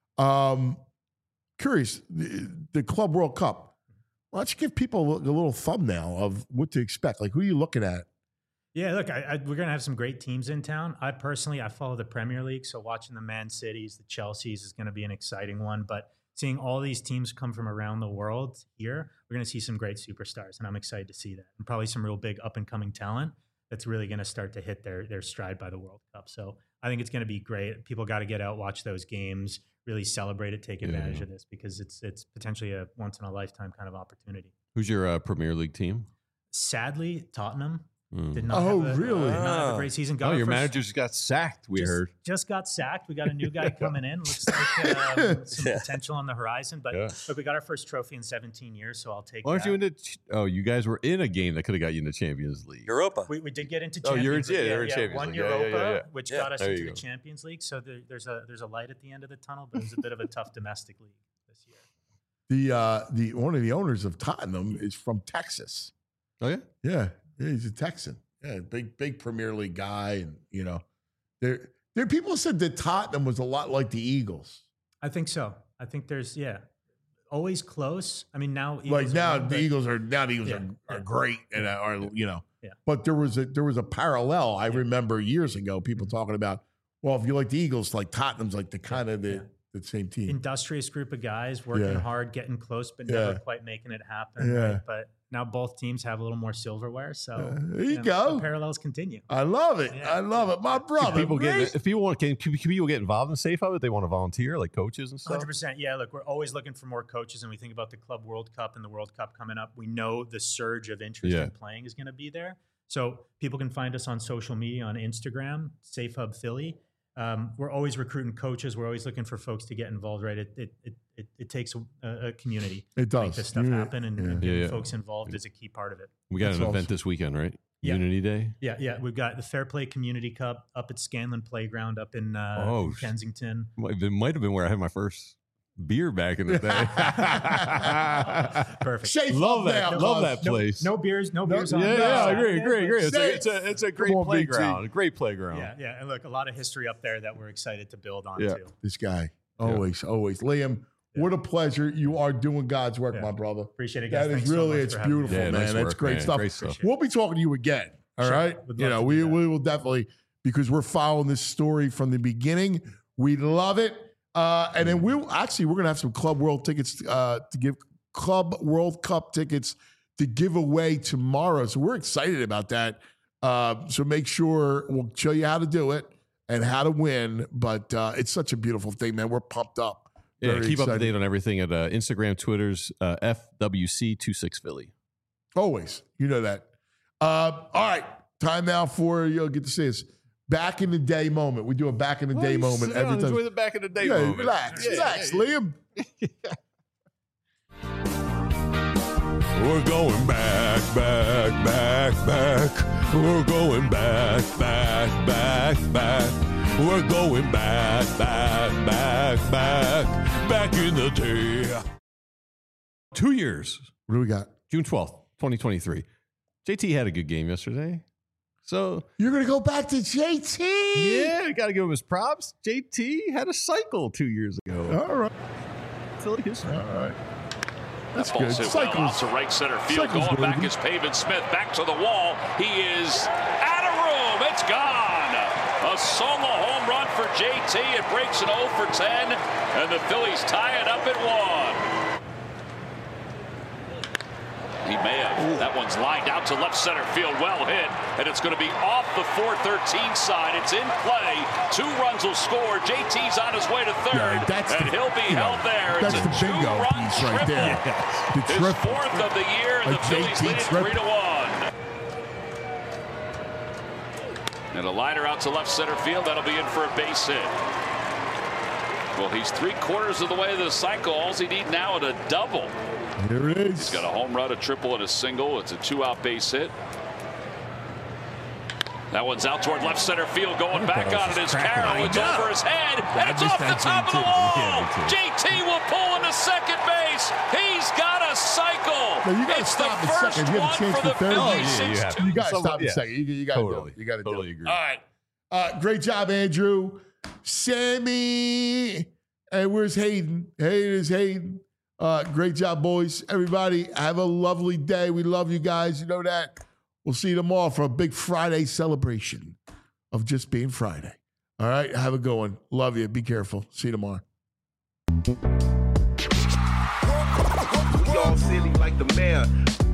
Um, curious, the, the Club World Cup. Why don't you give people a, a little thumbnail of what to expect? Like, who are you looking at? Yeah, look, I, I, we're going to have some great teams in town. I personally, I follow the Premier League, so watching the Man Cities, the Chelseas is going to be an exciting one. But seeing all these teams come from around the world here, we're going to see some great superstars, and I'm excited to see that. And probably some real big up-and-coming talent that's really going to start to hit their their stride by the World Cup. So I think it's going to be great. People got to get out, watch those games, really celebrate it, take advantage yeah. of this because it's it's potentially a once in a lifetime kind of opportunity. Who's your uh, Premier League team? Sadly, Tottenham. Mm. Did not oh, have a, really? Uh, did not have a great season. Got oh, your first, manager just got sacked, we just, heard. Just got sacked. We got a new guy coming in. Looks like um, some yeah. potential on the horizon. But yeah. look, we got our first trophy in seventeen years, so I'll take Why aren't that. you into Oh, you guys were in a game that could have got you into Champions League. Europa. We, we did get into oh, Champions you're, League. Yeah, Yeah, yeah, yeah, Champions one League. Europa, yeah, yeah, yeah. which yeah. got us there into the go. Champions League. So there, there's a there's a light at the end of the tunnel, but it was a bit of a tough domestic league this year. The uh, the one of the owners of Tottenham is from Texas. Oh yeah, yeah, yeah he's a Texan. Yeah, big big Premier League guy, and you know, there there people said that Tottenham was a lot like the Eagles. I think so. I think there's yeah, always close. I mean now Eagles like now wrong, the but, Eagles are now the Eagles yeah, are, are yeah. great and are you know. Yeah. But there was a there was a parallel. I yeah. remember years ago people talking about, well, if you like the Eagles, like Tottenham's like the kind of the. Yeah. The same team, industrious group of guys working yeah. hard, getting close, but yeah. never quite making it happen. Yeah. Right? But now both teams have a little more silverware, so uh, there you, you know, go. The parallels continue. I love it. Yeah. I love it, my brother. Can people get if people want can, can people get involved in Safe Hub if they want to volunteer, like coaches and stuff. Hundred percent. Yeah. Look, we're always looking for more coaches, and we think about the Club World Cup and the World Cup coming up. We know the surge of interest yeah. in playing is going to be there, so people can find us on social media on Instagram, Safe Hub Philly. Um, we're always recruiting coaches. We're always looking for folks to get involved, right? It it it, it, it takes a, a community it does. to make this stuff yeah. happen, and, yeah. and getting yeah, yeah. folks involved is a key part of it. We got That's an awesome. event this weekend, right? Yeah. Unity Day? Yeah, yeah. We've got the Fair Play Community Cup up at Scanlon Playground up in, uh, oh, in Kensington. It might have been where I had my first beer back in the day. Perfect. Safe love that. Now, love that no, place. No beers. No, no beers yeah, on. Yeah, no, yeah, I agree, agree, agree. It's a, it's a, it's a great on, playground. A great playground. Yeah, yeah. And look, a lot of history up there that we're excited to build on yeah. too. This guy, always, yeah. always. Liam, yeah. what a pleasure. You are doing God's work, yeah. my brother. Appreciate it, guys. That Thanks is really, so it's beautiful, yeah, man. nice That's work, great man. stuff. Great stuff. We'll be talking to you again. All sure. right. You know, we, we will definitely, because we're following this story from the beginning. We love it. Uh, and then we'll actually, we're going to have some Club World tickets uh, to give Club World Cup tickets to give away tomorrow. So we're excited about that. Uh, so make sure we'll show you how to do it and how to win. But uh, it's such a beautiful thing, man. We're pumped up. Yeah, Very keep excited. up to date on everything at uh, Instagram, Twitter's uh, F W C twenty-six Philly. Always. You know that. Uh, all right. Time now for, you'll get to see this. Back in the day moment. We do a back in the day well, moment every every time. Enjoy the back in the day yeah, moment. Relax, yeah, relax, yeah, Liam. We're going back, back, back, back. We're going back, back, back, back. We're going back, back, back, back. Back in the day. Two years. What do we got? June twelfth, twenty twenty-three. J T had a good game yesterday. So you're going to go back to J T? Yeah, got to give him his props. J T had a cycle two years ago. All right. Philly history. All right. That's that ball's hit well out to right center field. Going back is Pavin Smith. Back to the wall. He is out. Boom, it's gone. A solo home run for J T. It breaks an oh for ten, and the Phillies tie it up at one. He may have. Ooh. That one's lined out to left center field. Well hit. And it's going to be off the four thirteen side. It's in play. Two runs will score. J T's on his way to third. Yeah, and the, he'll be held know, there. It's a two-run triple. Right there. The his triple. fourth of the year. And the Phillies lead it three to one. And a liner out to left center field. That'll be in for a base hit. Well, he's three quarters of the way to the cycle. All he needs now is a double. Here it is. He's got a home run, a triple, and a single. It's a two-out base hit. That one's out toward left center field. Going oh, back on it is Carroll. It's over his head, and it's off the top of the wall. Yeah, J T will pull into second base. He's got a cycle. No, you got to stop in second. You have a chance for third. Oh, yeah, you have. You got to stop in second. You, you got to totally, do it. You got to totally do it. agree. All right. Uh, great job, Andrew. Sammy. Hey, where's Hayden? Hey, there's Hayden. Uh, great job, boys. Everybody, have a lovely day. We love you guys. You know that. We'll see you tomorrow for a big Friday celebration of just being Friday. All right? Have a good one. Love you. Be careful. See you tomorrow. We all silly like the mayor.